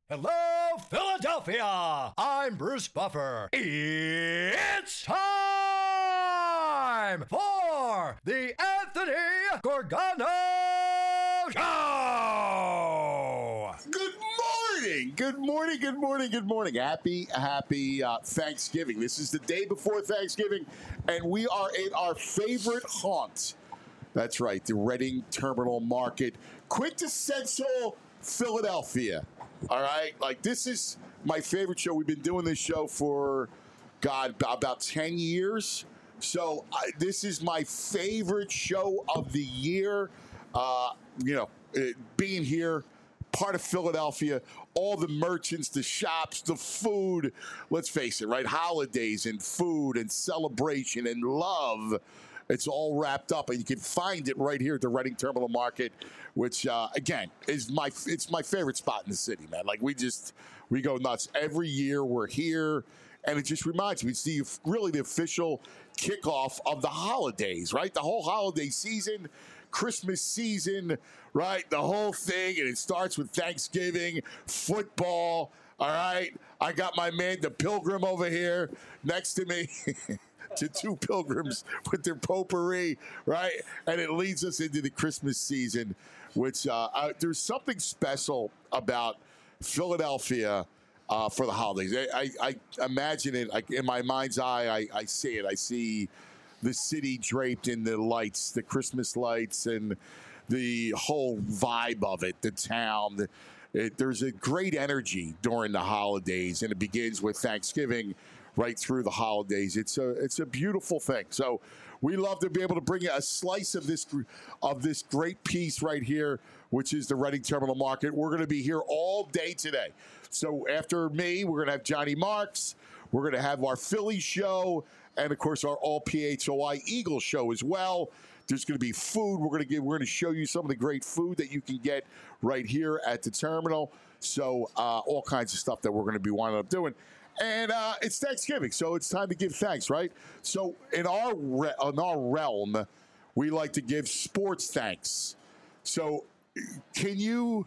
Hello, Philadelphia! I'm Bruce Buffer. It's time for the Anthony Gorgano Show! Good morning. Happy Thanksgiving. This is the day before Thanksgiving, and we are in our favorite haunt. That's right, the Reading Terminal Market. Quintessential Philadelphia. All right? Like, this is my favorite show. We've been doing this show for, about 10 years. So, this is my favorite show of the year. Being here, part of Philadelphia, all the merchants, the shops, the food. Let's face it, right? Holidays and food and celebration and love. It's all wrapped up, and you can find it right here at the Reading Terminal Market, which, again, is my favorite spot in the city, man. Like, we go nuts. Every year we're here, and it just reminds me, it's really the official kickoff of the holidays, right? The whole holiday season, Christmas season, right? The whole thing, and it starts with Thanksgiving, football, all right? I got my man, the Pilgrim, over here next to me. To two pilgrims with their potpourri, right? And it leads us into the Christmas season, which there's something special about Philadelphia for the holidays. I imagine it, like, in my mind's eye. I see it. I see the city draped in the lights, the Christmas lights, and the whole vibe of it, the town. There's a great energy during the holidays, and it begins with Thanksgiving right through the holidays. It's a beautiful thing. So we love to be able to bring you a slice of this great piece right here, which is the Reading Terminal Market. We're going to be here all day today. So after me, we're going to have Johnny Marks. We're going to have our Philly show, and of course our All PHOI Eagles show as well. There's going to be food. We're going to show you some of the great food that you can get right here at the terminal. So all kinds of stuff that we're going to be winding up doing. And it's Thanksgiving, so it's time to give thanks, right? So in our realm, we like to give sports thanks. So if you're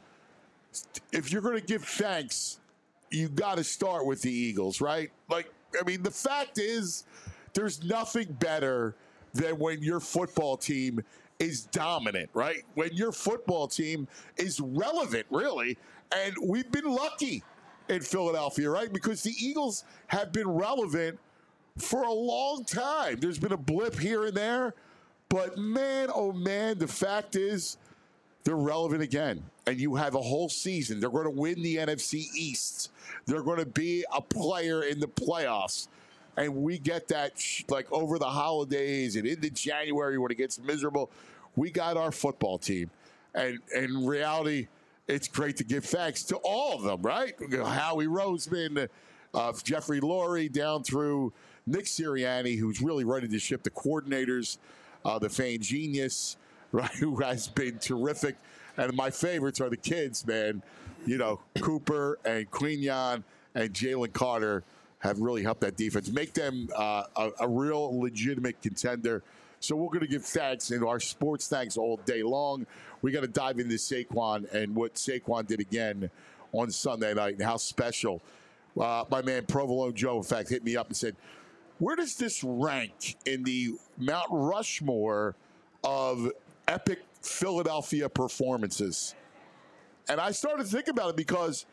going to give thanks, you got to start with the Eagles, right? Like, I mean, the fact is, there's nothing better than when your football team is dominant, right? When your football team is relevant, really. And we've been lucky in Philadelphia, right? Because the Eagles have been relevant for a long time. There's been a blip here and there, but man, oh man, the fact is they're relevant again. And you have a whole season. They're going to win the NFC East. They're going to be a player in the playoffs. And we get that like over the holidays and into January when it gets miserable. We got our football team. And in reality, it's great to give thanks to all of them, right? Howie Roseman, Jeffrey Lurie, down through Nick Sirianni, who's really ready to ship the coordinators, the Fan Genius, right, who has been terrific. And my favorites are the kids, man. You know, Cooper and Quignon and Jalen Carter have really helped that defense, make them a real legitimate contender. So we're going to give thanks and our sports thanks all day long. We got to dive into Saquon and what Saquon did again on Sunday night and how special. My man Provolone Joe, in fact, hit me up and said, where does this rank in the Mount Rushmore of epic Philadelphia performances? And I started to think about it because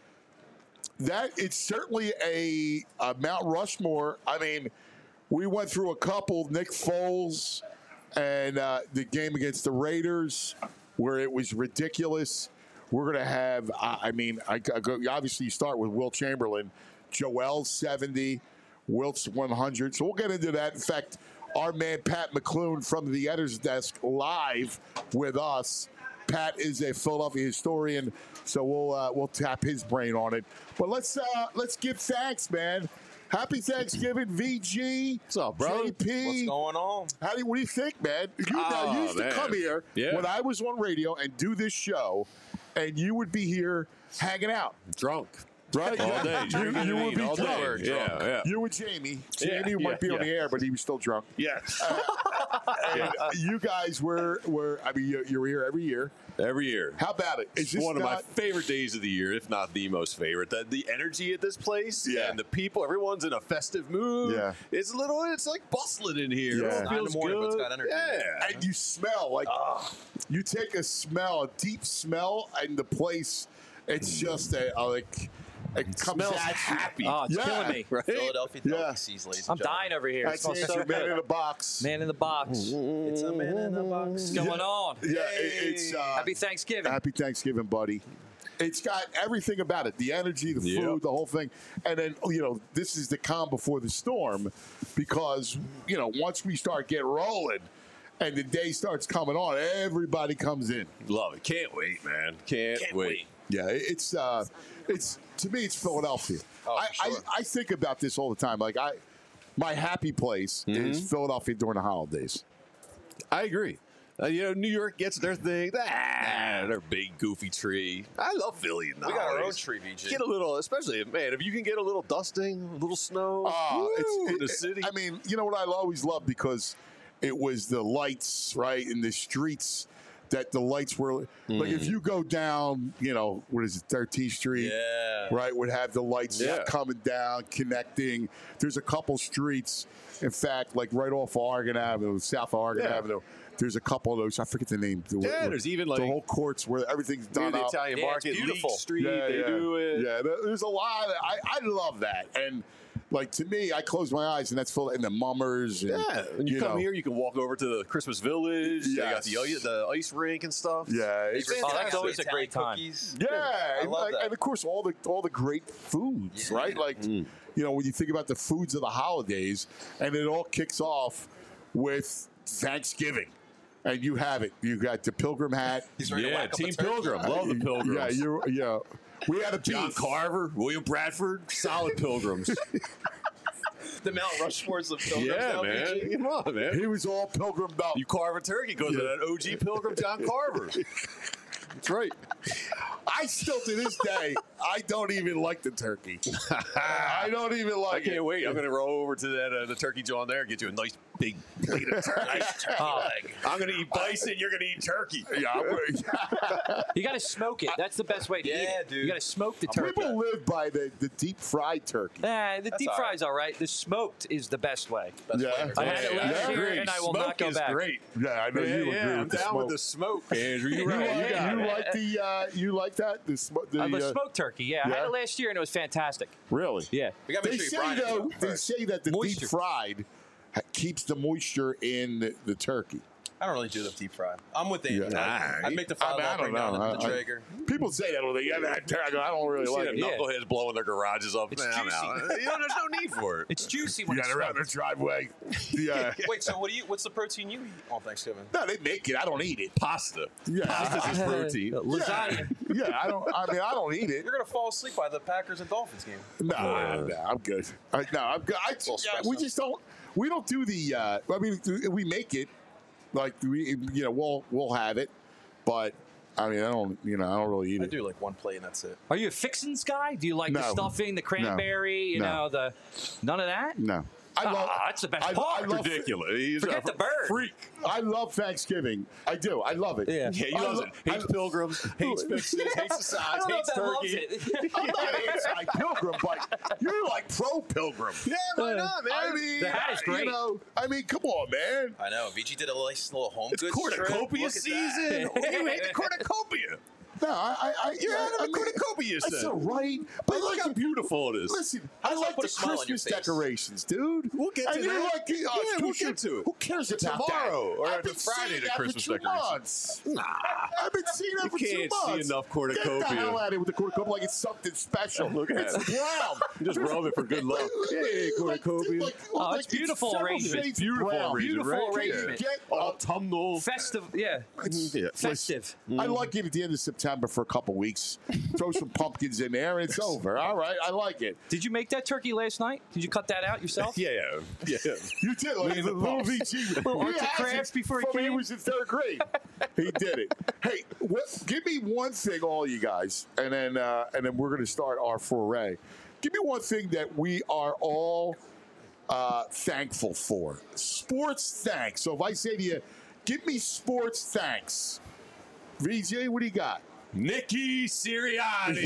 that it's certainly a Mount Rushmore. I mean, we went through a couple, Nick Foles and the game against the Raiders, where it was ridiculous. We're going to have, obviously you start with Wilt Chamberlain, Joel 70, Wilt's 100. So we'll get into that. In fact, our man Pat McClune from the editor's desk live with us. Pat is a Philadelphia historian, so we'll tap his brain on it. But let's give thanks, man. Happy Thanksgiving, VG. What's up, bro? JP. What's going on? What do you think, man? You used to come here when I was on radio and do this show, and you would be here hanging out. Drunk. Right? All day. You would be all drunk. day. Yeah. You and Jamie. Jamie might be on the air, but he was still drunk. Yes. And you guys were you were here every year. Every year. How about it? It's one of my favorite days of the year, if not the most favorite. The energy at this place and the people, everyone's in a festive mood. Yeah. It's like bustling in here. Yeah. It feels good. But it's got energy. Yeah. And you smell like you take a deep smell, and the place, it's just it comes smells at happy. Oh, it's killing me. Right? Philadelphia Yeah. delicacies, ladies and I'm gentlemen. dying over here. It That's smells it. so Your man in good. the box. Man in the box. It's a man in the box. What's going on? Yeah, it's Happy Thanksgiving. Happy Thanksgiving, buddy. It's got everything about it, the energy, the Yep. food, the whole thing. And then, this is the calm before the storm, because, once we start getting rolling and the day starts coming on, everybody comes in. Love it. Can't wait, man. Can't wait. Yeah, it's to me, it's Philadelphia. Oh, for sure. I think about this all the time. Like, my happy place is Philadelphia during the holidays. I agree. New York gets their thing. Their big goofy tree. I love Philly. We got our own tree, VG. Get a little, especially, man, if you can get a little dusting, a little snow in the city. I mean, you know what I always loved, because it was the lights, right, in the streets. That the lights were like, if you go down, what is it, 13th Street? Yeah. Right, would have the lights Yeah. coming down, connecting. There's a couple streets, in fact, like right off of Oregon Avenue, south of Oregon Yeah. Avenue. There's a couple of those. I forget the name. There's even the like whole courts where everything's near done the up. Italian Yeah, it's Market, Leek beautiful. Street. They do it. Yeah, there's a lot. I love that. And like, to me, I close my eyes and that's full. And the mummers. And, Yeah, when you come here, you can walk over to the Christmas Village. They got Yes. the ice rink and stuff. Yeah, it's Favorite Oh, that's snacks, always a Italian great time. cookies. Yeah, I and, love that. and of course all the great foods, right? Like, when you think about the foods of the holidays, and it all kicks off with Thanksgiving, and you have it. You got the Pilgrim hat. He's ready to Yeah, whack up a Team turkey. Pilgrim. Love the Pilgrims. Yeah. We had a John beef. Carver, William Bradford, solid Pilgrims. The Mount Rushmores of Pilgrims. Yeah, now, man. VG. Come on, man. He was all pilgrimed up. You carve a turkey goes to that OG Pilgrim John Carver. That's right. I still, to this day, I don't even like the turkey. I don't even I like it. can't wait. I'm going to roll over to that the turkey joint there and get you a nice big plate of turkey. I'm going to eat bison. You're going to eat turkey. Yeah, You got to smoke it. That's the best way to eat Yeah, it. dude. You got to smoke the turkey. people live by the deep fried turkey. The That's deep all fry's all right. The smoked is the best way. Best Yeah. flavor. I had it last Yeah, year, agree. and I will Smoke not go is back. great. Yeah, I know you agree I'm with the down smoke. with the smoke, Andrew. You're You right. like, You got you it. like you like that? The smoked turkey, yeah. I had yeah? it last year, and it was fantastic. Really? Yeah. We got to They make say sure you brine though. it They first. say that the Moisture. deep fried keeps the moisture in the turkey. I don't really do the deep fry. I'm with Andy. Yeah. I'd make the I fry mean, I bring don't down know. the Traeger. People say that. Well, they have that turkey. I don't really You see like the it. Yeah. knuckleheads blowing their garages up. It's Man, I'm juicy. out. There's no need for it. It's juicy You when got it's it around the smoked. driveway. Yeah. Wait, so what's the protein you eat on Thanksgiving? No, they make it. I don't eat it. Pasta. Yeah. Pasta's his protein. Lasagna. Yeah, I don't. I mean, I don't eat it. You're gonna fall asleep by the Packers and Dolphins game. No, I'm good. I'm good. We just don't. We don't do the. I mean, we make it. Like we'll have it, but I mean, I don't really eat I it. do like one plate and that's it. Are you a fixins guy? Do you like the No. stuffing, the cranberry, No. none of that? No, I love. That's the best I part. love- Ridiculous. He's Forget a the bird. freak. I love Thanksgiving. I do. I love it. Yeah. Yeah, he I loves lo- it. Hates I- pilgrims, hates fixes, hates the I sides, don't know if hates that loves turkey. it. I'm not anti-pilgrim, but you're like pro-pilgrim. Yeah, why not, man? I mean, The hat is great. I mean, come on, man. I know. VG did a nice little home It's goods trip. cornucopia Look at that. season. You hate the cornucopia. No, You're having I a mean, cornucopia That's set. all right. But look how beautiful it is. Listen, How I does that like put the a smile on your Christmas face? decorations, dude. We'll get to and you're that. like, Yeah, we'll get to it. Who cares about Tomorrow, that? or I've after been Friday, seeing the that Christmas for 2 decorations. months. Nah. I've been seeing that You for 2 can't months. see enough Get cornucopia. the hell out of here with the cornucopia like it's something special. Look at it's it. brown. Just rub it for good luck. Yeah, cornucopia. Oh, it's beautiful several arrangement. shades of Beautiful brown. arrangement, Beautiful right? arrangement. Get Autumnal. Festive, yeah. Yeah. Festive. I like it at the end of September for a couple weeks. Throw some pumpkins in there, and it's over. All right, I like it. Did you make that turkey last night? Did you cut that out yourself? Yeah. You did like Leave the little pups. VG. Little He arts and has crafts it before he from when came? he was in 3rd grade. He did it. Hey, give me one thing, all you guys, and then we're going to start our foray. Give me one thing that we are all thankful for. Sports thanks. So if I say to you, give me sports thanks. VJ, what do you got? Nicky Sirianni.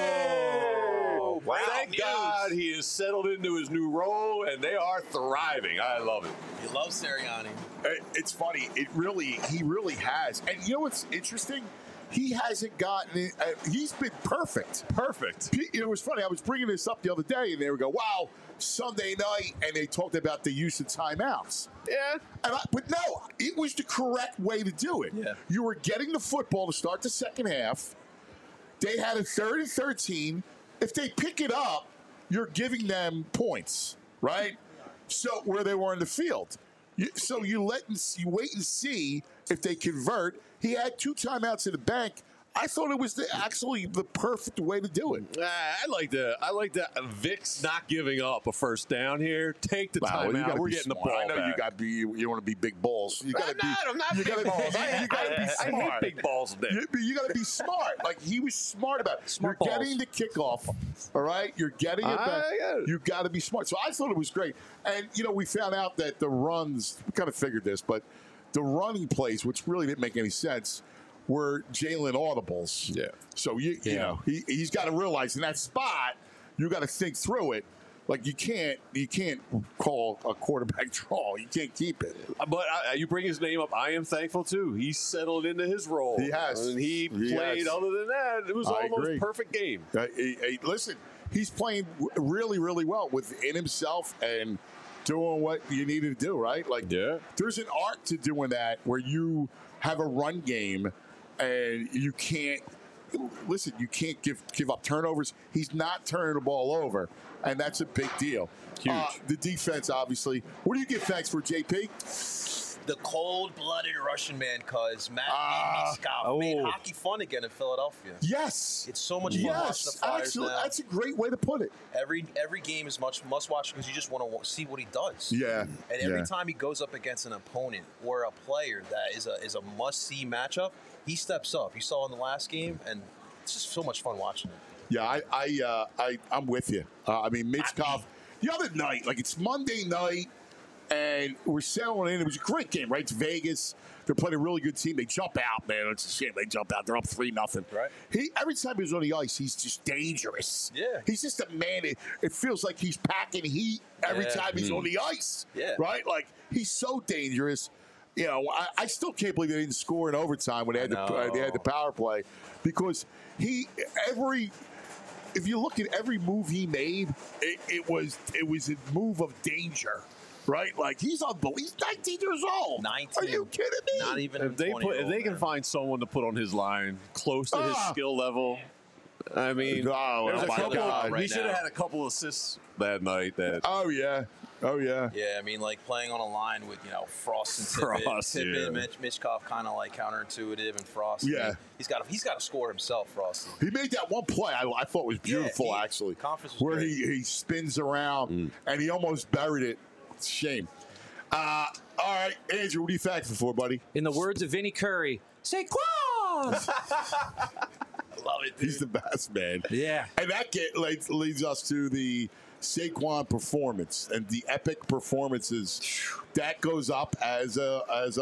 Whoa! Wow, Thank news. God he has settled into his new role, and they are thriving. I love it. You love Sirianni. It's funny. He really has. And you know what's interesting? He hasn't gotten it. He's been perfect. Perfect. It was funny. I was bringing this up the other day, and they would go, wow, Sunday night, and they talked about the use of timeouts. Yeah. But no, it was the correct way to do it. Yeah. You were getting the football to start the second half. They had a 3rd and 13. If they pick it up, you're giving them points, right? So where they were in the field. So you wait and see if they convert. He had 2 timeouts in the bank. I thought it was actually the perfect way to do it. I like that Vic's not giving up a first down here. Take the time out. We're getting the ball I know back. you want to be big balls. You gotta I'm not big balls. You gotta be I smart. hate big balls. You got to be smart. Like he was smart about it. Smart You're balls. getting the kickoff, all right? You're getting it back. I get it. You got to be smart. So I thought it was great. And we found out that the runs. We kind of figured this, but the running plays, which really didn't make any sense, were Jalen audibles. Yeah. So you know he's got to realize in that spot you got to think through it. Like you can't call a quarterback draw. You can't keep it. But you bring his name up. I am thankful too. He's settled into his role. He has. And he He played. has. Other than that, it was I almost agree. perfect game. Listen, he's playing really, really well within himself and doing what you needed to do, right? Like, Yeah. there's an art to doing that where you have a run game and you can't give up turnovers. He's not turning the ball over, and that's a big deal. Huge. The defense, obviously. What do you give thanks for, JP? The cold-blooded Russian man, cuz Matt oh. made hockey fun again in Philadelphia. Yes. It's so much fun watching the Yes, Flyers absolutely. now. That's a great way to put it. Every game is must-watch because you just want to see what he does. Yeah. And every time he goes up against an opponent or a player that is a must-see matchup, he steps up. You saw in the last game, and it's just so much fun watching it. Yeah, I'm with you. I mean, Michkov, the other night, like it's Monday night, and we're settling in. It was a great game, right? It's Vegas. They're playing a really good team. They jump out, man. It's a shame they jump out. They're up 3-0. Right. Every time he's on the ice, he's just dangerous. Yeah. He's just a man. It feels like he's packing heat every Yeah. time he's on the ice. Yeah. Right? Like, he's so dangerous. I still can't believe they didn't score in overtime when they had the power play, because if you look at every move he made, it was a move of danger, right? Like he's unbelievable. He's 19 years old. 19. Are you kidding me? Not even If they 20-year-old, if they can man. find someone to put on his line close to his skill level, I mean, Oh, there's oh a my couple. God. He should have had a couple assists that night. That Oh yeah. Yeah, I mean, like playing on a line with Frost and Tippett. Frost, Tippett, yeah. Michkov, kind of like counterintuitive, and Frost. Yeah. he's got to score himself, Frost. He made that one play I thought was beautiful, Yeah, actually. conference was where great. he spins around and he almost buried it. It's a shame. All right, Andrew, what are you thankful for, buddy? In the words of Vinnie Curry, Saquon! Love it, dude. He's the best, man. Yeah. And that leads us to the Saquon performance and the epic performances. That goes up as a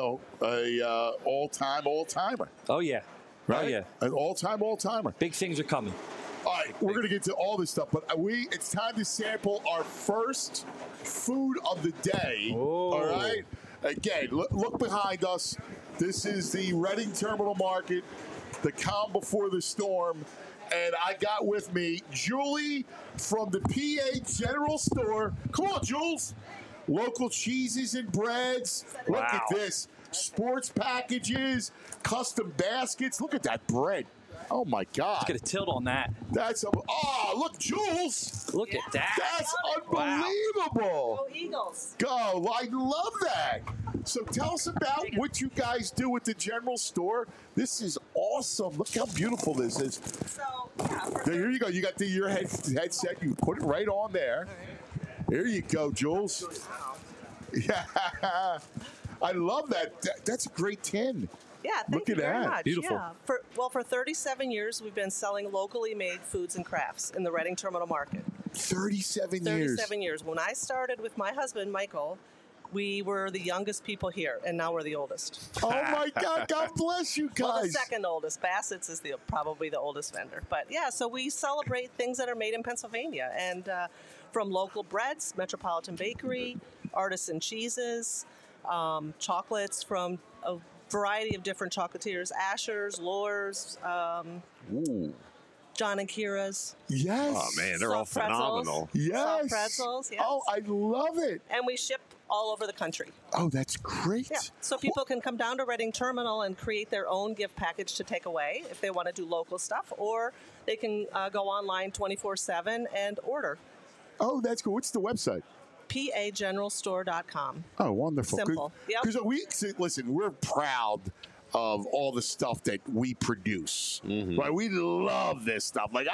all-timer. Oh, yeah. Right? Oh, yeah. An all-timer. Big things are coming. All right, we're going to get to all this stuff, but it's time to sample our first food of the day. Oh. All right? Again, look behind us. This is the Reading Terminal Market, the calm before the storm. And I got with me Julie from the PA General Store. Come on, Jules. Local cheeses and breads. Look Wow. at this. Sports packages, custom baskets. Look at that bread. Oh, my God. Get a tilt on that. Look, Jules. Look at that. That's Wow. unbelievable. Go Eagles. Go. I love that. So tell us about what you guys do at the General Store. This is awesome. Look how beautiful this is. So, yeah, Here you go. You got your headset. You put it right on there. There you go, Jules. Yeah. I love that. That's a great tin. yeah, thank Look you at very that. much. Beautiful. Yeah. For 37 years, we've been selling locally made foods and crafts in the Reading Terminal Market. 37 years. 37 years. When I started with my husband, Michael, We were the youngest people here, and now we're the oldest. Oh my God! God bless you guys. Well, the second oldest. Bassett's is probably the oldest vendor. But yeah, so we celebrate things that are made in Pennsylvania, and from local breads, Metropolitan Bakery, artisan cheeses, chocolates from a variety of different chocolatiers: Asher's, Lohr's, Ooh. John and Kira's. Yes. Oh man, they're all Soft pretzels. phenomenal. Yes. Soft pretzels, yes. Oh, I love it. And we ship all over the country. Oh, that's great. Yeah. So people can come down to Reading Terminal and create their own gift package to take away if they want to do local stuff, or they can go online 24/7 and order. Oh, that's cool. What's the website? PAGeneralStore.com. Oh, wonderful. Simple. Yep. Because listen, we're proud of all the stuff that we produce. Right? We love this stuff. Like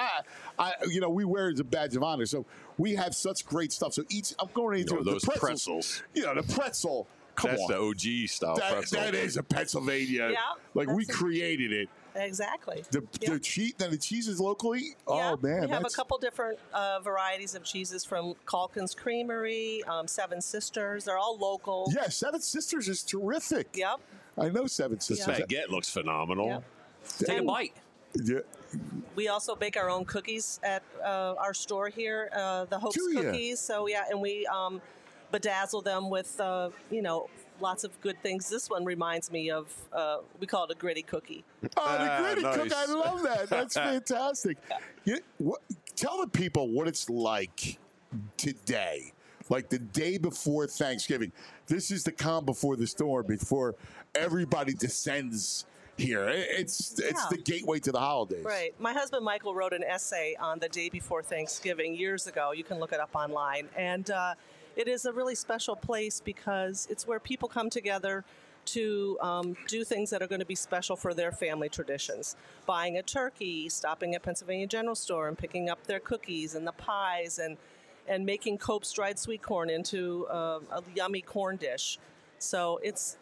we wear it as a badge of honor. So we have such great stuff. So I'm going into those the pretzels. The pretzel. Come That's on. the OG style pretzel. That is a Pennsylvania. Yeah, like we created it. Exactly. The cheese is locally. Yeah, Oh man, we have a couple different varieties of cheeses from Calkins Creamery, Seven Sisters. They're all local. Yeah, Seven Sisters is terrific. Yep. I know Seven Sisters. Baguette looks phenomenal. Yep. Take a And bite. Yeah. we also bake our own cookies at our store here, the Hopes Do ya? Cookies. So yeah, and we bedazzle them with lots of good things. This one reminds me of we call it a gritty cookie. Oh, the gritty nice. cook! I love that. That's fantastic. Tell the people what it's like today, like the day before Thanksgiving. This is the calm before the storm, before everybody descends here. It's the gateway to the holidays. Right. My husband Michael wrote an essay on the day before Thanksgiving years ago. You can look it up online. And it is a really special place because it's where people come together to do things that are going to be special for their family traditions. Buying a turkey, stopping at Pennsylvania General Store and picking up their cookies and the pies and making Cope's dried sweet corn into a yummy corn dish. So it's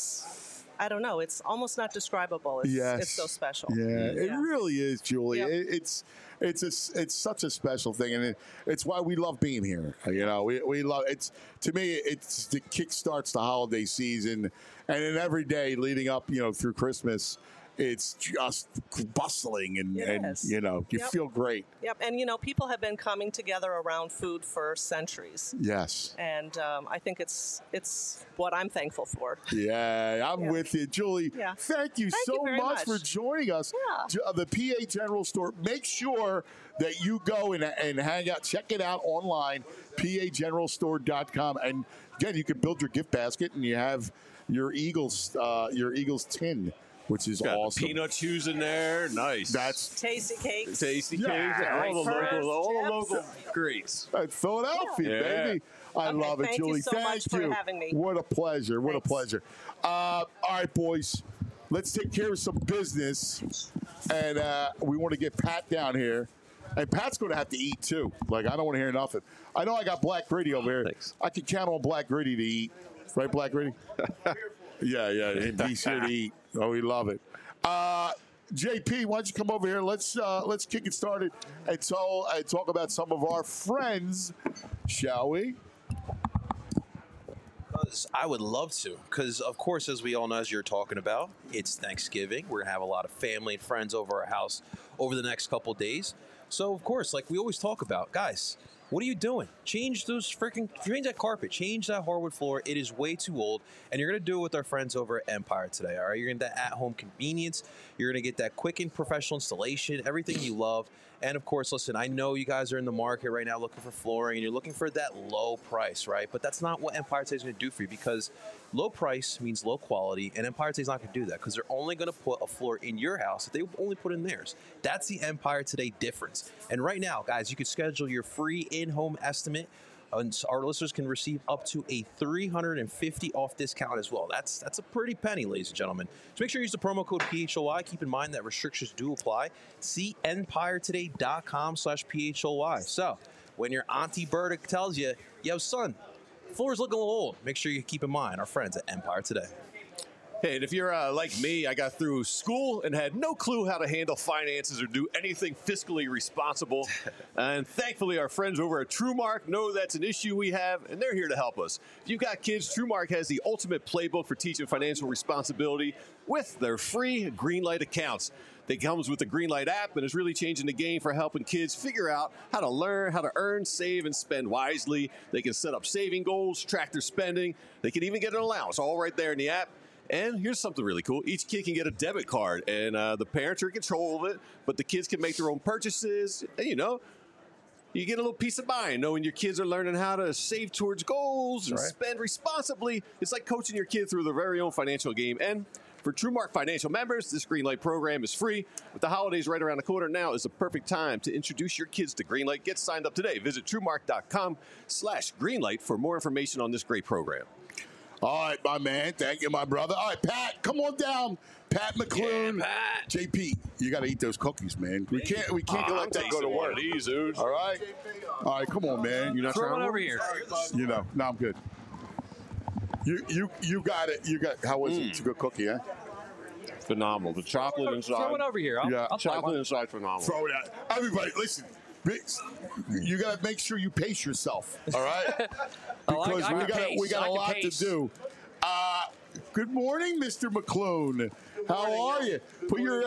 I don't know. It's almost not describable. It's so special. Yeah, it really is, Julie. Yep. It's such a special thing, and it's why we love being here. We love it's. To me, it's the kickstarts the holiday season, and then every day leading up, through Christmas, it's just bustling, and you feel great. Yep, and people have been coming together around food for centuries. Yes. And I think it's what I'm thankful for. Yeah, I'm with you, Julie. Yeah. Thank you Thank so you very much for much. joining us. Yeah. The PA General Store. Make sure that you go and hang out. Check it out online, PAGeneralStore.com. And again, you can build your gift basket, and you have your Eagles tin, which is Got awesome. Peanut chews in there. Nice. That's Tasty cakes. tasty Yeah, cakes. All the First local tips. greats. Philadelphia, Yeah. baby. I Okay, love it, thank you Julie. so thank much for you. having me. What a pleasure. What a Thanks. pleasure. All right, boys. Let's take care of some business. And we want to get Pat down here. And Pat's going to have to eat, too. Like, I don't want to hear nothing. I know I got Black Gritty over here. Thanks. I can count on Black Gritty to eat. Right, Black Gritty? Yeah. He's here to eat. Oh, we love it. JP, why don't you come over here? Let's kick it started and talk about some of our friends, shall we? I would love to, because of course, as we all know, as you're talking about, it's Thanksgiving. We're gonna have a lot of family and friends over our house over the next couple days. So of course, like we always talk about, guys, what are you doing? Change that carpet, change that hardwood floor. It is way too old, and you're gonna do it with our friends over at Empire today. All right, you're gonna get that at-home convenience. You're gonna get that quick and professional installation, everything you love. And of course, listen, I know you guys are in the market right now looking for flooring, and you're looking for that low price, right? But that's not what Empire Today is going to do for you, because low price means low quality, and Empire Today is not going to do that, because they're only going to put a floor in your house that they only put in theirs. That's the Empire Today difference. And right now, guys, you can schedule your free in-home estimate. And our listeners can receive up to a $350 off discount as well. That's a pretty penny, ladies and gentlemen. So make sure you use the promo code PHOY. Keep in mind that restrictions do apply. See empiretoday.com/PHOY. So when your Auntie Berta tells you, yo, son, floor's looking a little old, make sure you keep in mind our friends at Empire Today. Hey, and if you're like me, I got through school and had no clue how to handle finances or do anything fiscally responsible. And thankfully, our friends over at TrueMark know that's an issue we have, and they're here to help us. If you've got kids, TrueMark has the ultimate playbook for teaching financial responsibility with their free Greenlight accounts. It comes with the Greenlight app and is really changing the game for helping kids figure out how to learn, how to earn, save, and spend wisely. They can set up saving goals, track their spending. They can even get an allowance all right there in the app. And here's something really cool. Each kid can get a debit card, and the parents are in control of it, but the kids can make their own purchases. And, you know, you get a little peace of mind knowing your kids are learning how to save towards goals and spend responsibly. It's like coaching your kid through their very own financial game. And for TrueMark Financial members, this Greenlight program is free. With the holidays right around the corner, now is the perfect time to introduce your kids to Greenlight. Get signed up today. Visit TrueMark.com/Greenlight for more information on this great program. All right, my man. Thank you, my brother. All right, Pat, come on down. Pat McClune. Yeah, Pat. JP, you got to eat those cookies, man. We can't let that go to work. These, dude. All right? All right, come on, man. You're not Throw trying it to over here. You know, no, I'm good. You got it. How was it? It's a good cookie, huh? Phenomenal. The chocolate inside. Throw it over here. I'll try Chocolate one. inside, phenomenal. Throw it out. Everybody, listen. You got to make sure you pace yourself, all right? Because we got a lot to do. Good morning, Mr. McClune. How are you? Put your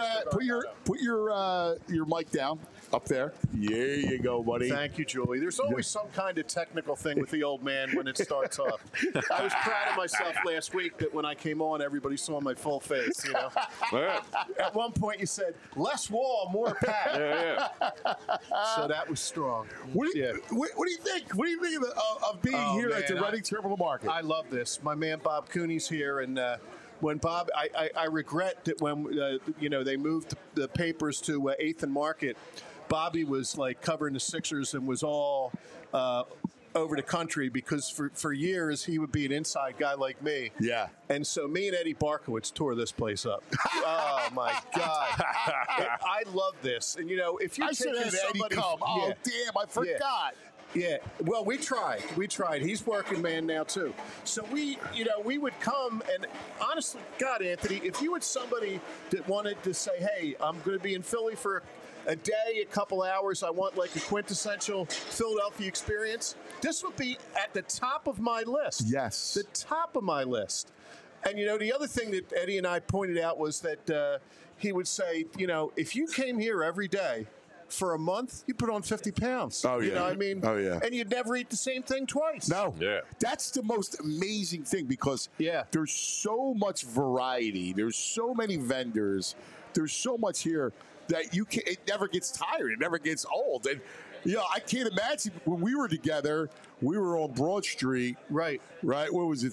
mic down up there. There you go, buddy. Thank you, Julie. There's always some kind of technical thing with the old man when it starts off. I was proud of myself last week that when I came on, everybody saw my full face. You know. At one point, you said, "Less Wall, more Pat." So that was strong. What do you think? What do you think of being here at the Reading Terminal Market? I love this. My man Bob Cooney's here, and when Bob, I regret that when they moved the papers to 8th and Market, Bobby was like covering the Sixers and was all over the country because for years he would be an inside guy like me. Yeah. And so me and Eddie Barkowitz tore this place up. Oh my God! I love this. And if you I should have Eddie come. Oh damn! I forgot. Yeah, well, we tried. He's working man now too. So we would come and honestly, God, Anthony, if you had somebody that wanted to say, "Hey, I'm going to be in Philly for a day, a couple hours. I want like a quintessential Philadelphia experience," this would be at the top of my list. Yes, the top of my list. And the other thing that Eddie and I pointed out was that he would say, if you came here every day for a month, you put on 50 pounds. Oh, yeah. You know what I mean? Oh, yeah. And you'd never eat the same thing twice. No. Yeah. That's the most amazing thing because Yeah. there's so much variety. There's so many vendors. There's so much here that it never gets tired. It never gets old. And, I can't imagine when we were together, we were on Broad Street. Right. Right? What was it?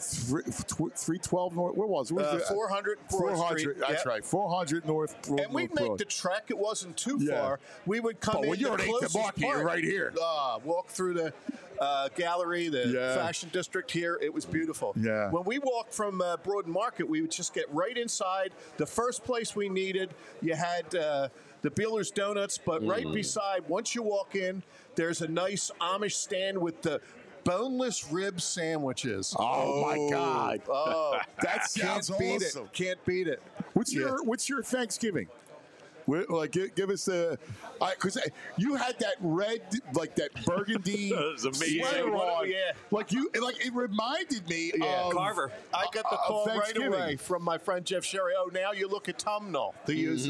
312 North? What was it? 400 Broad 400. Street. That's Yep. right. 400 North. And we'd North make Broad. the trek. It wasn't too Yeah. far. We would come But in when you're the at 8th and closest Market, you're part. right here. Walk through the gallery, the fashion district here. It was beautiful. Yeah. When we walked from Broad Market, we would just get right inside. The first place we needed, you had the Beeler's Donuts, but right beside, once you walk in, there's a nice Amish stand with the boneless rib sandwiches. Oh, my God. Oh, That sounds can't beat awesome. it. Can't beat it. What's your Thanksgiving? Like, give us the, because you had that red, like that burgundy That was amazing. sweater on. Yeah. It reminded me of Carver. I got the call right Thanksgiving. away from my friend Jeff Sherry. Oh, now you look autumnal. They use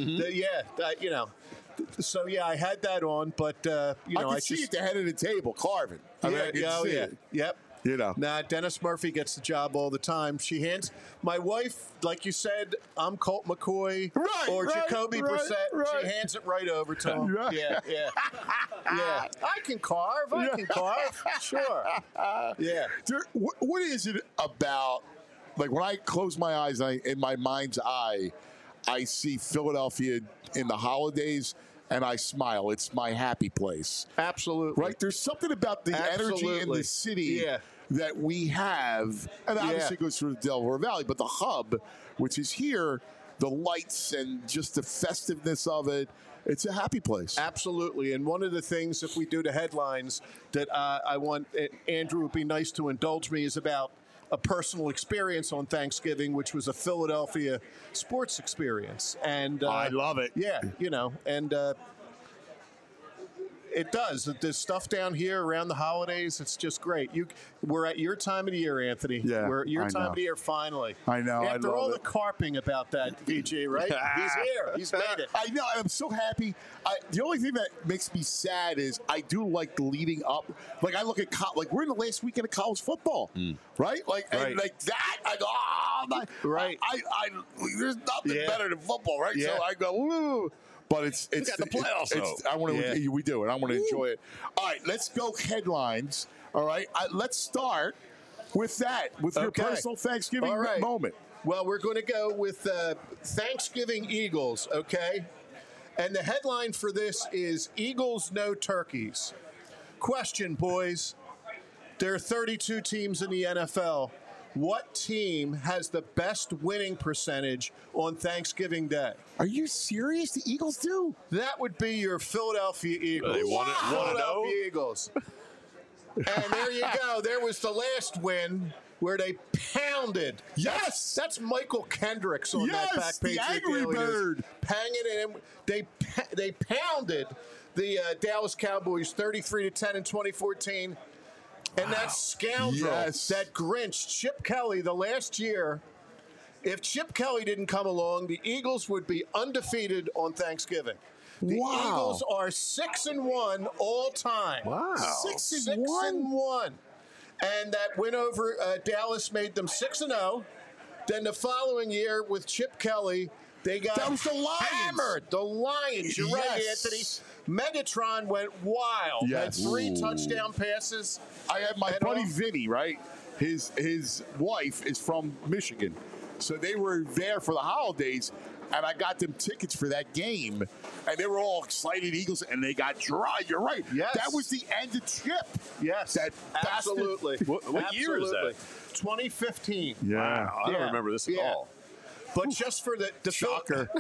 So I had that on, but I could see at the head of the table carving. I could see it. Yep. Nah, Dennis Murphy gets the job all the time. My wife, like you said, I'm Colt McCoy or Jacoby Brissett. Right. She hands it right over to him. Right. Yeah. I can carve. Sure. Yeah. What is it about, like when I close my eyes, in my mind's eye, I see Philadelphia in the holidays, and I smile. It's my happy place. Absolutely. Right? There's something about the energy in the city that we have, and obviously it goes through the Delaware Valley, but the hub, which is here, the lights and just the festiveness of it, it's a happy place. Absolutely. And one of the things, if we do the headlines, that I want Andrew would be nice to indulge me is about a personal experience on Thanksgiving, which was a Philadelphia sports experience. And I love it. Yeah, and it does. There's stuff down here around the holidays. It's just great. We're at your time of the year, Anthony. Yeah, we're at your I time know. of the year finally. I know, I After love all it. the carping about that, VG, right? He's here. He's made it. I know. I'm so happy. The only thing that makes me sad is I do like leading up. Like I look at like we're in the last weekend of college football, right? Like and like that. I go, Right. There's nothing Yeah. better than football, right? Yeah. So I go, woo. But it's got the playoffs, I want to. Yeah. We do it. I want to enjoy it. All right, let's go headlines. All right, let's start with that. With your Okay. personal Thanksgiving All right. moment. Well, we're going to go with Thanksgiving Eagles, okay? And the headline for this is Eagles No Turkeys. Question, boys. There are 32 teams in the NFL. What team has the best winning percentage on Thanksgiving Day? Are you serious? The Eagles do. That would be your Philadelphia Eagles. They want to know? Philadelphia Eagles. And there you go. There was the last win where they pounded. Yes! That's Michael Kendricks on Yes, that back the page. Angry Bird. Panging it. They pounded the Dallas Cowboys 33-10 in 2014. And that scoundrel, Yes. that Grinch, Chip Kelly, the last year, if Chip Kelly didn't come along, the Eagles would be undefeated on Thanksgiving. The Wow. Eagles are 6-1 all time. Wow. 6-1. And that win over Dallas made them 6-0. Then the following year with Chip Kelly, they got That was the Lions. hammered. The Lions. You're right, Yes. Anthony. Megatron went wild. Yes. Had 3 Ooh. touchdown passes. I had my And buddy all- Vinny, right? His wife is from Michigan. So they were there for the holidays, and I got them tickets for that game. And they were all excited, Eagles, and they got dry. You're right. Yes. That was the end of Chip. Yes. That bastard. Absolutely. What year is that? Absolutely. 2015. Wow, I don't Yeah. remember this at Yeah. all. But just for the Shocker.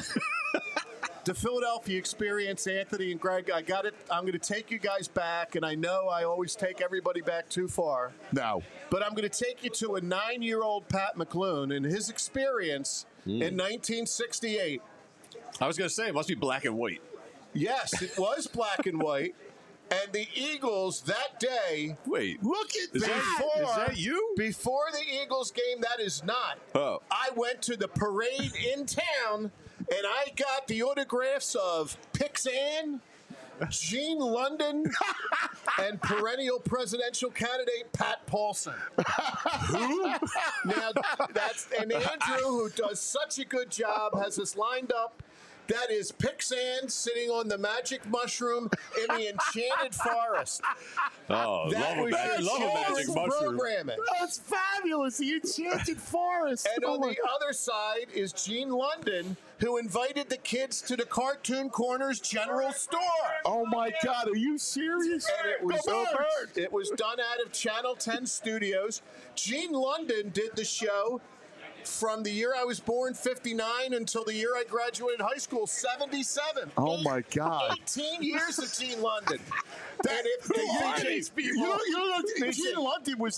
the Philadelphia experience, Anthony and Greg, I got it. I'm going to take you guys back, and I know I always take everybody back too far. No. But I'm going to take you to a 9-year-old Pat McClune and his experience in 1968. I was going to say, it must be black and white. Yes, it was black and white. And the Eagles that day, Wait. Look at Is that. that, is that you? before the Eagles game, that is not. Oh. I went to the parade in town, and I got the autographs of Pixan, Gene London, and perennial presidential candidate Pat Paulson. Who? Now, and Andrew, who does such a good job, has us lined up. That is Pixan sitting on the magic mushroom in the enchanted forest. Oh, That was love a your magic children's mushroom. programming. That's fabulous. The Enchanted Forest. And Oh on my the other side is Gene London, who invited the kids to the Cartoon Corners General Store. Oh my God, are you serious? And it was, Go Birds! it was done out of Channel 10 Studios. Gene London did the show from the year I was born, 59, until the year I graduated high school, 77. Oh my God. 18 years of Gene London. That, And if the are these people? You know, Listen. Gene London was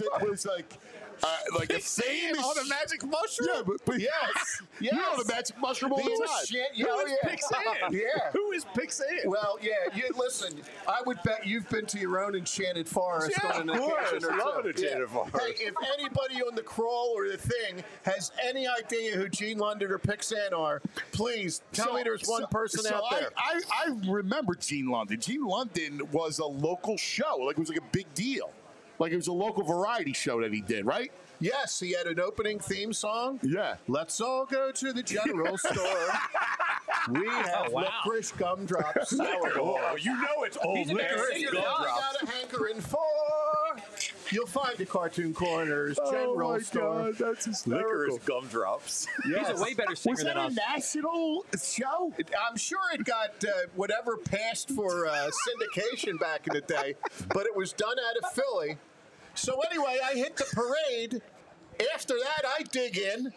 like a famous on a magic mushroom? Yeah, but Yes. you know the magic mushroom all The the time. enchant- Who is yeah. Pixan? Yeah. Who is Pixan? Well, yeah. Listen, I would bet you've been to your own enchanted forest Yeah, on an of course. occasion or Love two. an enchanted forest. Hey, if anybody on the crawl or the thing has any idea who Gene London or Pixan are, please tell me there's one person out there. I remember Gene London. Gene London was a local show. Like, it was like a big deal. Like, it was a local variety show that he did, right? Yes, he had an opening theme song. Yeah. Let's all go to the general store. We have wow. licorice gumdrops. Oh, you know it's old He's an licorice excited All I gumdrops. got a hankering for. You'll find the Cartoon Corners General Store. that's hysterical. Licorice gumdrops. He's a way better singer Was than that a us. national show? I'm sure it got whatever passed for syndication back in the day, but it was done out of Philly. So anyway, I hit the parade. After that, I dig in.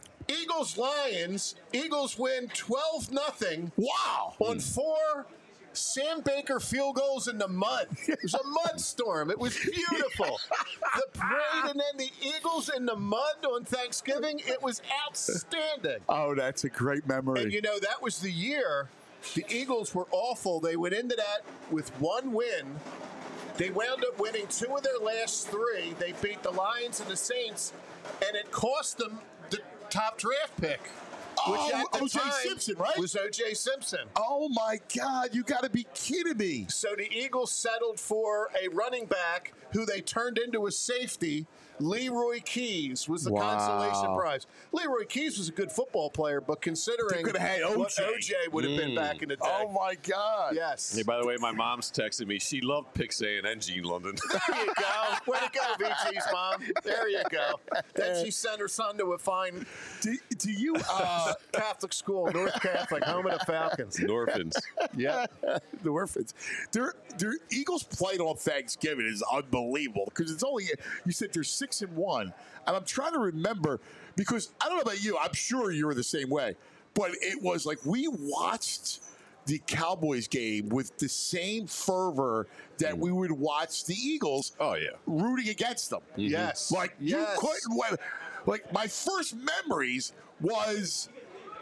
Eagles-Lions. Eagles win 12-0 Wow. on 4 Sam Baker field goals in the mud. It was a mud storm. It was beautiful. The parade and then the Eagles in the mud on Thanksgiving. It was outstanding. Oh, that's a great memory. And, that was the year the Eagles were awful. They went into that with one win. They wound up winning 2 of their last 3. They beat the Lions and the Saints, and it cost them the top draft pick. Which at the O.J. time Simpson, right? was O.J. Simpson. Oh, my God. You got to be kidding me. So the Eagles settled for a running back who they turned into a safety. Leroy Keys was the consolation prize. Leroy Keys was a good football player, but considering could have had what OJ. OJ would have been back in the day. Oh, my God. Yes. Hey, by the way, my mom's texting me. She loved Pick Saying and Gene London. There you go. Way to go, VG's mom. There you go. Then she sent her son to a fine Do you Catholic school, North Catholic, home of the Falcons. Orphans. Yeah. the orphans? Their Eagles played on Thanksgiving is unbelievable because it's only you said they're 6-1, and I'm trying to remember because I don't know about you. I'm sure you were the same way, but it was like we watched the Cowboys game with the same fervor that we would watch the Eagles. Oh, yeah. Rooting against them. Yes. Like you couldn't win. Like my first memories was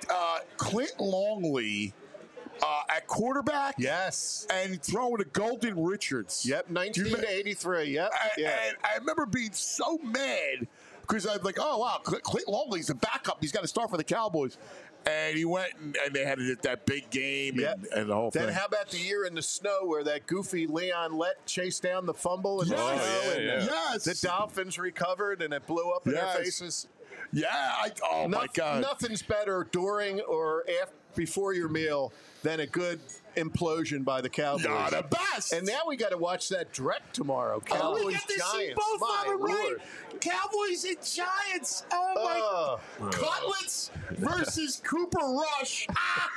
Clint Longley at quarterback. Yes. And throwing to Golden Richards. Yep, 1983. Yep. And I remember being so mad because I was like, oh, wow, Clint Longley's the backup. He's got to start for the Cowboys. And he went and they had that big game and the whole thing. Then how about the year in the snow where that goofy Leon Lett chased down the fumble in the snow? Yes. The Dolphins recovered and it blew up in their faces. Yeah. My God. Nothing's better during or before your meal than a good implosion by the Cowboys. You're the best. And now we got to watch that direct tomorrow. Cowboys, we get to Giants. see both My of them, right? Lord. Cowboys and Giants. Oh, my. Cutlets versus Cooper Rush.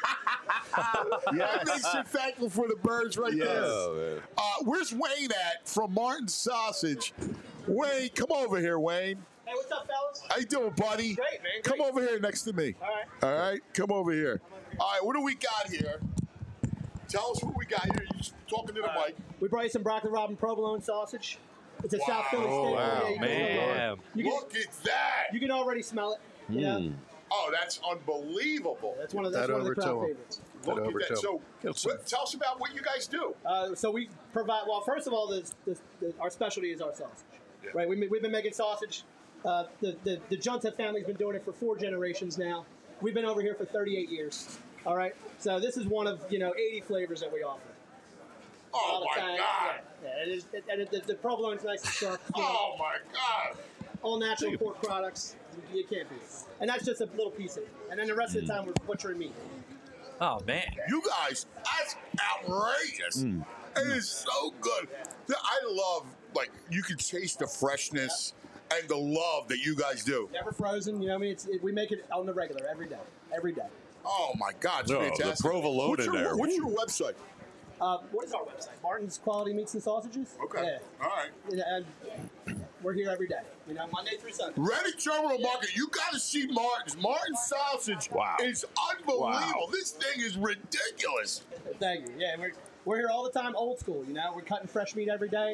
That makes you thankful for the birds right there. Oh, man. Where's Wayne at from Martin Sausage? Wayne, come over here, Wayne. Hey, what's up, fellas? How you doing, buddy? Great, man. Come over here next to me. All right. All right, come over here. All right, what do we got here? Tell us what we got here. You're just talking to the mic. We brought you some broccoli Robin provolone sausage. It's a South Philly steak. wow, you can- man. Look at that. You can already smell it. You know? Oh, that's unbelievable. That's one of the That crowd over to 'em. favorites. Look over at to that. So, tell us about what you guys do. So we provide. Well, first of all, our specialty is our sausage. Right. We've been making sausage. The Junta family's been doing it for 4 generations now. We've been over here for 38 years. All right. So this is one of 80 flavors that we offer. Oh, my God. Yeah, the provolone's nice and soft. Oh, my God. All natural pork products. You can't beat it. And that's just a little piece of it. And then the rest of the time we're butchering meat. Oh, man. You guys, that's outrageous. It is so good. I love, you can taste the freshness and the love that you guys do. Never frozen. You know what I mean? We make it on the regular every day. Every day. Oh, my God. It's No, the fantastic. provolone What's in your, there. What's your website? What is our website? Martin's Quality Meats and Sausages. Okay. Yeah. All right. And we're here every day. Monday through Sunday. Ready Terminal Market. You got to see Martin's. Martin's Sausage is unbelievable. Wow. This thing is ridiculous. Thank you. Yeah, we're here all the time, old school. We're cutting fresh meat every day.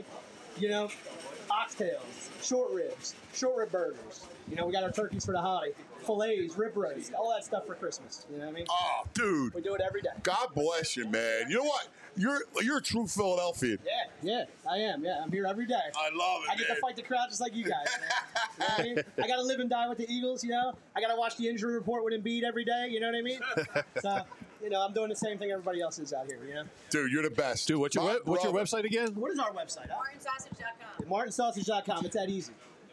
Oxtails, short rib burgers. We got our turkeys for the holiday, fillets, rib roast, all that stuff for Christmas. You know what I mean? Oh, dude. We do it every day. God bless you, man. You know what? You're a true Philadelphian. Yeah, I am. Yeah, I'm here every day. I love it, I get man. to fight the crowd just like you guys. Man. You know what I mean? I got to live and die with the Eagles. I got to watch the injury report with Embiid every day. You know what I mean? So, I'm doing the same thing everybody else is out here. Dude, you're the best. Dude, what's your website again? What is our website? MartinSausage.com. MartinSausage.com. It's that easy.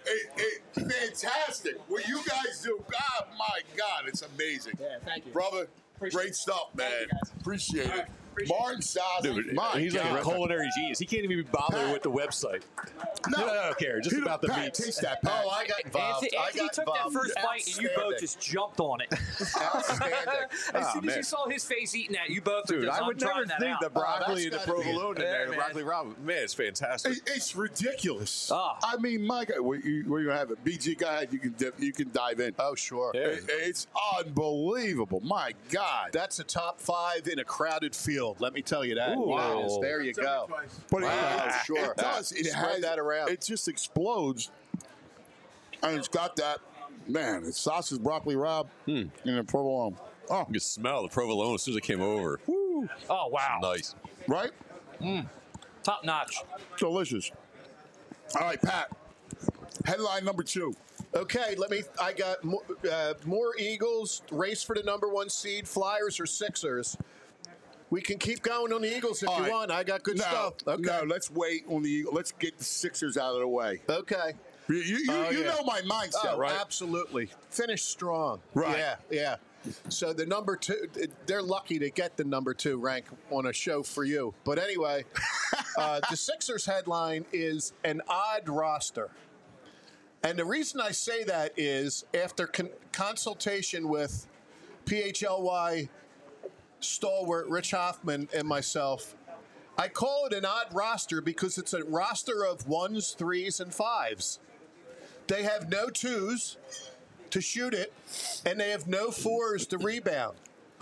Fantastic. What you guys do, God, my God, it's amazing. Yeah, thank you. Brother, Appreciate great it. stuff, man. Thank you, guys. Appreciate All it. right. Appreciate Martin Sausage, Dude, my he's God. like a culinary genius. He can't even be bothered with the website. No, I don't care. Just about the Pat, meats. taste that, Pat. Oh, I got involved. Anthony took that first bite and you both just jumped on it. Outstanding. As soon as man. you saw his face eating that, you both were Dude, just, I would never trying that think out. the broccoli and that's the gotta be it. provolone in there, the man. broccoli ramen. Man, it's fantastic. It's ridiculous. Ah. I mean, my God, where you gonna have it? BG, go ahead. You can dive in. Oh, sure. Yeah. It's unbelievable. My God. That's a top 5 in a crowded field. field. Let me tell you that. Wow. Yes, there you go. But Sure. it does. It Spread has that around. It just explodes, and it's got that. Man, it's sausage, broccoli, Rob, and a provolone. Oh, You can smell the provolone as soon as it came over. Oh, wow. Nice. right? Top notch. Delicious. All right, Pat. Headline number 2. Okay, I got more Eagles, race for the number 1 seed, Flyers or Sixers. We can keep going on the Eagles if All you right. want. I got good stuff. Okay. No, let's wait on the Eagles. Let's get the Sixers out of the way. Okay. You know my mindset, right? Absolutely. Finish strong. Right. Yeah. So the number 2, they're lucky to get the number 2 rank on a show for you. But anyway, the Sixers headline is an odd roster. And the reason I say that is after consultation with PHLY stalwart Rich Hoffman and myself, I call it an odd roster because it's a roster of 1s, 3s, and 5s. They have no 2s to shoot it, and they have no 4s to rebound.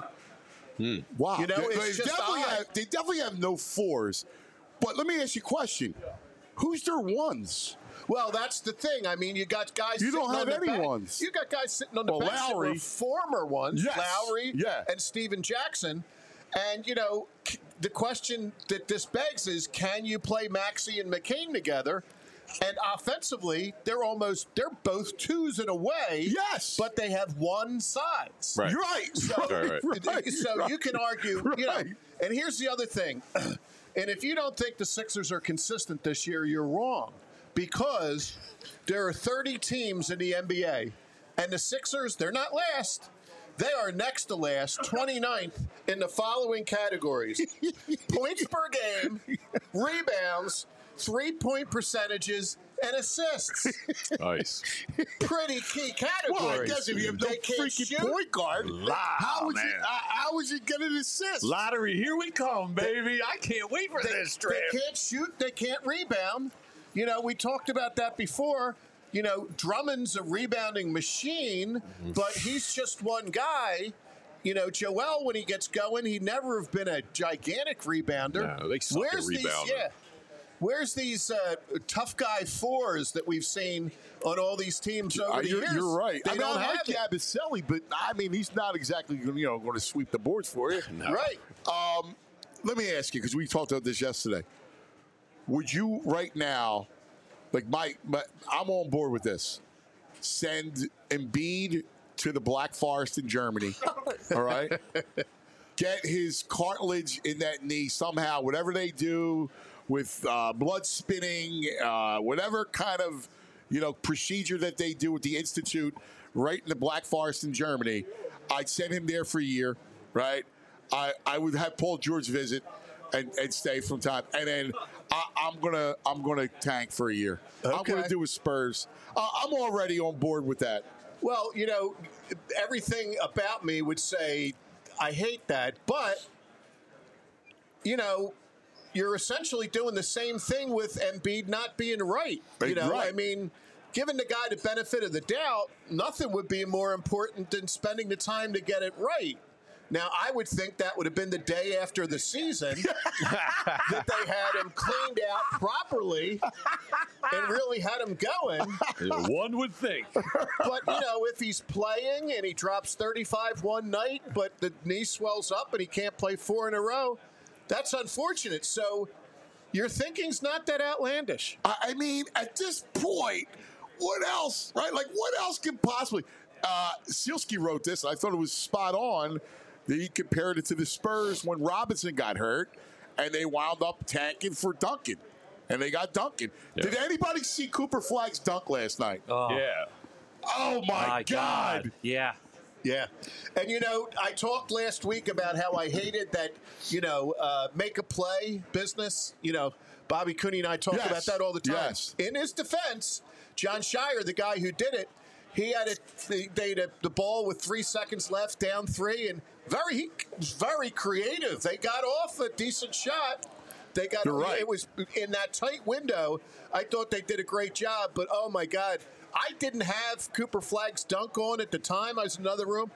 Wow. You know, it's just odd. they definitely have no 4s. But let me ask you a question. Who's their 1s? Well, that's the thing. I mean, you got guys. You don't sitting have on the any bench. ones. You got guys sitting on the Well, bench that Lowry. were former ones, Yes. Lowry Yeah. and Steven Jackson. And you know, the question that this begs is, can you play Maxey and McCain together? And offensively, they're both 2s in a way. Yes. but they have one size. Right. You're right. So, Right. so you can argue, you know. Right. And here's the other thing. And if you don't think the Sixers are consistent this year, you're wrong. Because there are 30 teams in the NBA, and the Sixers, they're not last. They are next to last, 29th in the following categories: points per game, rebounds, 3-point percentages, and assists. Nice. Pretty key categories. Well, I guess if you have no They can't freaking shoot. point guard, how is he going to assist? Lottery, here we come, baby. I can't wait for this They trip. can't shoot. They can't rebound. You know, we talked about that before. You know, Drummond's a rebounding machine, but he's just one guy. You know, Joel, when he gets going, he never have been a gigantic rebounder. No, they suck at rebounding. Where's these tough guy 4s that we've seen on all these teams over the years? You're right. They don't have it. Yabusele, but I mean, he's not exactly going to sweep the boards for you. No. Right. Let me ask you, because we talked about this yesterday. Would you right now, like I'm on board with this, send Embiid to the Black Forest in Germany, all right? Get his cartilage in that knee somehow, whatever they do with blood spinning, whatever kind of procedure that they do with the Institute right in the Black Forest in Germany. I'd send him there for a year, right? I would have Paul George visit and stay from time, and then I'm gonna tank for a year. I'm Okay. gonna do with Spurs. I'm already on board with that. Well, you know, everything about me would say I hate that, but you know, you're essentially doing the same thing with Embiid not being right. You know, Right. I mean, giving the guy the benefit of the doubt, nothing would be more important than spending the time to get it right. Now, I would think that would have been the day after the season that they had him cleaned out properly and really had him going. One would think. But, you know, if he's playing and he drops 35 one night, but the knee swells up and he can't play 4 in a row, that's unfortunate. So your thinking's not that outlandish. I mean, at this point, what else, right? Like, what else could possibly? Sealski wrote this, and I thought it was spot on. That he compared it to the Spurs when Robinson got hurt, and they wound up tanking for Duncan, and they got Duncan. Yeah. Did anybody see Cooper Flagg's dunk last night? Yeah. Oh my God! Yeah. Yeah. And, you know, I talked last week about how I hated that, you know, make a play business. You know, Bobby Cooney and I talk Yes. about that all the time. Yes. In his defense, John Shire, the guy who did it, he had the ball with 3 seconds left, down 3, and he was very creative. They got off a decent shot. They got You're right. It was in that tight window. I thought they did a great job, but oh my God, I didn't have Cooper Flagg's dunk on at the time. I was in another room.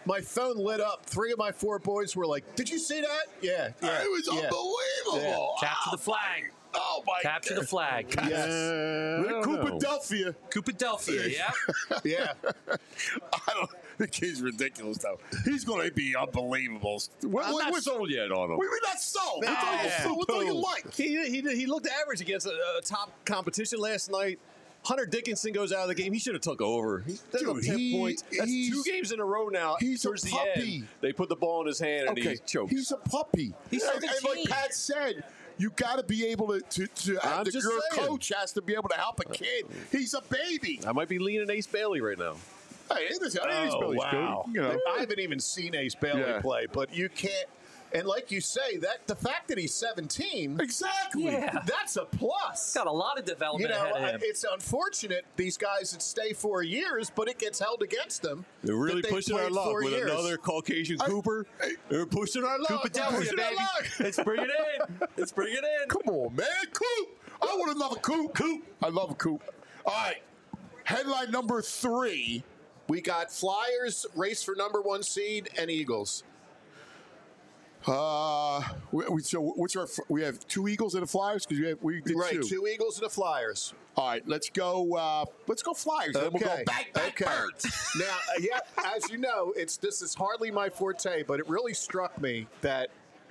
my phone lit up. 3 of my 4 boys were like, "Did you see that?" Yeah. It was unbelievable. Capture the flag. Oh my Capture the flag. Coopadelphia. Coopadelphia, yeah. Yeah. The kid's ridiculous, though. He's going to be unbelievable. I'm not What's sold yet on him. We're not sold. What do you like? He looked average against a top competition last night. Hunter Dickinson goes out of the game. He should have took over. That's Dude, up 10 points. That's 2 games in a row now. He's a Towards the puppy. end, they put the ball in his hand and he chokes. He's a puppy. He's and like 17. Pat said, you got to be able to I'm just your saying. coach has to be able to help a kid. He's a baby. I might be leaning Ace Bailey right now. Hey, Ace Bailey's wow. good. You know. I haven't even seen Ace Bailey Yeah. play, but you can't. And like you say, that the fact that he's 17, Exactly. Yeah. that's a plus. Got a lot of development You know, ahead of him. it's unfortunate these guys that stay 4 years, but it gets held against them. They're really that they pushing our played luck 4 with years. another Caucasian Cooper. They're pushing our luck. Coopadelphia, Pushing our baby. luck. Let's bring it in. Let's bring it in. Come on, man. Coop. I want another Coop. I love a Coop. All right. Headline number 3. We got Flyers, race for number 1 seed, and Eagles. So what's our? We have 2 Eagles and the Flyers because we did Right, 2. 2 Eagles and the Flyers. All right, let's go. Let's go Flyers. Then we'll go back birds. Now, yeah, as you know, this is hardly my forte, but it really struck me that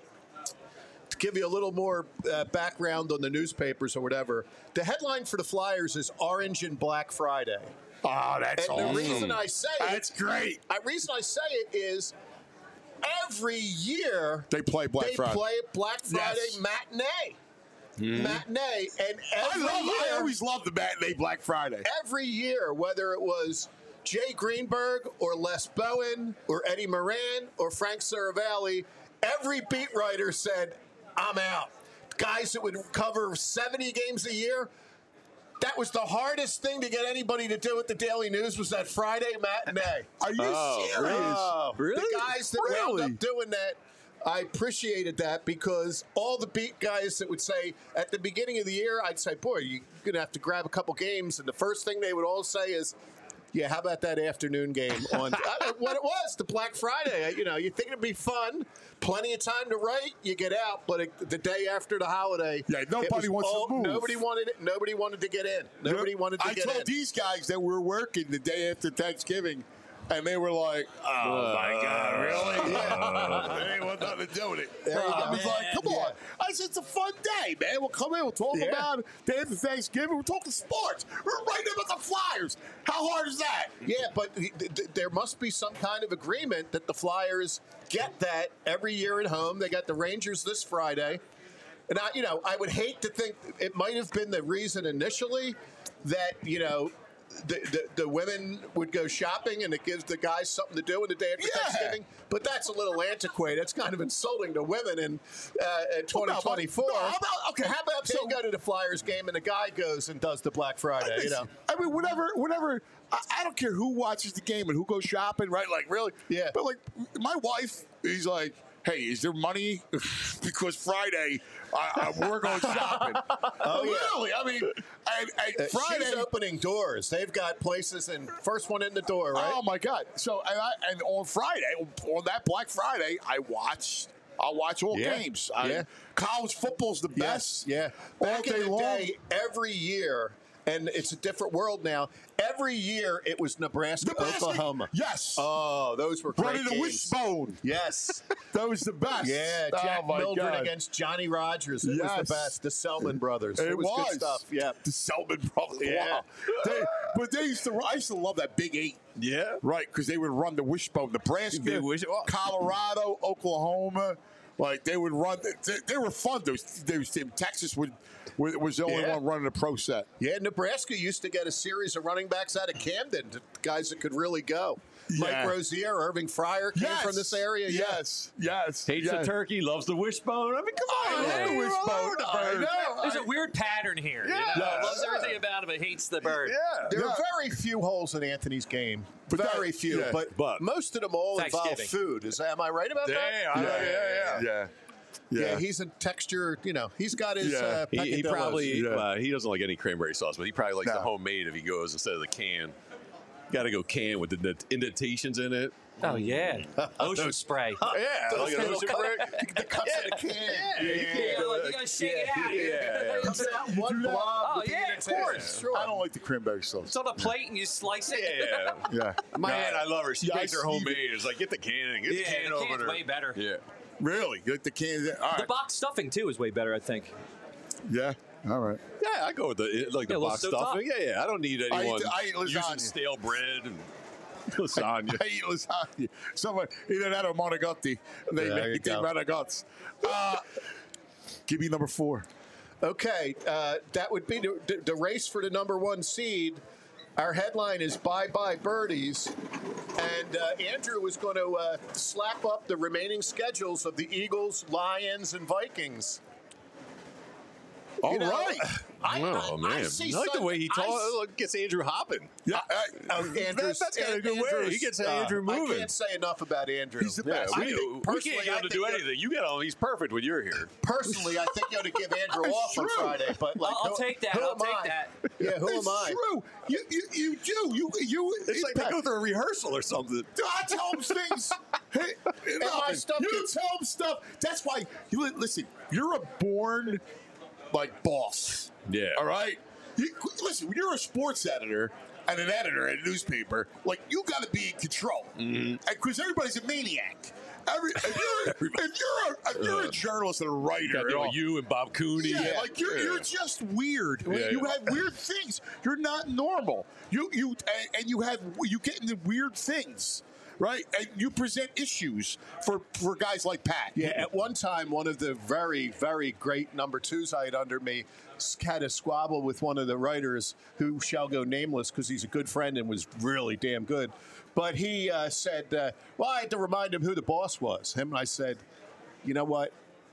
to give you a little more background on the newspapers or whatever, the headline for the Flyers is Orange and Black Friday. Oh, that's And awesome. the reason I say That's great. The reason I say it is every year They play Black Friday. They play Black Friday Yes. matinee. Matinee. And I always love the matinee Black Friday. every year, whether it was Jay Greenberg or Les Bowen or Eddie Moran or Frank Saravalli, every beat writer said, I'm out. Guys that would cover 70 games a year, that was the hardest thing to get anybody to do at the Daily News was that Friday matinee. Are you serious? Really? The guys that wound up doing that, I appreciated that because all the beat guys that would say at the beginning of the year, I'd say, boy, you're going to have to grab a couple games. And the first thing they would all say is, yeah, how about that afternoon game on what it was, the Black Friday? You think it'd be fun, plenty of time to write, you get out, but the day after the holiday, Yeah, nobody wants to move. Nobody wanted it. Nobody wanted to get in. Nobody wanted to I get in. told these guys that we're working the day after Thanksgiving, and they were like, "Oh my God, really?" Yeah. They didn't want nothing to do with it. I was like, "Come on!" I said, "It's a fun day, man. We'll come in. We'll talk about it. Day after Thanksgiving. We're talking sports. We're writing about the Flyers. How hard is that?" Yeah, but there must be some kind of agreement that the Flyers get that every year at home. They got the Rangers this Friday. And, I would hate to think it might have been the reason initially that, the women would go shopping and it gives the guys something to do in the day after Thanksgiving. But that's a little antiquated. It's kind of insulting to women in 2024. How about they go to the Flyers game and the guy goes and does the Black Friday, I mean, whenever I don't care who watches the game and who goes shopping, right? Like, really? Yeah. But, like, my wife, he's like, hey, is there money? Because Friday, we're going shopping. Really? I mean, and Friday. She's opening doors. They've got places and first one in the door, right? Oh, my God. So, and on Friday, on that Black Friday, I'll watch all games. College football's the best. Yeah. All Back day in the long. day, every year, and it's a different world now, every year it was Nebraska. Oklahoma. Yes. Oh, those were great Running the games. wishbone. Yes. That was the best. Yeah, Jack Oh, my Mildred God. against Johnny Rogers. It was Yes. the best. The Selman brothers. It was good stuff. Yeah. The Selman brothers. Yeah. Wow. I used to love that Big 8. Yeah. Right, because they would run the wishbone. Nebraska, Colorado, Oklahoma. Like, they would run. They were fun. Those teams. Texas was the only one running a pro set. Yeah, Nebraska used to get a series of running backs out of Camden, guys that could really go. Mike Rozier, Irving Fryer came from this area. Yes. Hates the turkey, loves the wishbone. I mean, come on. I love the wishbone. I know. There's a weird pattern here. Yeah. You know? Loves everything about it, but hates the bird. Yeah. There are very few holes in Anthony's game. Very few. Yeah. But most of them all involve Thanksgiving. food. Am I right about that? Yeah, he's a texture, he's got his He peccadillos. probably he doesn't like any cranberry sauce, but he probably likes the homemade if he goes instead of the can. Got to go can with the indentations in it. Oh yeah, ocean spray. Yeah, like an ocean break. The cuts in a can. You gotta shake it out. Comes out one blob. Oh with the yeah, of invitation. course. Sure. I don't like the cranberry sauce. It's on a plate and you slice it. Yeah. Yeah. My aunt, I love her. She Yeah, makes her I see homemade. It's like, get the can. Get the Yeah, can the over can's there. way better. Yeah. Really? Get the cans. All The right. box stuffing too is way better, I think. Yeah. All right. Yeah, I go with the Yeah, the a little box stovetop. stuffing. Yeah. I don't need anyone I eat using lasagna. stale bread and lasagna. I eat lasagna. Someone, either that or manicotti. They There you make go. manicotti. Give me number 4. Okay, that would be the race for the number 1 seed. Our headline is Bye Bye Birdies. And Andrew was going to slap up the remaining schedules of the Eagles, Lions, and Vikings. All You know, right. Oh, man. see I like the way he I talks. Gets Andrew hopping. Yeah. Andrew's, That's kind of a good way. He gets Andrew I moving. can't say enough about Andrew. He's the Yeah, best. we personally, can't get I him to think do that- anything. You get him. He's perfect when you're here. Personally, I think you ought to give Andrew It's off on true. Friday. But like, I'll take that. who I'll am take I? that. Yeah, who It's am I? true. You do. It's like they go through a rehearsal or something. I tell him things. Hey, my stuff you gets- tell him stuff. That's why listen. You're a born like boss. Yeah. All right. Listen, when you're a sports editor and an editor at a newspaper, like you got to be in control, because everybody's a maniac. If you're a journalist and a writer, Got to at deal all, with you and Bob Cooney. yeah, like you're just weird. Yeah, You yeah. have weird things. You're not normal. You get into weird things, right? And you present issues for guys like Pat. Yeah, at one time, one of the very, very great number 2s I had under me had a squabble with one of the writers who shall go nameless because he's a good friend and was really damn good. But he said, well, I had to remind him who the boss was. Him and I said, you know what?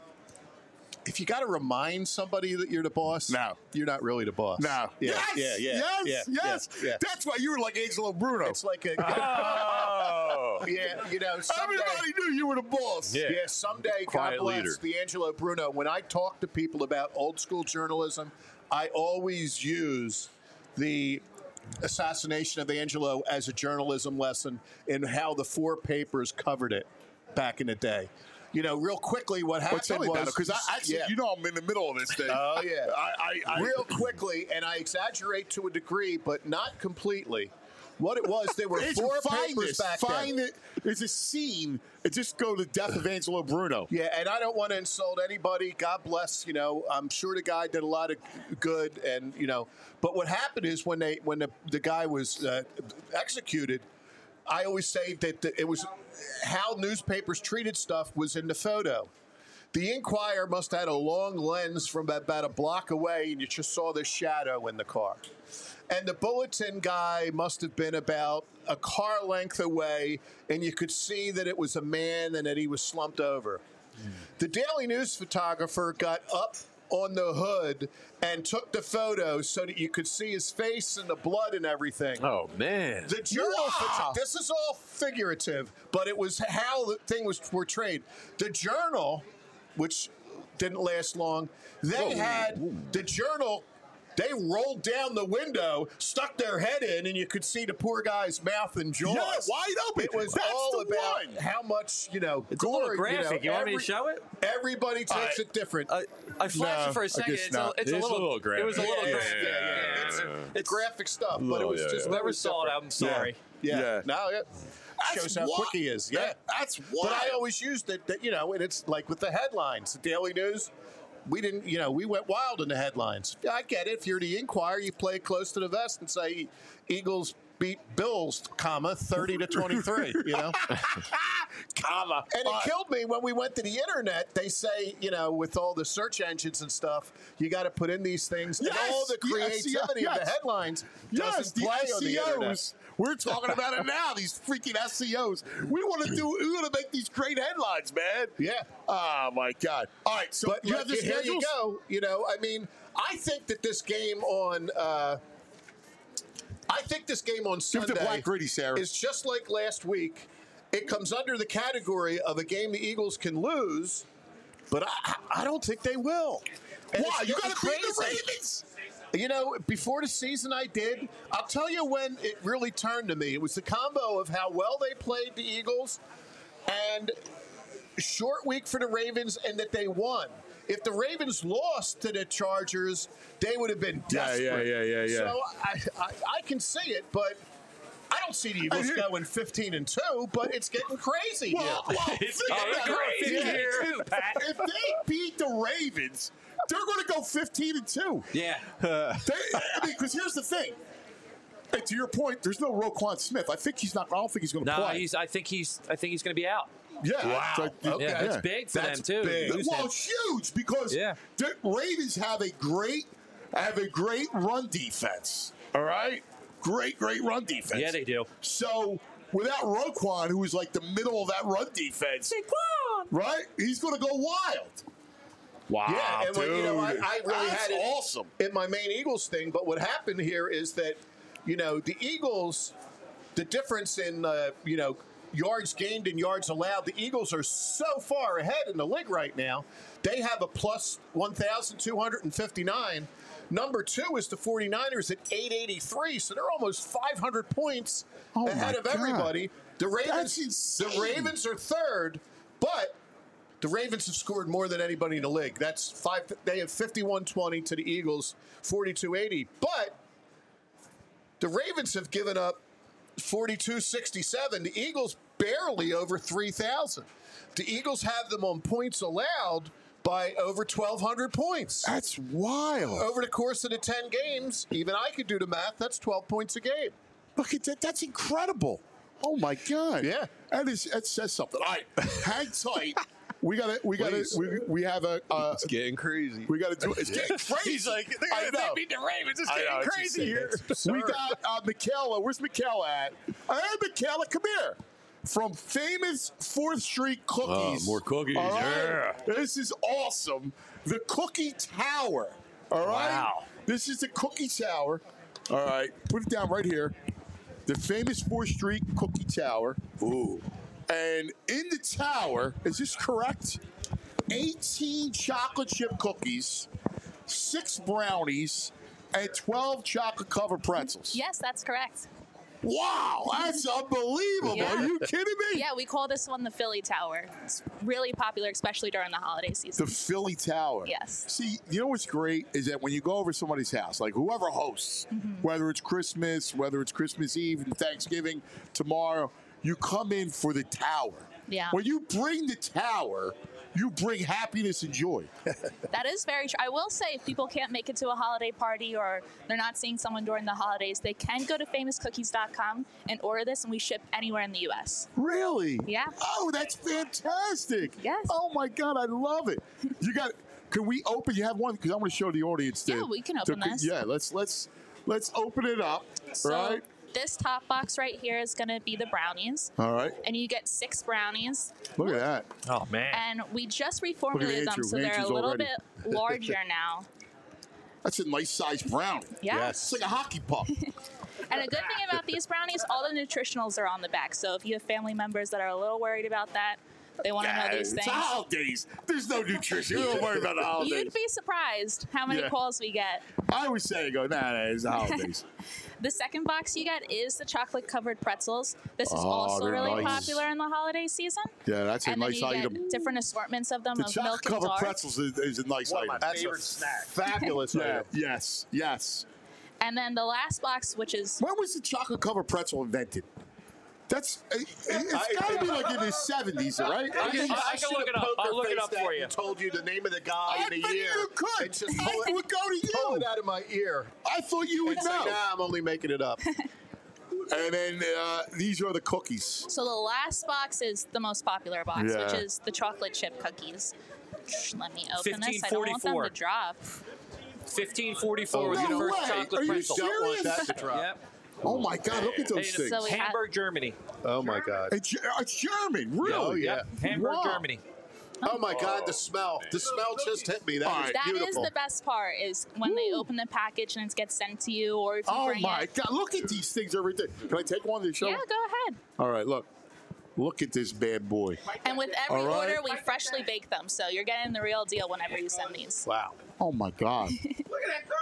If you got to remind somebody that you're the boss, No. you're not really the boss. No. Yeah, Yes. yeah. That's why you were like Angelo Bruno. It's like a, Oh. yeah, you know, someday, Everybody knew you were the boss. Yeah. Yeah, someday, Quiet God bless leader. the Angelo Bruno. When I talk to people about old school journalism, I always use the assassination of Angelo as a journalism lesson in how the 4 papers covered it back in the day. You know, real quickly, what happened Tell me was about it, because I actually, yeah. you know, I'm in the middle of this thing. Oh yeah. I Real quickly, and I exaggerate to a degree, but not completely. What it was, there were Andrew, 4 find papers this. back Find then. it. There's a scene. It just go to the death of Angelo Bruno. Yeah, and I don't want to insult anybody. God bless, you know. I'm sure the guy did a lot of good, and you know. But what happened is when the guy was executed, I always say that it was how newspapers treated stuff was in the photo. The Inquirer must have had a long lens from about a block away, and you just saw the shadow in the car. And the Bulletin guy must have been about a car length away, and you could see that it was a man and that he was slumped over. The Daily News photographer got up on the hood and took the photo so that you could see his face and the blood and everything. Oh, man. The journal, Wow. this is all figurative, but it was how the thing was portrayed. The Journal, which didn't last long, they had the Journal. They rolled down the window, stuck their head in, and you could see the poor guy's mouth and jaws. Yeah, wide open. It was That's all the about one. how much, you know, It's a gore, little graphic. You want me to show it? Everybody takes it different. I flashed No, it for I a second. guess It's not. a It's a little little graphic. It was a little Yeah, graphic. yeah. It's graphic stuff, but it Little, was yeah, just yeah. very Whoever saw it, different. I'm sorry. Yeah. Yeah. No, yeah. Shows how quick he is. Yeah. That's But wild. I always used it, that, you know, and it's like with the headlines, the Daily News. We didn't, you know, we went wild in the headlines. Yeah, I get it. If you're the Inquirer, you play it close to the vest and say Eagles beat Bills, 30-23, you know? Comma. And it killed me when we went to the internet. They say, you know, with all the search engines and stuff, you got to put in these things. Yes, and all the creativity of the yes. headlines Yes, doesn't the play on the internet. SEOs. We're talking about it now. These freaking SEOs. We want to make these great headlines, man. Yeah. Oh my God. All right. So But you have the here you schedules? go. You know, I mean, I think that this game on Give the Sunday black gritty, Sarah. is just like last week. It comes under the category of a game the Eagles can lose, but I don't think they will. And Why? it's You getting got to beat the crazy. Ravens. You know, before the season I did. I'll tell you when it really turned to me. It was the combo of how well they played the Eagles and short week for the Ravens and that they won. If the Ravens lost to the Chargers, they would have been desperate. Yeah. So I can see it, but I don't see the Eagles going 15-2, but it's getting crazy It's crazy here, too, Pat. If they beat the Ravens, they're going to go 15-2. Yeah. Because here's the thing. And to your point, there's no Roquan Smith. I don't think he's going to No, play. I think he's going to be out. Yeah. Wow. Okay. Yeah, that's big for them too. big. Lose Well, him. it's huge because Yeah. the Ravens have a great run defense. All right, great run defense. Yeah, they do. So without Roquan, who is like the middle of that run defense, right? He's going to go wild. Wow, Yeah, and when, you know, I really that's had it awesome. in my main Eagles thing. But what happened here is that, you know, the Eagles, the difference in, yards gained and yards allowed, the Eagles are so far ahead in the league right now. They have a plus 1,259. Number 2 is the 49ers at 883, so they're almost 500 points ahead my of God. everybody. The That's Ravens, insane. are third, but the Ravens have scored more than anybody in the league. They have 51-20 to the Eagles, 42-80. But the Ravens have given up 42-67. The Eagles barely over 3,000. The Eagles have them on points allowed by over 1,200 points. That's wild. Over the course of the 10 games, even I could do the math, that's 12 points a game. Look at that. That's incredible. Oh my God. Yeah. That says something. All right, hang tight. We have a. It's getting crazy. We got to do it. It's getting crazy. He's like, I know. they beat the Ravens. It's I know, getting it's crazy here. We got Michaela. Where's Michaela at? Hey, Michaela, come here. From famous 4th Street Cookies. more cookies, All right? yeah. This is awesome. The Cookie Tower. All right? Wow. This is the Cookie Tower. All right. Put it down right here. The famous 4th Street Cookie Tower. Ooh. And in the tower, is this correct? 18 chocolate chip cookies, 6 brownies, and 12 chocolate covered pretzels. Yes, that's correct. Wow, that's unbelievable. Yeah. Are you kidding me? Yeah, we call this one the Philly Tower. It's really popular, especially during the holiday season. The Philly Tower. Yes. See, you know what's great is that when you go over somebody's house, like whoever hosts, whether it's Christmas, whether it's Christmas Eve and Thanksgiving tomorrow, you come in for the tower. Yeah. When you bring the tower, you bring happiness and joy. That is very true. I will say, if people can't make it to a holiday party or they're not seeing someone during the holidays, they can go to famouscookies.com and order this, and we ship anywhere in the U.S. Really? Yeah. Oh, that's fantastic. Yes. Oh my God, I love it. You got. Can we open? You have one because I'm going to show the audience. Yeah, we can open this. Yeah, let's open it up. So right. this top box right here is going to be the brownies. All right. And you get 6 brownies. Look at that. Oh, man. And we just reformulated them, Andrew. so they're Andrew's a little already. bit larger now. That's a nice sized brownie. Yeah. It's like a hockey puck. And a good thing about these brownies, all the nutritionals are on the back. So if you have family members that are a little worried about that, they want to know these It's things. holidays. There's no nutrition. You don't worry about the holidays. You'd be surprised how many Yeah. calls we get. I always say, nah, it's the holidays. The second box you get is the chocolate covered pretzels. This is Oh, also they're really nice. popular in the holiday season. Yeah, that's a And then nice you item. get different assortments of them The of milk chocolate and covered dark. pretzels is a nice item. That's a fabulous Yeah, item. yes. And then the last box, which is When was the chocolate covered pretzel invented? It's got to be like in the 70s, right? I can look it up. I'll look it up for you. And told you the name of the guy I and the bet year. you could. And just I pull would go to pull you. it out of my ear. I thought you would And say, know. nah, I'm only making it up. And then these are the cookies. so the last box is the most popular box, Yeah. which is the chocolate chip cookies. Let me open this. I don't want them 1544. to drop. 1544 was no the first way. chocolate Are you pretzel. Don't want Serious? that to drop. Yep. Oh my God! Look at those Hey, things. So we have- Hamburg, Germany. Oh, my God. It's German, really? Oh, yeah. Yep. Hamburg, Wow. Germany. Oh, my God, the smell. The smell just hit me. That All is right. That is beautiful. the best part, is when they open the package and it gets sent to you, or if you Oh bring my it. God! Look at these things every day. Can I take one to show? Yeah, go ahead. All right, look at this bad boy. And with every All right. order, we freshly bake them, so you're getting the real deal whenever you send these. Wow. Oh my God! Look at that cookie.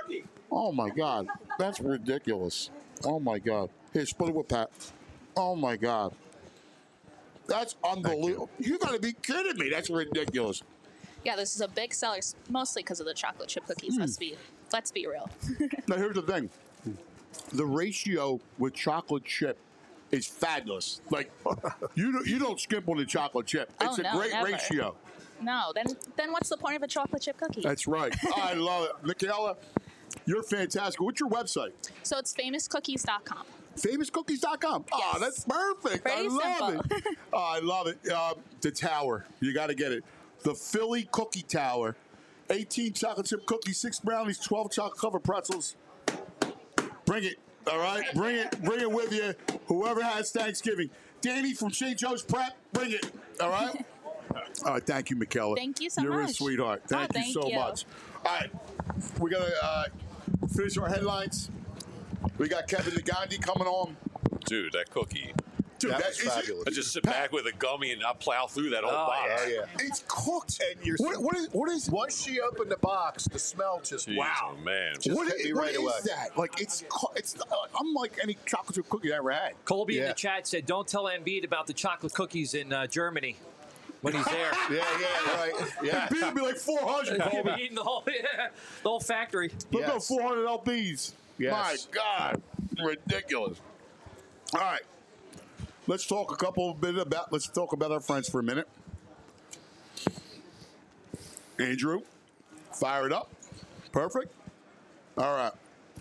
Oh, my God. That's ridiculous. Oh, my God. Here, split it with Pat. Oh, my God. That's unbelievable. You got to be kidding me. That's ridiculous. Yeah, this is a big seller, mostly because of the chocolate chip cookies. Let's be real. Now, here's the thing. The ratio with chocolate chip is fabulous. Like, you don't skimp on the chocolate chip. It's a great never. ratio. No, then what's the point of a chocolate chip cookie? That's right. I love it. Michaela, you're fantastic. What's your website? So it's famouscookies.com. Famouscookies.com. Yes. Oh, that's perfect. Pretty I love simple. it. Oh, I love it. The tower. You got to get it. The Philly Cookie Tower. 18 chocolate chip cookies, 6 brownies, 12 chocolate covered pretzels. Bring it. All right? Bring it with you. Whoever has Thanksgiving. Danny from St. Joe's Prep, bring it. All right? All right, thank you, Michaela. Thank you so You're much. a sweetheart. Thank you so much. All right, we're going to finish our headlines. We got Kevin Nagandi coming on. Dude, that cookie. Dude, That was fabulous. I just sit back with a gummy and I'll plow through that whole box. Oh, yeah. It's cooked. And you're What is once she opened the box, the smell just Jeez, wow. oh, man. Just what hit is, me what right is away. that? Like it's unlike any chocolate chip cookie I ever had. Colby in Yeah. the chat said, "Don't tell Embiid about the chocolate cookies in Germany when he's there." Yeah, right. Yeah. It'd be like 400. He'll be eating the whole factory. Look Yes. at 400 LBs. Yes. My God, ridiculous. All right, let's talk Let's talk about our friends for a minute. Andrew, fire it up. Perfect. All right.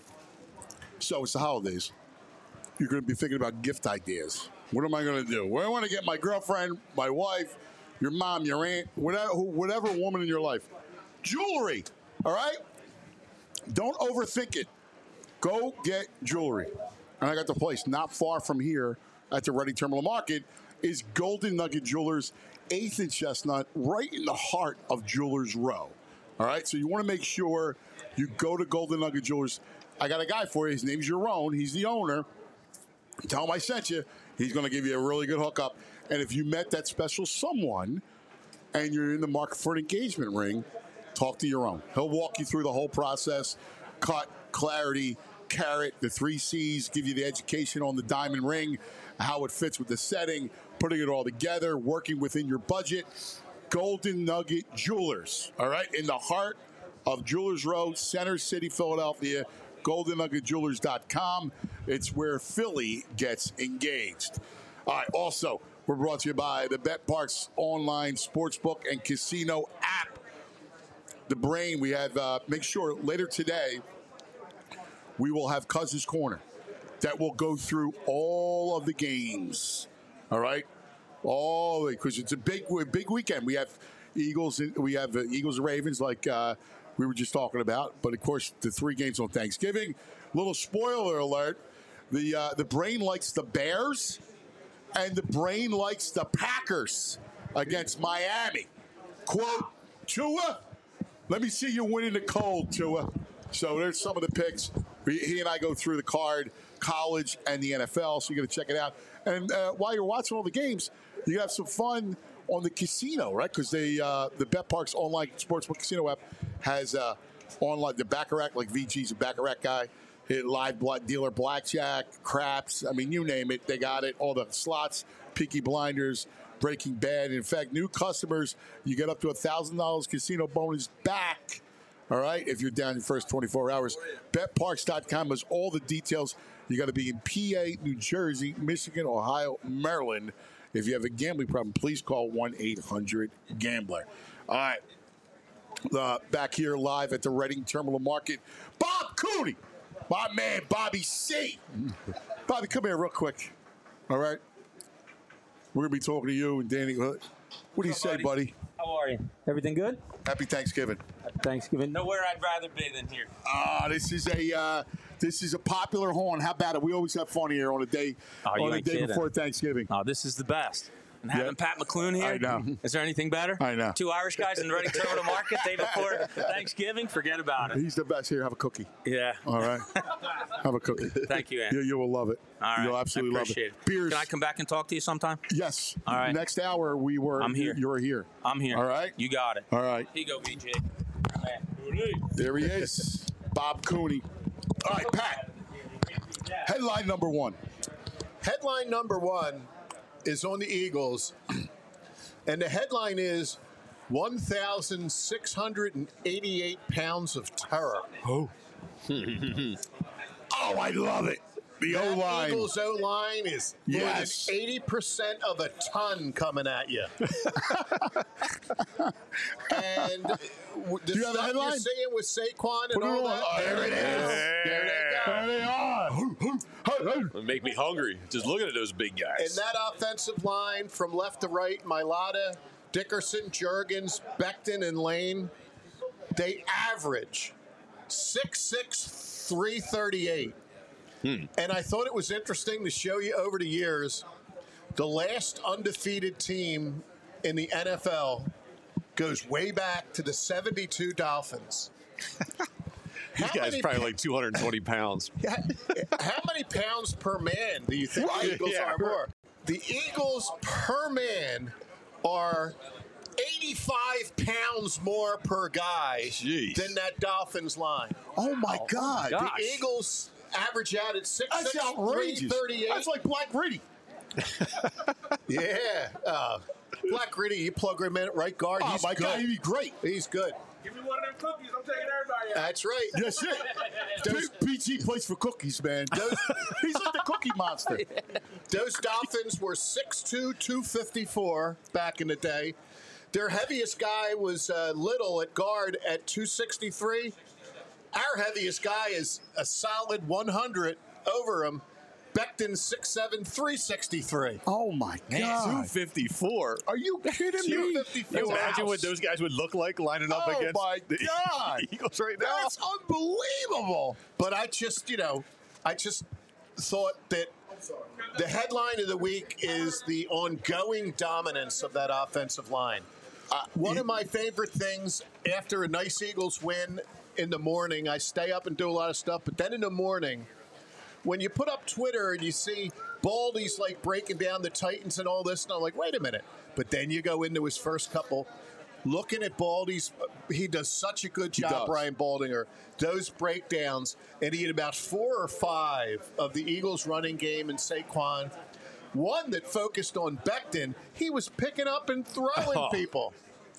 So it's the holidays. You're going to be thinking about gift ideas. What am I going to do? Where I want to get my girlfriend, my wife, your mom, your aunt, whatever woman in your life. Jewelry. All right? Don't overthink it. Go get jewelry. And I got the place not far from here at the Reading Terminal Market is Golden Nugget Jewelers, 8th and Chestnut, right in the heart of Jewelers Row. All right? So you want to make sure you go to Golden Nugget Jewelers. I got a guy for you. His name's Jerome. He's the owner. Tell him I sent you. He's going to give you a really good hookup. And if you met that special someone and you're in the market for an engagement ring, talk to Jerome. He'll walk you through the whole process, cut, clarity, carat, the 3 C's, give you the education on the diamond ring, how it fits with the setting, putting it all together, working within your budget. Golden Nugget Jewelers, all right, in the heart of Jewelers Row, Center City, Philadelphia, GoldenNuggetJewelers.com. It's where Philly gets engaged. All right, also, we're brought to you by the BetParks online sportsbook and casino app. The Brain, we have, make sure later today, we will have Cousins Corner that will go through all of the games. All right? All because it's a big weekend. We have Eagles and Ravens like we were just talking about. But, of course, the 3 games on Thanksgiving. Little spoiler alert. The Brain likes the Bears, and the Brain likes the Packers against Miami. Quote, Tua, let me see you win in the cold, Tua. So there's some of the picks. He and I go through the card, college and the NFL, so you're going to check it out. And while you're watching all the games, you have some fun on the casino, right? Because the BetParks online sportsbook casino app has online the Baccarat, like VG's a Baccarat guy. Live dealer blackjack, craps. I mean, you name it, they got it. All the slots, Peaky Blinders, Breaking Bad. In fact, new customers, you get up to $1,000 casino bonus back. All right, if you're down your first 24 hours. BetParks.com has all the details. You got to be in PA, New Jersey, Michigan, Ohio, Maryland. If you have a gambling problem, please call 1-800-GAMBLER. All right, back here live at the Reading Terminal Market, Bob Cooney, my man Bobby C. Bobby, come here real quick. All right, we're gonna be talking to you and Danny. What do you say, buddy? How are you? Everything good? Happy Thanksgiving. Happy Thanksgiving. Nowhere I'd rather be than here. This is a popular horn. How about it? We always have fun here on a day before Thanksgiving. Oh, this is the best. And having Pat McClune here, I know. Is there anything better? I know. 2 Irish guys in the Reading Terminal Market day before Thanksgiving. Forget about it. He's the best. Here, have a cookie. Yeah. All right. Have a cookie. Thank you, Andy. You will love it. All right. You'll absolutely I love appreciate it. Beers. Can I come back and talk to you sometime? Yes. All right. Next hour, I'm here. You're here. I'm here. All right. You got it. All right. Here you go, BJ. There he is. Bob Cooney. All right, Pat. Headline number one. Headline number one is on the Eagles, and the headline is 1,688 pounds of terror. Oh, I love it. The That O-line. Eagles O-line is more than Yes. 80% of a ton coming at you. And the Do you have the stuff headline? you're seeing with Saquon and Put it all on. that. Oh, there it is. There they go. There they are. It'll make me hungry just looking at those big guys. And that offensive line from left to right, Mailata, Dickerson, Juergens, Becton, and Lane, they average 6'6", 338. And I thought it was interesting to show you over the years, the last undefeated team in the NFL goes way back to the 72 Dolphins. These guys probably like 220 pounds. How many pounds per man do you think the Eagles Yeah. are more? The Eagles per man are 85 pounds more per guy Jeez. than that Dolphins line. Oh, my God. gosh. The Eagles average out at 6'6", That's outrageous. 338. That's like Black Gritty. Yeah. Black Gritty, you plug him in at right guard. Oh, He's my good. God, he'd be great. He's good. Give me one of them cookies. I'm taking everybody out. That's right. That's it. PG plays for cookies, man. He's like the Cookie Monster. Those Dolphins were 6'2", 254 back in the day. Their heaviest guy was Little at guard at 263. Our heaviest guy is a solid 100 over him. Becton 6'7", 363. Oh, my God. 254. Are you kidding me? 254. Can you imagine what those guys would look like lining up Oh, against my the God. Eagles right now? That's unbelievable. But I just thought that the headline of the week is the ongoing dominance of that offensive line. One of my favorite things after a nice Eagles win in the morning, I stay up and do a lot of stuff, but then in the morning, when you put up Twitter and you see Baldy's like breaking down the Titans and all this, and I'm like, wait a minute. But then you go into his first couple, looking at Baldy's, he does such a good job, does. Brian Baldinger, those breakdowns, and he had about 4 or 5 of the Eagles running game and Saquon. One that focused on Becton, he was picking up and throwing people.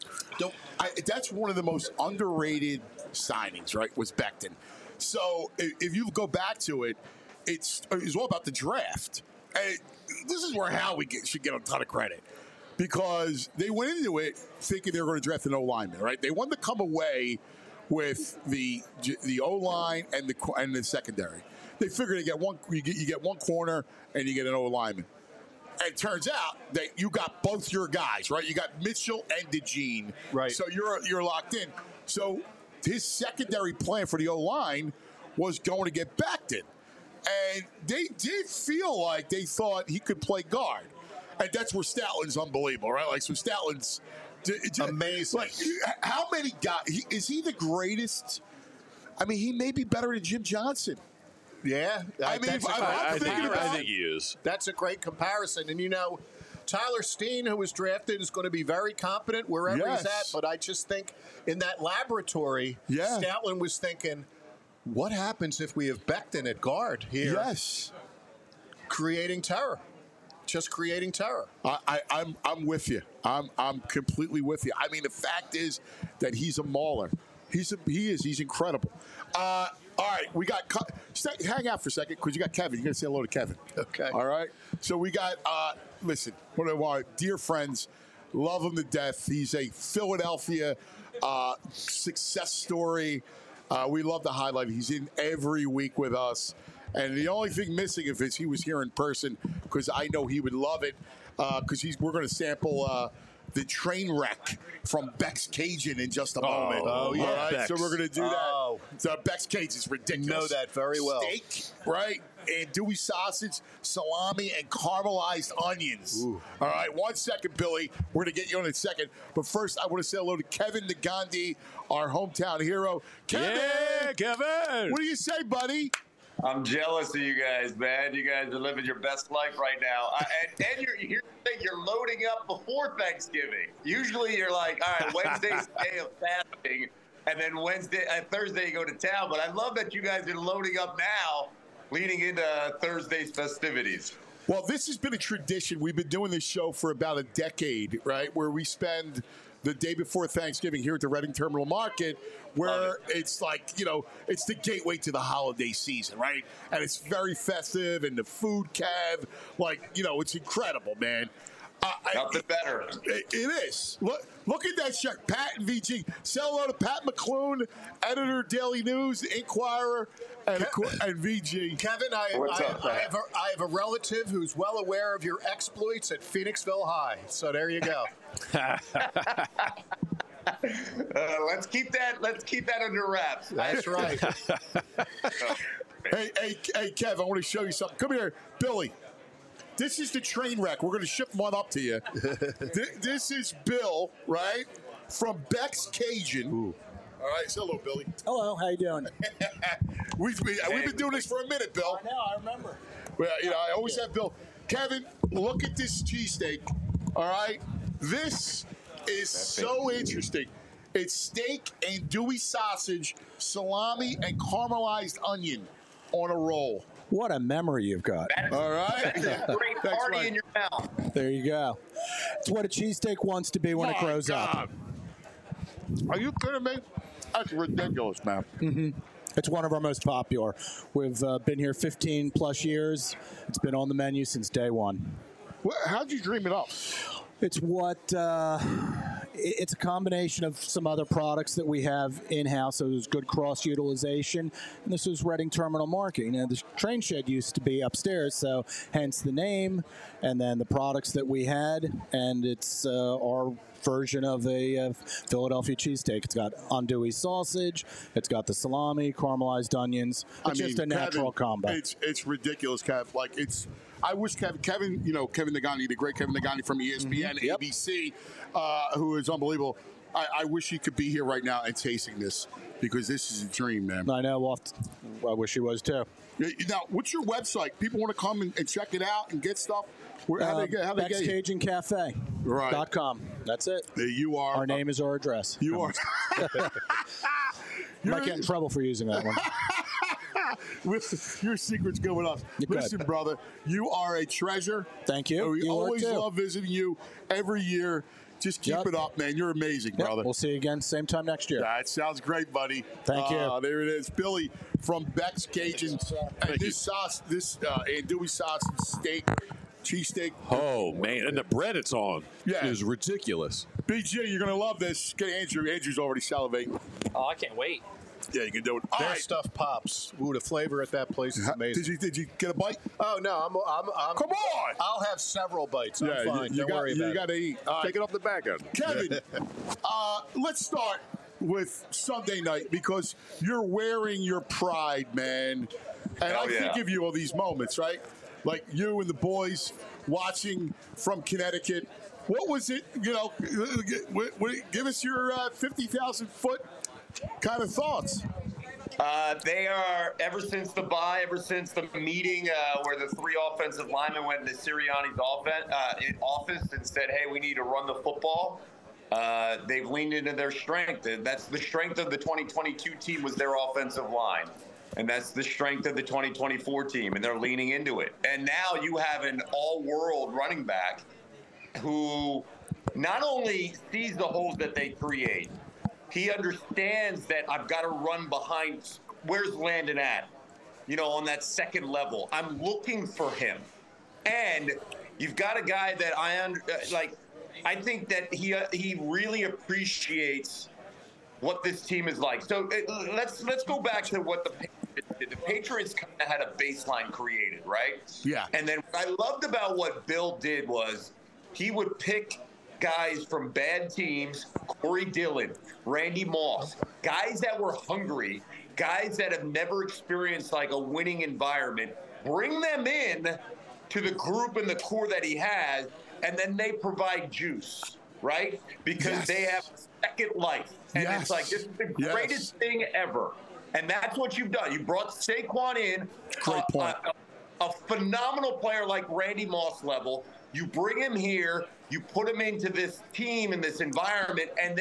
That's one of the most underrated signings, right, was Becton. So if you go back to it, it's all about the draft. And this is where Howie should get a ton of credit because they went into it thinking they were going to draft an O-lineman, right? They wanted to come away with the O-line and the secondary. They figured you get one corner and you get an O-lineman. And it turns out that you got both your guys, right? You got Mitchell and DeJean. Right. So you're locked in. So his secondary plan for the O-line was going to get Becton. And they did feel like they thought he could play guard. And that's where Statlin's unbelievable, right? Like, so Statlin's amazing. Like, how many guys? Is he the greatest? I mean, he may be better than Jim Johnson. Yeah. I mean, I think he is. That's a great comparison. And, Tyler Steen, who was drafted, is going to be very competent wherever he's at. But I just think in that laboratory, Statlin was thinking, what happens if we have Becton at guard here? Yes. Creating terror. Just creating terror. I'm with you. I'm completely with you. I mean, the fact is that he's a mauler. He's incredible. All right, we got hang out for a second because you got Kevin. You're gonna say hello to Kevin. Okay. All right. So we got listen, one of our dear friends, love him to death. He's a Philadelphia success story. We love to highlight it. He's in every week with us. And the only thing missing is he was here in person because I know he would love it because we're going to sample the train wreck from Beck's Cajun in just a moment. Oh, yeah. All right, Beck's. so we're going to do that. So Beck's Cajun is ridiculous. Know that very well. Steak, right? And Dewey sausage, salami, and caramelized onions. Ooh. All right, 1 second, Billy. We're going to get you in a second. But first, I want to say hello to Kevin Negandhi, our hometown hero. Kevin! Yeah, Kevin! What do you say, buddy? I'm jealous of you guys, man. You guys are living your best life right now. And you're loading up before Thanksgiving. Usually you're like, all right, Wednesday's the day of fasting. and then Thursday you go to town. But I love that you guys are loading up now, leading into Thursday's festivities. Well, this has been a tradition. We've been doing this show for about a decade, right? Where we spend the day before Thanksgiving here at the Reading Terminal Market, where it's like, it's the gateway to the holiday season, right? And it's very festive, and the food, Kev, it's incredible, man. Nothing better. It is. Look at that shirt. Pat and VG. Say hello to Pat McClune, editor, Daily News, Inquirer, and VG. Kevin, I have a relative who's well aware of your exploits at Phoenixville High. So there you go. Let's keep that under wraps. That's right. Hey, Kev, I want to show you something. Come here, Billy. This is the train wreck. We're going to ship one up to you. This is Bill, right, from Beck's Cajun. Ooh. All right, say hello, Billy. Hello, how you doing? We've been doing this for a minute, Bill. I know, I remember. Well, I always have Bill. Kevin, look at this cheesesteak. All right, this is so interesting. It's steak and andouille sausage, salami, and caramelized onion on a roll. What a memory you've got. All right. Great party in your mouth. There you go. It's what a cheesesteak wants to be when it grows up. Are you kidding me? That's ridiculous, man. Mm-hmm. It's one of our most popular. We've been here 15 plus years. It's been on the menu since day one. How'd you dream it up? It's it's a combination of some other products that we have in-house, so there's good cross-utilization. And this is Reading Terminal Market. The train shed used to be upstairs, so hence the name, and then the products that we had, and it's our version of a Philadelphia cheesesteak. It's got andouille sausage, it's got the salami, caramelized onions. It's just a natural combo. It's ridiculous, Kev. I wish Kevin Nagani, the great Kevin Nagani from ESPN, ABC, who is unbelievable. I wish he could be here right now and tasting this, because this is a dream, man. I know. I wish he was too. Now, what's your website? People want to come and check it out and get stuff. How they get Cajun Cafe. Right. .com. That's it. You are. Our name is our address. You are. You might get in trouble for using that one. With your secrets going up. Listen, brother, you are a treasure. Thank you. We always love visiting you every year. Just keep it up, man. You're amazing, brother. We'll see you again same time next year. That sounds great, buddy. Thank you. There it is. Billy from Beck's Cajun. And this andouille sausage steak, cheesesteak. Oh, man. And the bread it's on is ridiculous. BG, you're going to love this. Get Andrew. Andrew's already salivating. Oh, I can't wait. Yeah, you can do it. Their stuff pops. Ooh, the flavor at that place is amazing. Did you get a bite? Oh no, I'm come on. I'll have several bites. I'm fine. Don't worry about it. You got to eat. Take it off the back end. Kevin, let's start with Sunday night, because you're wearing your pride, man. And I think of you all these moments, right? Like you and the boys watching from Connecticut. What was it? Give us your 50,000-foot kind of thoughts. They are, ever since the bye, ever since the meeting where the three offensive linemen went into Sirianni's office and said, hey, we need to run the football, they've leaned into their strength. And that's the strength of the 2022 team, was their offensive line. And that's the strength of the 2024 team, and they're leaning into it. And now you have an all-world running back who not only sees the holes that they create, he understands that I've got to run behind. Where's Landon at? On that second level. I'm looking for him. And you've got a guy that I think that he really appreciates what this team is like. So let's go back to what the Patriots did. The Patriots kind of had a baseline created, right? Yeah. And then what I loved about what Bill did was he would pick guys from bad teams, Corey Dillon, Randy Moss, guys that were hungry, guys that have never experienced like a winning environment, bring them in to the group and the core that he has, and then they provide juice, right? Because they have a second life. And it's like, this is the greatest thing ever. And that's what you've done. You brought Saquon in, great point. A phenomenal player like Randy Moss level. You bring him here, you put him into this team, in this environment, and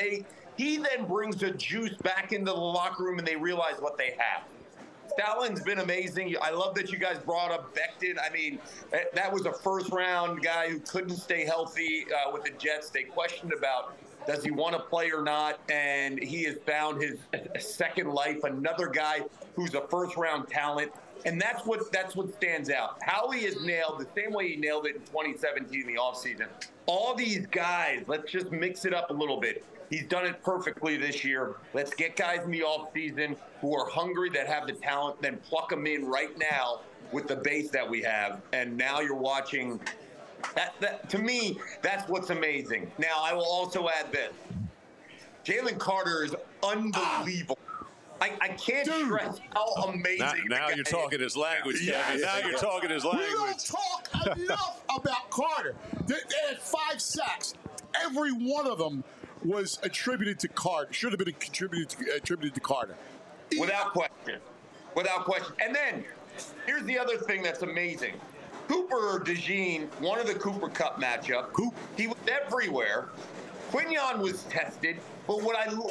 He then brings a juice back into the locker room, and they realize what they have. Stallin's been amazing. I love that you guys brought up Becton. I mean, that was a first-round guy who couldn't stay healthy with the Jets. They questioned about does he want to play or not, and he has found his second life. Another guy who's a first-round talent, and that's what stands out. Howie has nailed the same way he nailed it in 2017 in the offseason. All these guys, let's just mix it up a little bit. He's done it perfectly this year. Let's get guys in the offseason who are hungry, that have the talent, then pluck them in right now with the base that we have. And now you're watching. That to me, that's what's amazing. Now, I will also add this. Jalen Carter is unbelievable. I can't stress how amazing. Now you're talking his language, Kevin. Now you're talking his language. We don't talk enough about Carter. They had 5 sacks. Every one of them was attributed to Carter. Should have been attributed to Carter. Without question. Without question. And then, here's the other thing that's amazing. Cooper DeJean, one of the Cooper Cup matchup, he was everywhere. Quignon was tested, but what I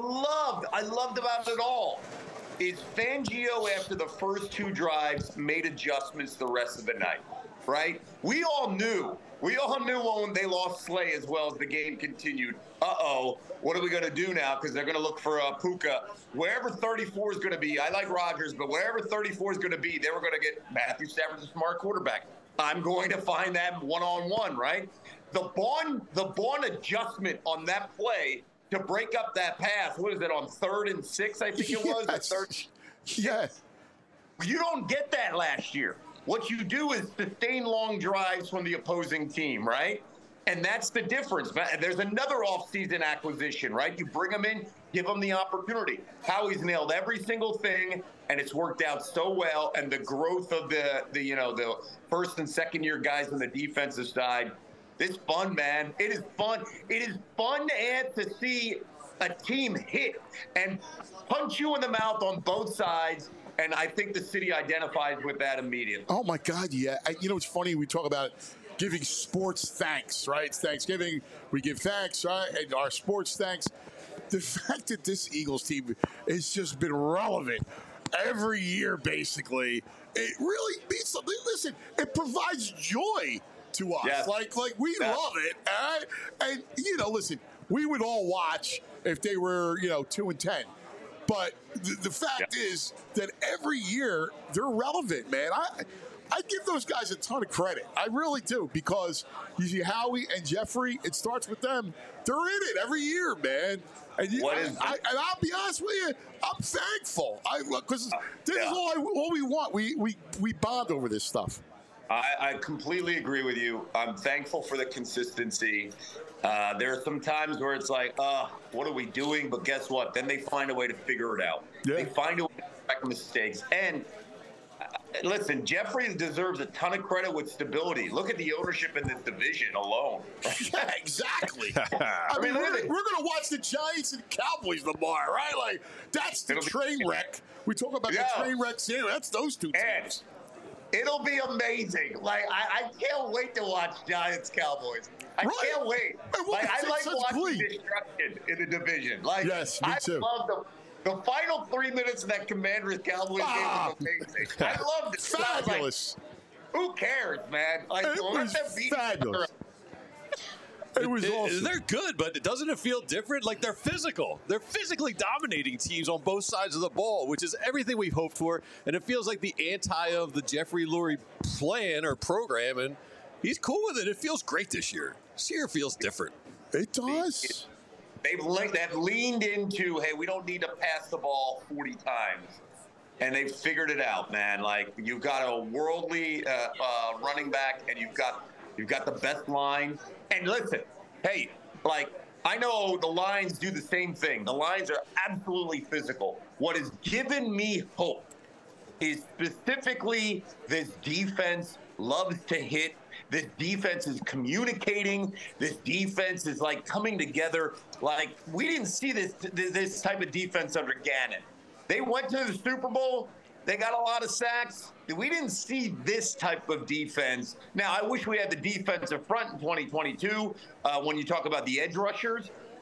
loved about it all is Fangio, after the first 2 drives, made adjustments the rest of the night, right? We all knew when they lost Slay as well as the game continued. What are we going to do now? Because they're going to look for Puka. Wherever 34 is going to be, I like Rodgers, but wherever 34 is going to be, they were going to get Matthew Stafford's a smart quarterback. I'm going to find that one-on-one, right? The Vaughn adjustment on that play to break up that pass, what is it, on 3rd and 6, I think it was? Yes. You don't get that last year. What you do is sustain long drives from the opposing team, right? And that's the difference. There's another offseason acquisition, right? You bring them in, give them the opportunity. Howie's nailed every single thing, and it's worked out so well. And the growth of the first and second year guys on the defensive side, it's fun, man. It is fun. It is fun to see a team hit and punch you in the mouth on both sides. And I think the city identifies with that immediately. Oh, my God, yeah. It's funny. We talk about giving sports thanks, right? It's Thanksgiving. We give thanks, right? And our sports thanks. The fact that this Eagles team has just been relevant every year, basically, it really means something. Listen, it provides joy to us. Yes. Like we love it. All right? And, listen, we would all watch if they were, 2-10. But the fact is that every year they're relevant, man. I give those guys a ton of credit. I really do, because you see Howie and Jeffrey, it starts with them. They're in it every year, man. And I'll be honest with you, I'm thankful. Because this is all we want. We bond over this stuff. I completely agree with you. I'm thankful for the consistency. There are some times where it's like, what are we doing? But guess what? Then they find a way to figure it out. Yeah. They find a way to correct mistakes. And listen, Jeffrey deserves a ton of credit with stability. Look at the ownership in this division alone. Yeah, exactly. I mean, we're going to watch the Giants and Cowboys tomorrow, right? Like, that's the train wreck. We talk about the train wrecks here. That's those two teams. It'll be amazing. Like, I can't wait to watch Giants Cowboys. I can't wait. I like watching destruction in the division. Like, yes, me too. I love the final 3 minutes of that Commanders-Cowboys game was amazing. I loved it. Fabulous. Like, who cares, man? Like, it was fabulous. It was awesome. They're good, but doesn't it feel different? Like, they're physical. They're physically dominating teams on both sides of the ball, which is everything we've hoped for. And it feels like the anti of the Jeffrey Lurie plan or program, and he's cool with it. It feels great this year. This year feels different. It does. They've leaned into, hey, we don't need to pass the ball 40 times. And they've figured it out, man. Like, you've got a worldly running back, and you've got the best line. And listen, hey, like, I know the Lions do the same thing. The Lions are absolutely physical. What has given me hope is specifically this defense loves to hit. This defense is communicating. This defense is, like, coming together. Like, we didn't see this type of defense under Gannon. They went to the Super Bowl. They got a lot of sacks. We didn't see this type of defense. Now, I wish we had the defensive front in 2022 when you talk about the edge rushers.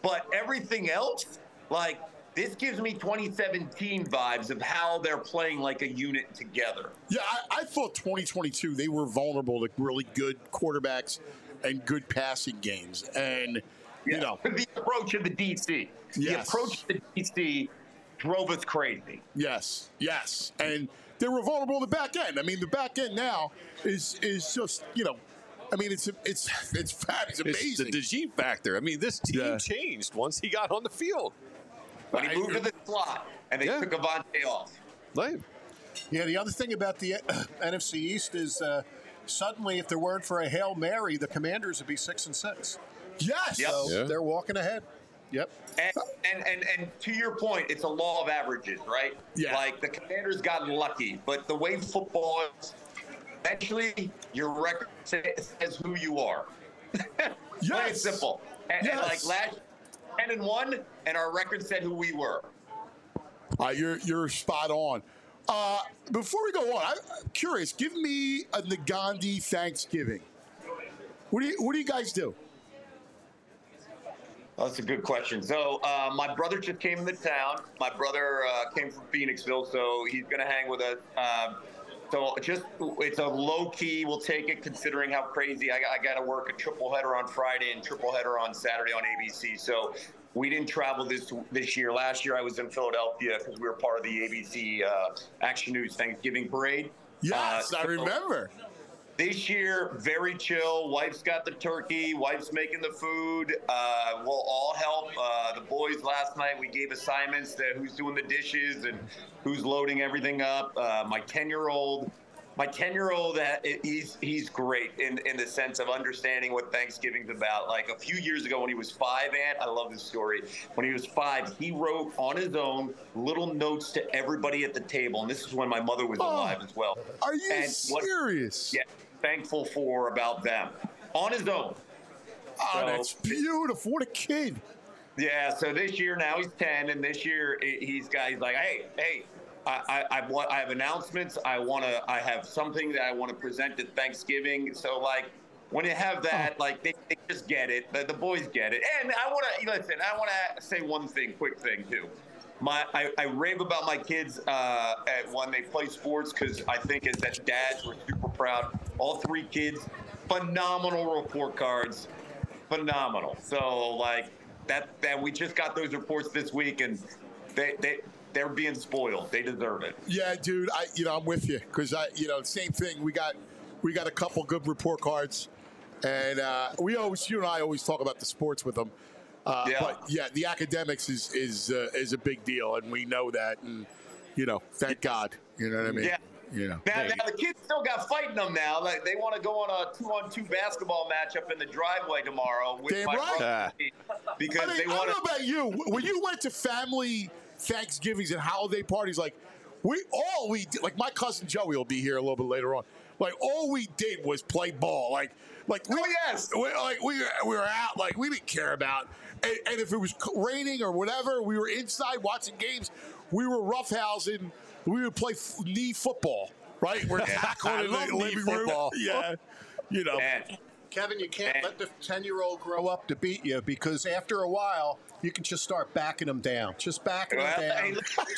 But everything else, like, this gives me 2017 vibes of how they're playing like a unit together. Yeah, I thought 2022 they were vulnerable to really good quarterbacks and good passing games, and you know the approach of the DC, the approach of the DC drove us crazy. Yes, and they were vulnerable in the back end. I mean, the back end now is just I mean, it's fat. It's amazing. It's the DeJean factor. I mean, this team changed once he got on the field. When he moved to the slot, and they took Avonte off. Yeah, the other thing about the NFC East is suddenly, if there weren't for a Hail Mary, the Commanders would be 6-6. Yes. So they're walking ahead. Yep. And to your point, it's a law of averages, right? Yeah. Like, the Commanders got lucky, but the way football is, eventually your record says who you are. Plain and simple. And like last 10-1, and our record said who we were. You're spot on. Before we go on, I'm curious. Give me a Nagandi Thanksgiving. What do you guys do? That's a good question. So my brother just came into town. My brother came from Phoenixville, so he's going to hang with us. So it's a low key. We'll take it, considering how crazy I got to work a triple header on Friday and triple header on Saturday on ABC. So we didn't travel this year. Last year I was in Philadelphia because we were part of the ABC Action News Thanksgiving Parade. Yes, I remember. This year, very chill. Wife's got the turkey. Wife's making the food. We'll all help. The boys last night, we gave assignments to who's doing the dishes and who's loading everything up. My 10-year-old, he's great in the sense of understanding what Thanksgiving's about. Like a few years ago when he was 5, I love this story. When he was 5, he wrote on his own little notes to everybody at the table. And this is when my mother was alive as well. Are you serious? Yeah. Thankful for about them on his own. Oh, that's beautiful. What a kid. Yeah, so this year now he's 10, and this year he's like, hey, I have announcements. I have something that I want to present at Thanksgiving. So like when you have that, like they just get it. The boys get it. And I want to say one quick thing too. I rave about my kids when they play sports because I think as dads we're super proud. All 3 kids, phenomenal report cards, phenomenal. So like that we just got those reports this week, and they're being spoiled. They deserve it. Yeah, dude. I'm with you because same thing. We got a couple good report cards, and you and I always talk about the sports with them. But yeah, the academics is a big deal, and we know that, and thank God. You know what I mean? Yeah. Now the kids still got fighting them now. Like they want to go on a 2-on-2 basketball matchup in the driveway tomorrow with my brother because they want. I don't know about you. When you went to family Thanksgivings and holiday parties, like we did, like my cousin Joey will be here a little bit later on. Like all we did was play ball. We were out. Like we didn't care about. And if it was raining or whatever, we were inside watching games. We were roughhousing. We would play knee football, right? We're tackling in the living room. Yeah, Kevin, you can't let the 10-year-old grow up to beat you because after a while, you can just start backing them down. Just backing them down. Hey,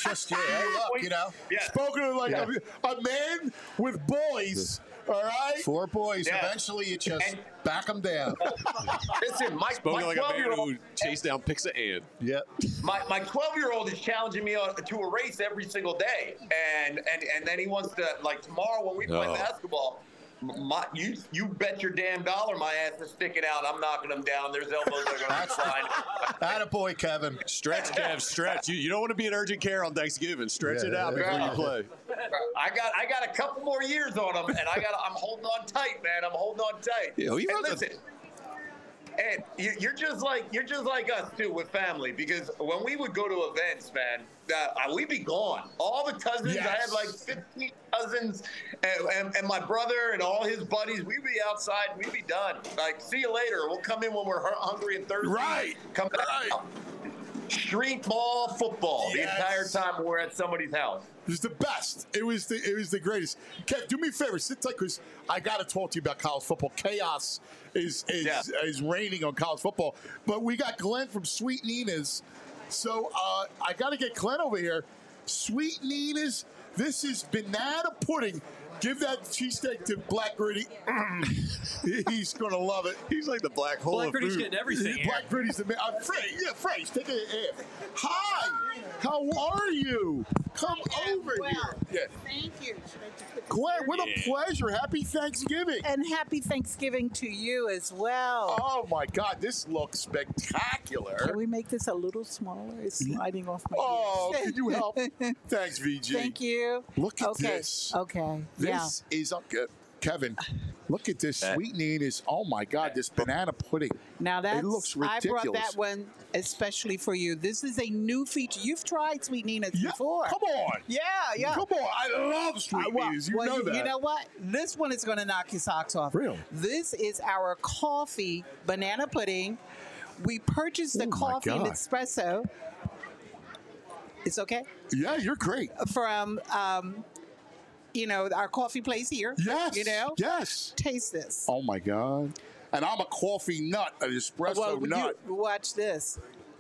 look, Spoken of like a man with boys. All right, 4 boys. Yeah. Eventually, you just back them down. Listen, my spoken like a man who chased down picks of Ann. Yep. My 12-year-old is challenging me to a race every single day, and then he wants to tomorrow when we play basketball. You bet your damn dollar my ass is sticking out. I'm knocking them down. There's elbows that are going to fly. Attaboy, Kevin. Stretch, Kev, stretch. You don't want to be in urgent care on Thanksgiving. Stretch it out before you play. I got a couple more years on them, and I'm holding on tight, man. I'm holding on tight. Yeah, listen. And you're just like us too with family because when we would go to events, man, we'd be gone. All the cousins, I had like 15 cousins, and my brother and all his buddies. We'd be outside. We'd be done. Like, see you later. We'll come in when we're hungry and thirsty. Right. Come back. street ball football the entire time we're at somebody's house. It was the best. It was the greatest. Kev, do me a favor, sit tight because I got to talk to you about college football. Chaos is reigning on college football. But we got Glenn from Sweet Nina's, so I got to get Glenn over here. Sweet Nina's. This is banana pudding. Give that cheesesteak to Black Gritty. He's going to love it. He's like the black hole Black of Gritty's food. getting everything here. Black Gritty's the man. Fresh, take a Hi. How are you? Come over here. Yeah. Thank you. Glenn, what a pleasure. Happy Thanksgiving. And happy Thanksgiving to you as well. Oh, my God. This looks spectacular. Can we make this a little smaller? It's sliding off my ears. Can you help? Thanks, VG. Thank you. Look at this. Okay. This is Kevin. Look at this. Sweet Nina's. Oh, my God. This banana pudding. Now that's, it looks ridiculous. I brought that one especially for you. This is a new feature. You've tried Sweet Nina's before. Come on. Yeah. Come on. I love Sweet Nina's. You know that. You know what? This one is going to knock your socks off. Really? This is our coffee banana pudding. We purchased the coffee and espresso. It's okay? Yeah, you're great. From, our coffee place here. Yes. Yes. Taste this. Oh, my God. And I'm a coffee nut, an espresso nut. Watch this.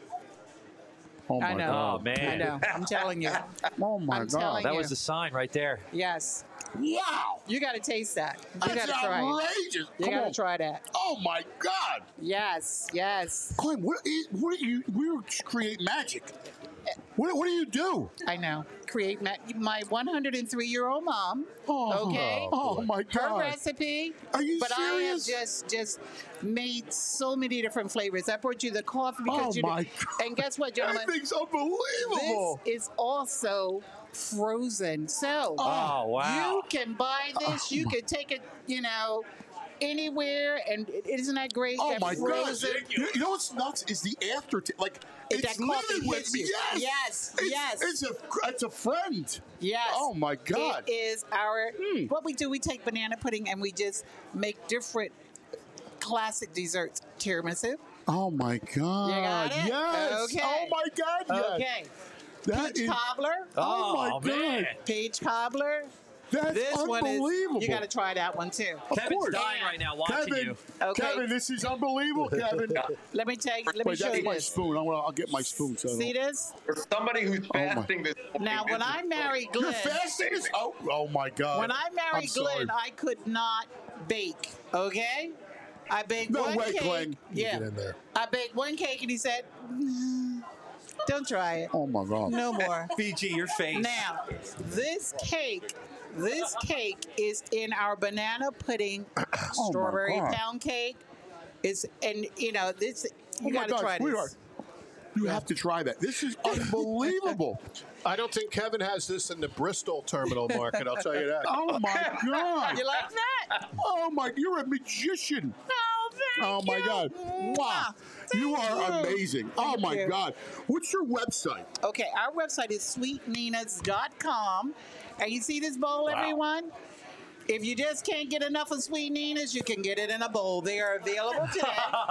Oh, my God. Oh, man. I know. I'm telling you. Oh, my God. That was the sign right there. Yes. Wow. You got to taste that. You That's got to try it. outrageous. You got to try that. Oh, my God. Yes. Glenn, what do you create magic? What do you do? I know. Create my 103-year-old mom. Okay. Oh my God. Her recipe. Are you but serious? I have just made so many different flavors. I brought you the coffee because my God. And guess what, gentlemen? That thing's unbelievable. This is also frozen. So you can buy this. You can take it, anywhere, and isn't that great? Oh that my frozen, God! You know what's nuts is the aftertaste. Like it's living with me. Yes. It's a friend. Yes. Oh my God! It is our. What we do, we take banana pudding and we just make different classic desserts. Tiramisu. Oh my God! You got it? Yes. Okay. Oh my God! Yes. Okay. That Peach cobbler. Oh my God! Peach cobbler. That's this unbelievable. One is, you got to try that one too. Kevin's dying right now watching you. Okay. Kevin, this is unbelievable, Kevin. Let me show you that's my this. spoon. I'll get my spoon. So See this? For somebody who's fasting this Now, when I married Glenn, you're fasting this? Oh my God! When I married Glenn, I could not bake. Okay, I baked one way, cake. Glenn. Yeah, Get in there. I baked one cake, and he said, "Don't try it. Oh my God! No more." VG, your face. Now, this cake is in our banana pudding strawberry pound cake. This you got to try this. You have to try that. This is unbelievable. I don't think Kevin has this in the Bristol terminal market. I'll tell you that. Oh my God! You like that? Oh my! You're a magician. Oh my God! Wow! You are amazing. Oh my God! What's your website? Okay, our website is sweetninas.com. And you see this bowl, everyone? If you just can't get enough of Sweet Nina's, you can get it in a bowl. They are available today.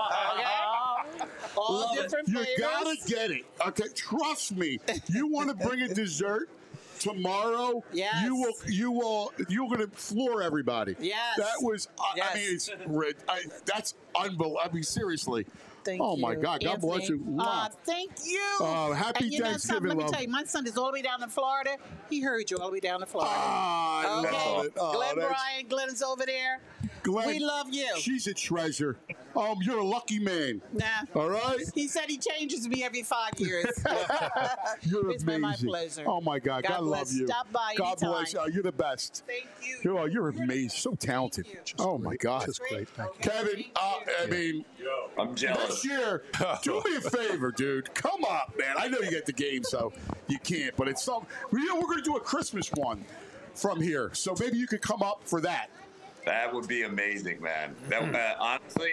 Okay? All different flavors. You gotta get it. Okay, trust me. You want to bring a dessert tomorrow? Yes. You're gonna floor everybody. Yes. That was. Yes. I mean, that's unbelievable. I mean, seriously. Thank oh you. my God! God bless you. Wow. Thank you. Happy and you Thanksgiving, know Let me love. tell you, my son is all the way down in Florida. He heard you all the way down in Florida. I love it. Glenn Bryan, Glenn is over there. Glenn, we love you. She's a treasure. You're a lucky man. Nah. All right. He said he changes me every 5 years. You're it's amazing. been my pleasure. Oh my God. God love you. Stop by God anytime. bless you. You're the best. Thank you. You're amazing. So talented. Oh my God. Just great. Kevin, I mean, I'm jealous. this year, do me a favor, dude. Come up, man. I know you get the game, so you can't. But it's some. We're going to do a Christmas one from here, so maybe you could come up for that. That would be amazing, man. That honestly,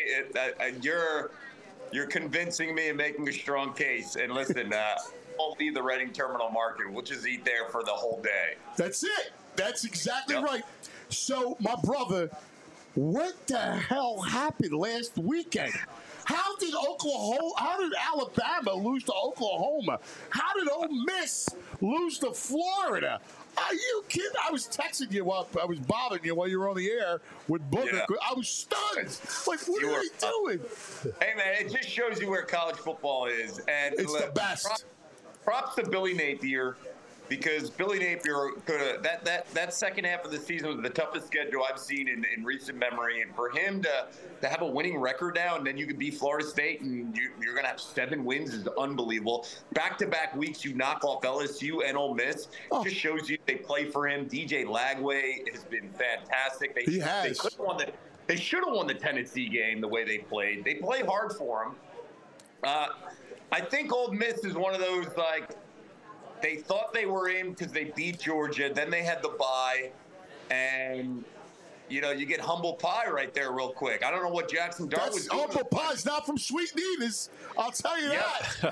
you're convincing me and making a strong case. And listen, we'll leave the Reading Terminal Market. We'll just eat there for the whole day. That's it. That's exactly right. So, my brother, what the hell happened last weekend? How did Oklahoma? How did Alabama lose to Oklahoma? How did Ole Miss lose to Florida? Are you kidding? I was texting you while I was bothering you while you were on the air with Booker. Yeah. I was stunned. Like, what are they doing? Hey, man, it just shows you where college football is. And it's the best. Props to Billy Napier, because Billy Napier could have that second half of the season was the toughest schedule I've seen in recent memory, and for him to have a winning record now, and then you could beat Florida State, and you're going to have 7 wins is unbelievable. Back-to-back weeks, you knock off LSU and Ole Miss. Just shows you they play for him. DJ Lagway has been fantastic. They should have won the Tennessee game the way they played. They play hard for him. I think Ole Miss is one of those, like, they thought they were in because they beat Georgia. Then they had the bye. And, you know, you get humble pie right there real quick. I don't know what Jackson Dart was doing. Humble pie's not from Sweet Nina's. I'll tell you that.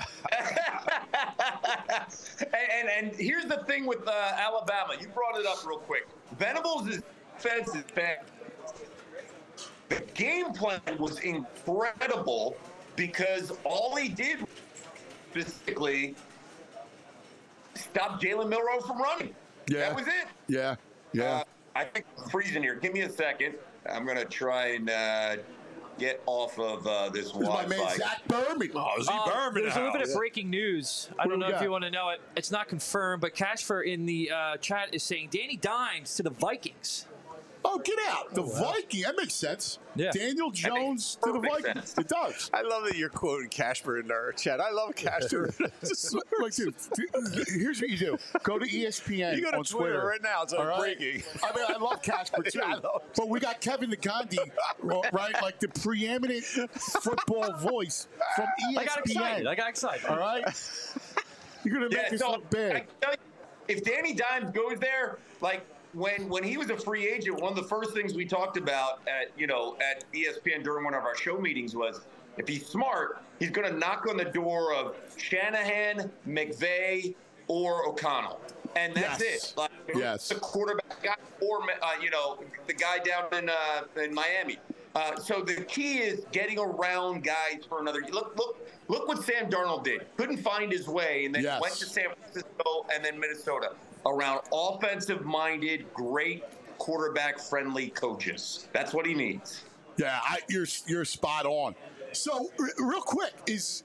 and here's the thing with Alabama. You brought it up real quick. Venables' defense is bad. The game plan was incredible because all he did specifically stop Jalen Milroe from running. Yeah. That was it. Yeah. I think I'm freezing here. Give me a second. I'm going to try and get off of this Wi-Fi. My man Zach Berman. There's a little bit of breaking news. I don't know if you want to know it. It's not confirmed, but Cashfer in the chat is saying Danny Dimes to the Vikings. Oh, get out. The Viking. That makes sense. Yeah. Daniel Jones to the Vikings. It does. I love that you're quoting Casper in our chat. I love Casper. Look, dude, here's what you do. Go to ESPN You go to on Twitter right now. It's like breaking. I mean, I love Casper, too. But we got Kevin the Gandhi, right? Like the preeminent football voice from ESPN. I got excited. All right? You're going to make this look bad. I tell you, if Danny Dimes goes there, like, when he was a free agent, one of the first things we talked about at ESPN during one of our show meetings was if he's smart, he's going to knock on the door of Shanahan, McVay, or O'Connell, and that's it. Like, the quarterback guy, or the guy down in Miami. So the key is getting around guys for another. Look what Sam Darnold did. Couldn't find his way, and then went to San Francisco and then Minnesota. Around offensive-minded, great quarterback-friendly coaches. That's what he needs. Yeah, you're spot on. So, real quick, is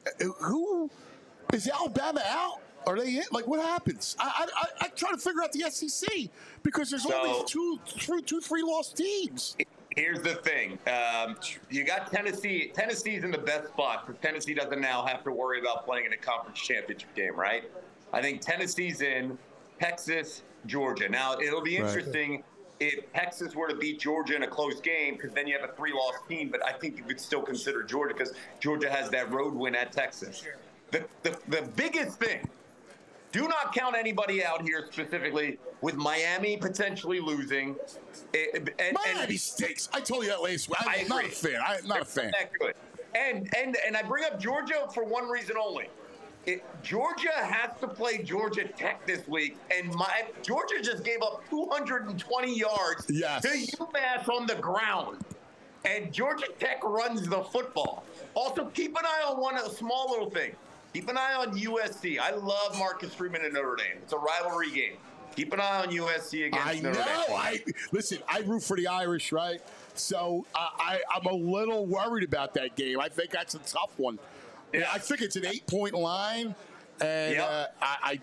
Alabama out? Are they in? Like, what happens? I try to figure out the SEC because there's only two, 3 lost teams. Here's the thing. You got Tennessee. Tennessee's in the best spot because Tennessee doesn't now have to worry about playing in a conference championship game, right? I think Tennessee's in. Texas, Georgia. Now, it'll be interesting if Texas were to beat Georgia in a close game, because then you have a 3-loss team, but I think you could still consider Georgia because Georgia has that road win at Texas. The biggest thing, do not count anybody out here specifically with Miami potentially losing. Miami stinks. I told you that last week. I'm not a fan. I'm not a fan. That good. And I bring up Georgia for one reason only. Georgia has to play Georgia Tech this week, and Georgia just gave up 220 yards to UMass on the ground. And Georgia Tech runs the football. Also, keep an eye on a small little thing. Keep an eye on USC. I love Marcus Freeman and Notre Dame. It's a rivalry game. Keep an eye on USC against Notre Dame. Listen, I root for the Irish, right? So I'm a little worried about that game. I think that's a tough one. Yeah. I think it's an 8-point line, and I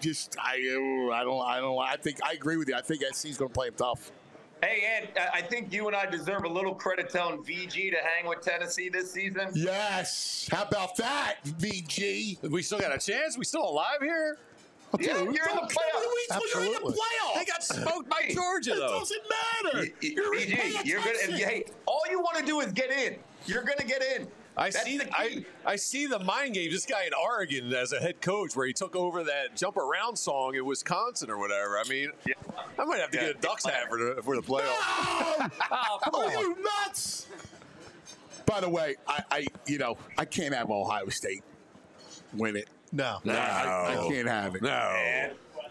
think I agree with you. I think SC's going to play them tough. Hey, Ed, I think you and I deserve a little credit telling VG to hang with Tennessee this season. Yes, how about that, VG? We still got a chance. We still alive here. Yeah, you're in the playoffs. You're in the playoffs. They got smoked by Georgia, though. It doesn't matter. You're gonna. Hey, all you want to do is get in. You're going to get in. I see the mind game. This guy in Oregon as a head coach where he took over that jump around song in Wisconsin or whatever. I mean, I might have to get a Ducks hat for the playoffs. No! Are you nuts? By the way, I can't have Ohio State win it. No. I can't have it. No.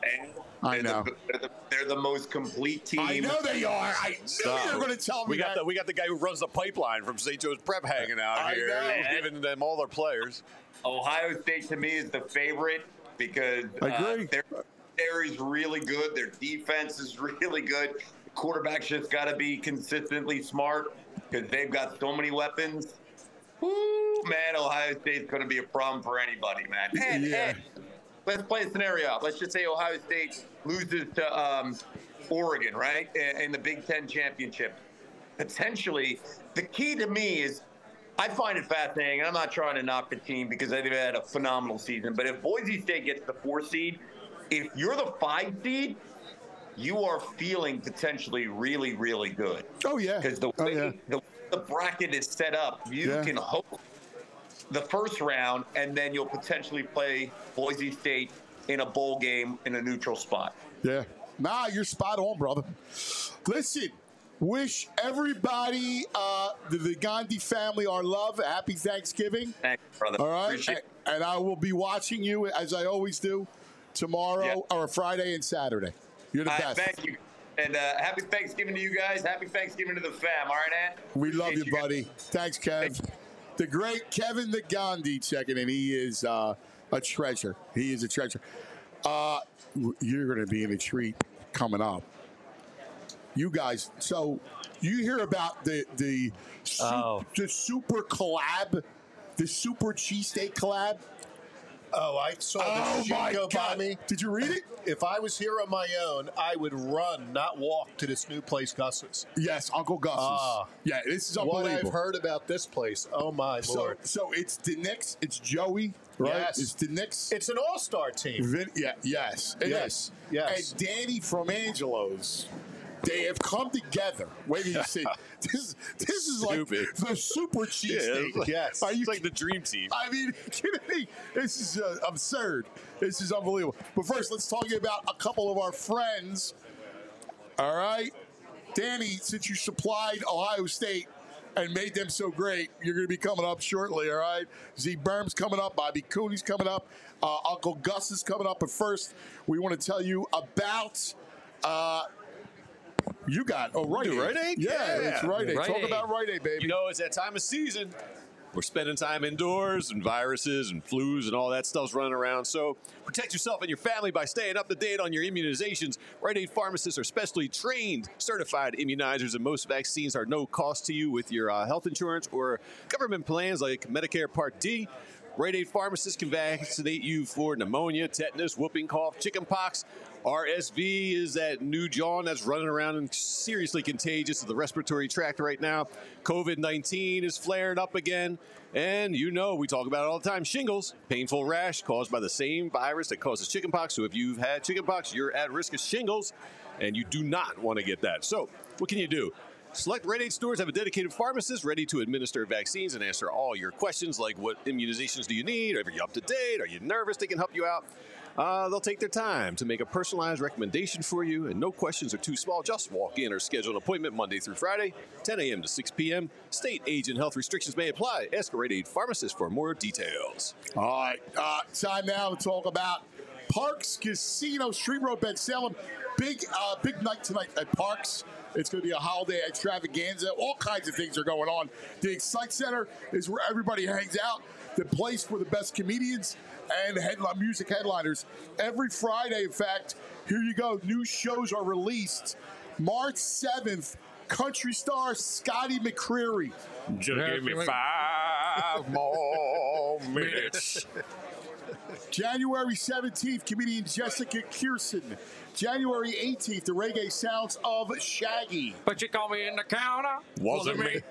I know. They're the most complete team. I know they are. I knew you were going to tell me that. We got the guy who runs the pipeline from St. Joe's Prep hanging out here. He's giving them all their players. Ohio State, to me, is the favorite because their secondary is really good. Their defense is really good. The quarterback's just got to be consistently smart because they've got so many weapons. Woo, man, Ohio State's going to be a problem for anybody, man. And let's play a scenario out. Let's just say Ohio State loses to Oregon, right, in the Big Ten championship. Potentially, the key to me is I find it fascinating, and I'm not trying to knock the team because they've had a phenomenal season, but if Boise State gets the 4 seed, if you're the 5 seed, you are feeling potentially really, really good. Oh, yeah. Because the way the bracket is set up, you can hope the first round, and then you'll potentially play Boise State in a bowl game in a neutral spot. Yeah. Nah, you're spot on, brother. Listen, wish everybody, the Gandhi family, our love. Happy Thanksgiving. Thanks, brother. All right. Appreciate And I will be watching you, as I always do, tomorrow or Friday and Saturday. You're the best. Thank you. And happy Thanksgiving to you guys. Happy Thanksgiving to the fam. All right, Ant? We love you, buddy. Thanks, Kev. The great Kevin the Gandhi checking in. He is a treasure. He is a treasure. You're going to be in a treat coming up. You guys, so you hear about the super collab, the super cheesesteak collab? Oh, I saw the shit go by me. Did you read it? If I was here on my own, I would run, not walk, to this new place, Gus's. Yes, Uncle Gus's. Yeah, this is unbelievable. What I've heard about this place, oh my Lord. So it's the Knicks, it's Joey, right? Yes. It's the Knicks. It's an all-star team. Yes. It is. Yes. And Danny from Angelo's. They have come together. Wait till you see. This is like the super cheesesteak. Yes. It's like the dream team. I mean, kidding me? This is absurd. This is unbelievable. But first, let's talk about a couple of our friends. All right? Danny, since you supplied Ohio State and made them so great, you're going to be coming up shortly, all right? Z Berm's coming up. Bobby Cooney's coming up. Uncle Gus is coming up. But first, we want to tell you about... you got Rite Aid. Rite Aid? Yeah, it's Rite Aid. Talk about Rite Aid, baby. You know, it's that time of season. We're spending time indoors, and viruses and flus and all that stuff's running around. So protect yourself and your family by staying up to date on your immunizations. Rite Aid pharmacists are specially trained, certified immunizers, and most vaccines are no cost to you with your health insurance or government plans like Medicare Part D. Rite Aid pharmacists can vaccinate you for pneumonia, tetanus, whooping cough, chickenpox. RSV is that new John that's running around and seriously contagious to the respiratory tract right now. COVID-19 is flaring up again. And you know, we talk about it all the time. Shingles, painful rash caused by the same virus that causes chickenpox. So if you've had chickenpox, you're at risk of shingles, and you do not want to get that. So what can you do? Select Rite Aid stores have a dedicated pharmacist ready to administer vaccines and answer all your questions like what immunizations do you need? Are you up to date? Are you nervous? They can help you out. They'll take their time to make a personalized recommendation for you, and no questions are too small. Just walk in or schedule an appointment Monday through Friday, 10 a.m. to 6 p.m. State, age, and health restrictions may apply. Ask a Rite Aid pharmacist for more details. All right. Time now to talk about Parks Casino, Street Road, Ben Salem. Big night tonight at Parks. It's going to be a holiday extravaganza. All kinds of things are going on. The Excite Center is where everybody hangs out. The place for the best comedians and music headliners. Every Friday, in fact, here you go. New shows are released. March 7th, country star Scotty McCreery. Just give me 5 more minutes. January 17th, comedian Jessica Kirsten. January 18th, the reggae sounds of Shaggy. But you call me in the counter. Wasn't me.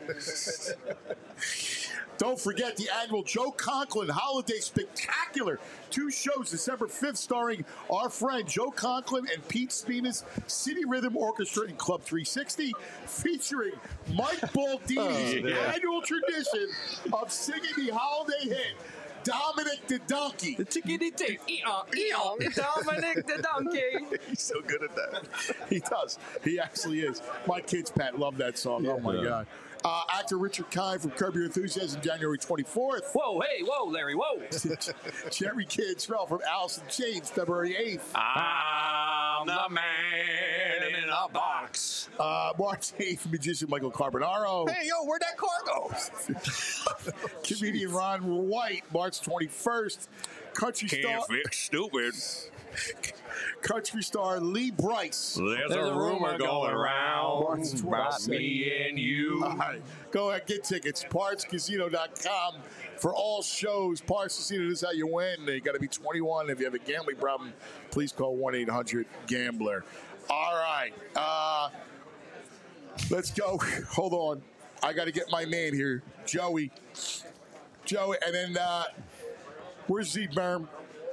Don't forget the annual Joe Conklin Holiday Spectacular. 2 shows, December 5th, starring our friend Joe Conklin and Pete Spina's City Rhythm Orchestra in Club 360, featuring Mike Baldini's annual tradition of singing the holiday hit. Dominic the Donkey. The tickety-tick. Dominic the Donkey. He's so good at that. He does. He actually is. My kids, Pat, love that song. Oh, my God. Actor Richard Kind from Curb Your Enthusiasm, January 24th. Whoa, hey, whoa, Larry, whoa. Jerry Kidd Terrell from Alice in Chains, February 8th. I'm the man in a box. March 8th, magician Michael Carbonaro. Hey, yo, where'd that car go? Comedian Ron White, March 21st. Country star. Fix stupid. Country star Lee Bryce. There's a rumor going around about me and you. All right. Go ahead, get tickets. PartsCasino.com for all shows. Parts Casino, this is how you win. You got to be 21. If you have a gambling problem, please call 1-800-GAMBLER. All right. Let's go. Hold on. I got to get my man here, Joey. And then where's Z-Berm?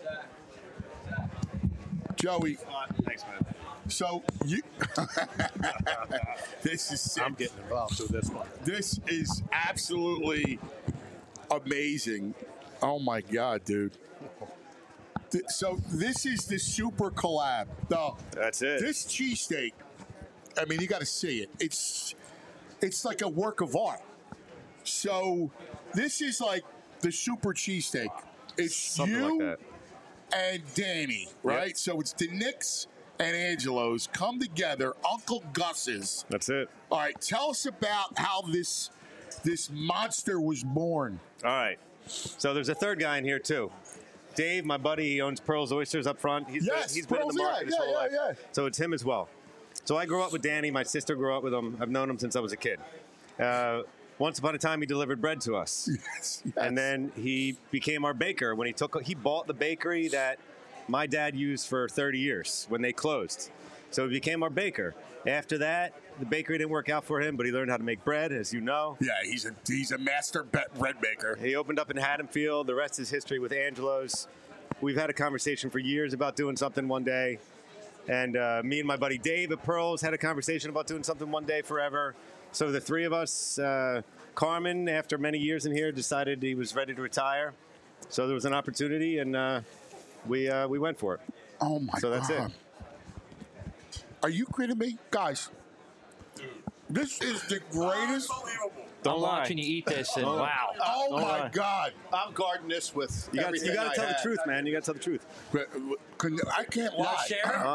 Joey. Thanks, man. So you, this is sick. I'm getting involved with this one. This is absolutely amazing. Oh my God, dude. So this is the super collab. No, that's it. This cheesesteak, I mean, you got to see it. It's like a work of art. So this is like the super cheesesteak. It's something you like that. And Danny, right? Yep. So it's the Knicks and Angelo's come together, Uncle Gus's. That's it. All right, tell us about how this monster was born. All right. So there's a third guy in here, too. Dave, my buddy, he owns Pearl's Oysters up front. He's been in the market his whole life. So it's him as well. So I grew up with Danny. My sister grew up with him. I've known him since I was a kid. Once upon a time, he delivered bread to us. Yes. And then he became our baker when he bought the bakery that my dad used for 30 years when they closed. So he became our baker. After that, the bakery didn't work out for him, but he learned how to make bread, as you know. Yeah, he's a master bread maker. He opened up in Haddonfield. The rest is history with Angelo's. We've had a conversation for years about doing something one day. And me and my buddy Dave at Pearl's had a conversation about doing something one day forever. So the three of us, Carmen, after many years in here, decided he was ready to retire. So there was an opportunity, and we went for it. Oh, my God. So that's it. Are you kidding me? Guys, this is the greatest. I'm watching you eat this, and wow. Oh, my God. I'm guarding this with You got everything to I tell the have. truth, man. You got to tell the truth. I can't lie.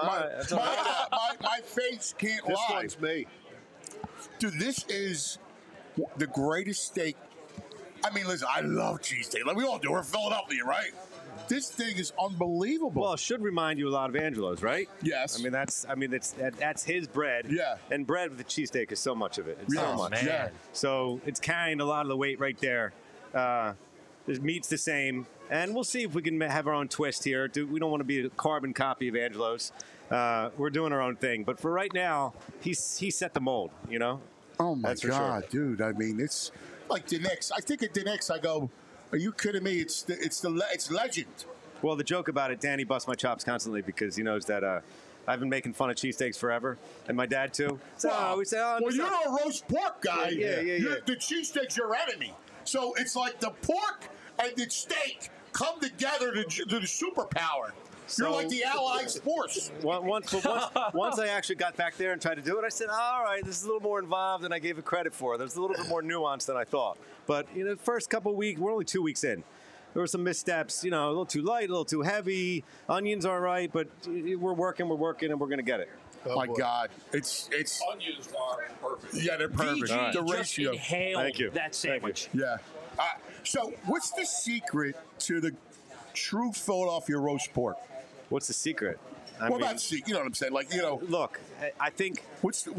My face can't This lie. one's me. Dude, this is the greatest steak. I mean, listen, I love cheesesteak. Like we all do. We're Philadelphia, right? This thing is unbelievable. Well, it should remind you a lot of Angelo's, right? Yes. I mean, that's his bread. Yeah. And bread with the cheesesteak is so much of it. It's Yes, so much. man. Yeah. So it's carrying a lot of the weight right there. The meat's the same. And we'll see if we can have our own twist here. We don't want to be a carbon copy of Angelo's. We're doing our own thing. But for right now, he set the mold, you know? Oh, my That's for God, sure. dude. I mean, it's like the Knicks. I think at the Knicks, I go, are you kidding me? It's legend. Well, the joke about it, Danny busts my chops constantly because he knows that I've been making fun of cheesesteaks forever, and my dad too. So we say, well, you're a roast pork guy. Yeah. The cheesesteak's your enemy. So it's like the pork and the steak come together to the superpower. You're like the Allied force. Once I actually got back there and tried to do it, I said, all right, this is a little more involved than I gave it credit for. There's a little bit more nuance than I thought. But the first couple of weeks, we're only 2 weeks in. There were some missteps, a little too light, a little too heavy. Onions are right, but we're working, and we're going to get it. Oh my God. It's onions are perfect. Yeah, they're perfect. VG The just ratio. inhaled Thank you. that sandwich. Yeah. So what's the secret to the true Philadelphia roast pork? What's the secret? Not secret? You know what I'm saying? Like, Look, I think what's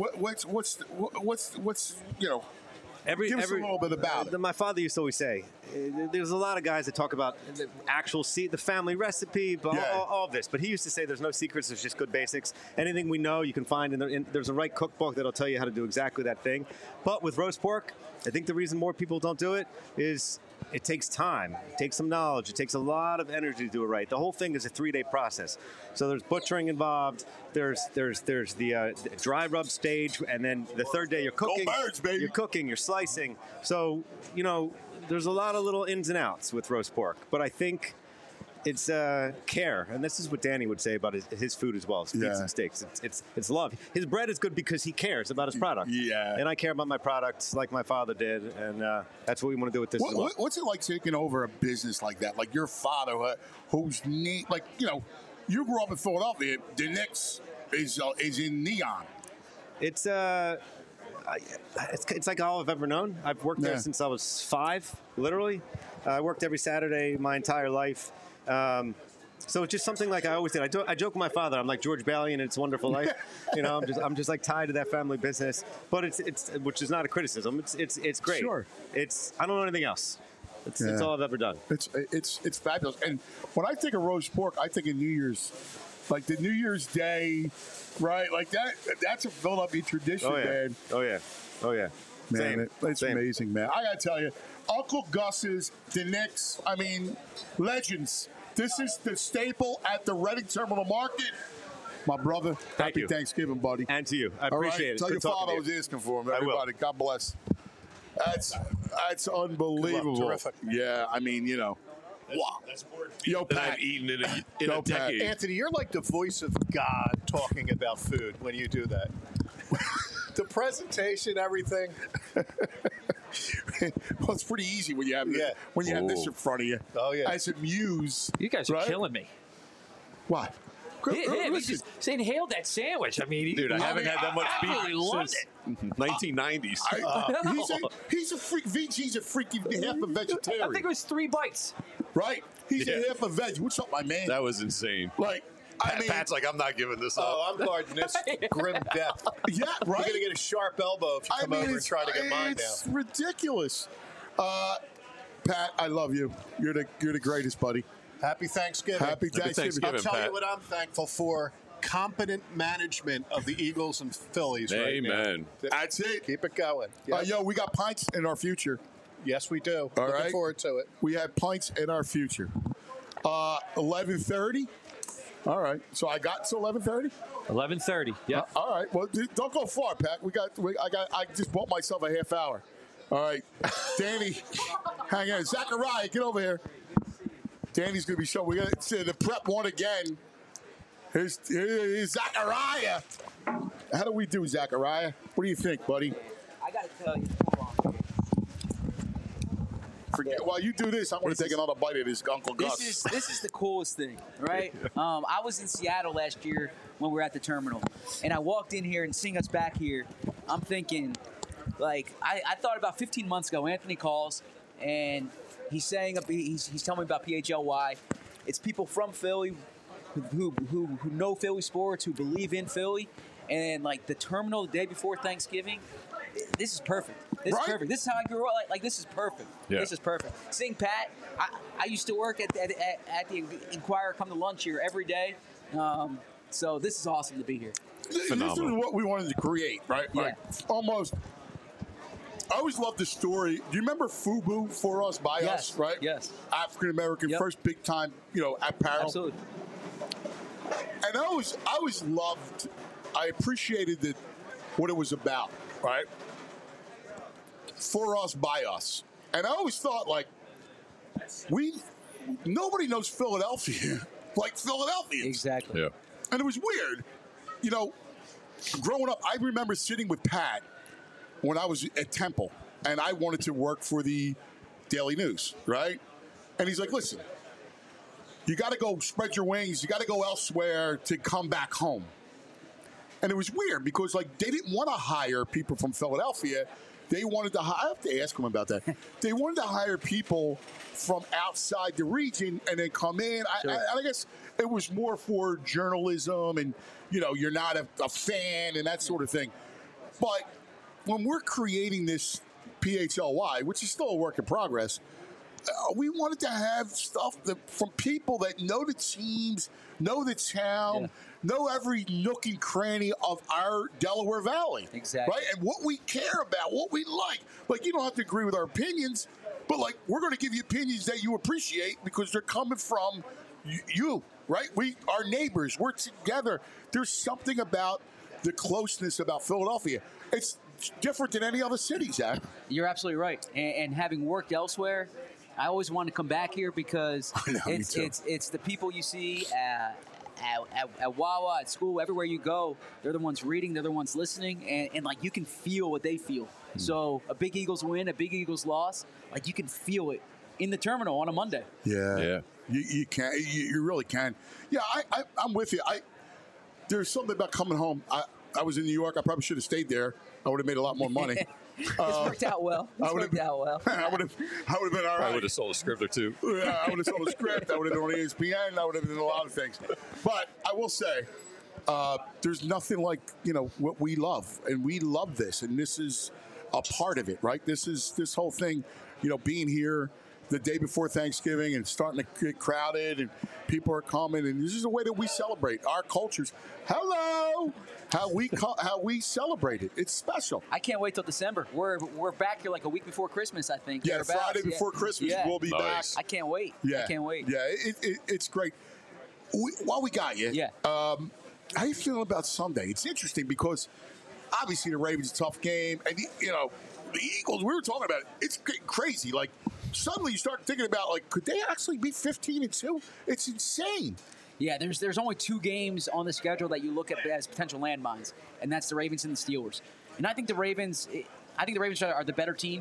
give us a little bit about it. My father used to always say, there's a lot of guys that talk about the actual the family recipe, all of this. But he used to say there's no secrets, there's just good basics. Anything we know you can find, there's a right cookbook that'll tell you how to do exactly that thing. But with roast pork, I think the reason more people don't do it is it takes time. It takes some knowledge. It takes a lot of energy to do it right. The whole thing is a 3-day process. So there's butchering involved. There's the dry rub stage, and then the third day you're cooking. Go Birds, baby. You're cooking. You're slicing. So there's a lot of little ins and outs with roast pork, but I think it's care, and this is what Danny would say about his food as well. It's beets and steaks. It's love. His bread is good because he cares about his product. Yeah. And I care about my products like my father did, and that's what we want to do with this as well. What's it like taking over a business like that? Like your father, whose name, like, you grew up in Philadelphia. The Knicks is in neon. It's like all I've ever known. I've worked there since I was 5, literally. I worked every Saturday my entire life. So it's just something like I always did. I joke with my father. I'm like George Bailey in It's a Wonderful Life. I'm just like tied to that family business. But it's which is not a criticism. It's great. Sure. I don't know anything else. It's all I've ever done. It's fabulous. And when I think of roast pork, I think of New Year's. Like the New Year's Day, right? Like that's a Philadelphia tradition, man. Oh, yeah. Man, it's amazing, man. I got to tell you, Uncle Gus's, the Knicks, legends. This is the staple at the Reading Terminal Market. My brother, happy Thanksgiving, buddy. And to you. I appreciate it. Tell your father I was asking for him, everybody. God bless. That's unbelievable. Terrific. Yeah, wow. That's more Yo, than Pat. I've eaten in a decade. Anthony, you're like the voice of God talking about food when you do that. The presentation, everything. Well, it's pretty easy when you have this, have this in front of you. Oh, yeah. As a muse. You guys are killing me. What? He just inhaled that sandwich. Dude, I haven't had that much beef loved since it. 1990s. He's a freak. VG's a freaking half a vegetarian. I think it was 3 bites. Right? He's a half a veg. What's up, my man? That was insane. Like, Pat's like, I'm not giving this up. Oh, I'm guarding this grim death. Yeah, right. You're going to get a sharp elbow if you come over and try to get mine down. It's ridiculous. Pat, I love you. You're the greatest, buddy. Happy Thanksgiving. Happy Thanksgiving. I'll tell Pat. you what I'm thankful for. Competent management of the Eagles and Phillies right now. Amen. That's it. Keep it going. Yep. We got pints in our future. Yes, we do. All Looking right. forward to it. We have pints in our future. 11:30. All right. So I got to 11:30. 11:30. Yeah. All right. Well, don't go far, Pat. I just bought myself a half hour. All right. Danny, hang on. Zachariah, get over here. Danny's going to be showing. We're going to see the prep one again. Here's Zachariah. How do we do, Zachariah? What do you think, buddy? I got to tell you. While you do this, I want to take another bite of this Uncle Gus. This is the coolest thing, right? I was in Seattle last year when we were at the terminal, and I walked in here and seeing us back here, I'm thinking, like, I thought about 15 months ago, Anthony calls, and he's telling me about PHLY. It's people from Philly who know Philly sports, who believe in Philly, and like the terminal the day before Thanksgiving. This is perfect. This is perfect. This is how I grew up. Like this is perfect. Yeah. This is perfect. Seeing Pat, I used to work at the Inquirer, come to lunch here every day. So this is awesome to be here. Phenomenal. This is what we wanted to create, right? Yeah. Like, almost. I always loved the story. Do you remember FUBU, For Us, By Us, right? Yes. African American, first big time, apparel. Absolutely. And I always loved. I appreciated what it was about, right? For Us, By Us, and I always thought like nobody knows Philadelphia like Philadelphians. Exactly. Yeah. And it was weird, growing up. I remember sitting with Pat when I was at Temple, and I wanted to work for the Daily News, right? And he's like, "Listen, you got to go spread your wings. You got to go elsewhere to come back home." And it was weird because, like, they didn't want to hire people from Philadelphia. They wanted to I have to ask him about that. They wanted to hire people from outside the region and then come in. Sure. I guess it was more for journalism and, you're not a fan and that sort of thing. But when we're creating this PHLY, which is still a work in progress, we wanted to have stuff from people that know the teams, know the town, know every nook and cranny of our Delaware Valley. Exactly. Right? And what we care about, what we like. Like, you don't have to agree with our opinions, but, like, we're going to give you opinions that you appreciate because they're coming from you, right? We are neighbors. We're together. There's something about the closeness about Philadelphia. It's different than any other city, Zach. You're absolutely right. And having worked elsewhere, I always want to come back here because it's the people you see at Wawa, at school, everywhere you go. They're the ones reading, they're the ones listening, and like you can feel what they feel. So a big Eagles win, a big Eagles loss, like you can feel it in the terminal on a Monday. Yeah. You can. You really can. Yeah, I'm with you. There's something about coming home. I was in New York. I probably should have stayed there. I would have made a lot more money. It's worked out well. I would have been all right. I would have sold a script or two. Yeah, I would have sold a script. I would have been on ESPN. I would have been a lot of things. But I will say, there's nothing like what we love, and we love this, and this is a part of it, right? This whole thing, being here the day before Thanksgiving and starting to get crowded and people are coming, and this is a way that we celebrate our cultures. Hello, how we celebrate it. It's special. I can't wait till December. We're back here like a week before Christmas, I think. Yeah, Friday before Christmas, we'll be back. I can't wait. Yeah, I can't wait. Yeah, it's great. While we got you, how you feeling about Sunday? It's interesting because obviously the Ravens' a tough game, and the Eagles. We were talking about it. It's crazy. Like suddenly you start thinking about could they actually be 15-2? It's insane. Yeah, there's only 2 games on the schedule that you look at as potential landmines, and that's the Ravens and the Steelers. And I think the Ravens are the better team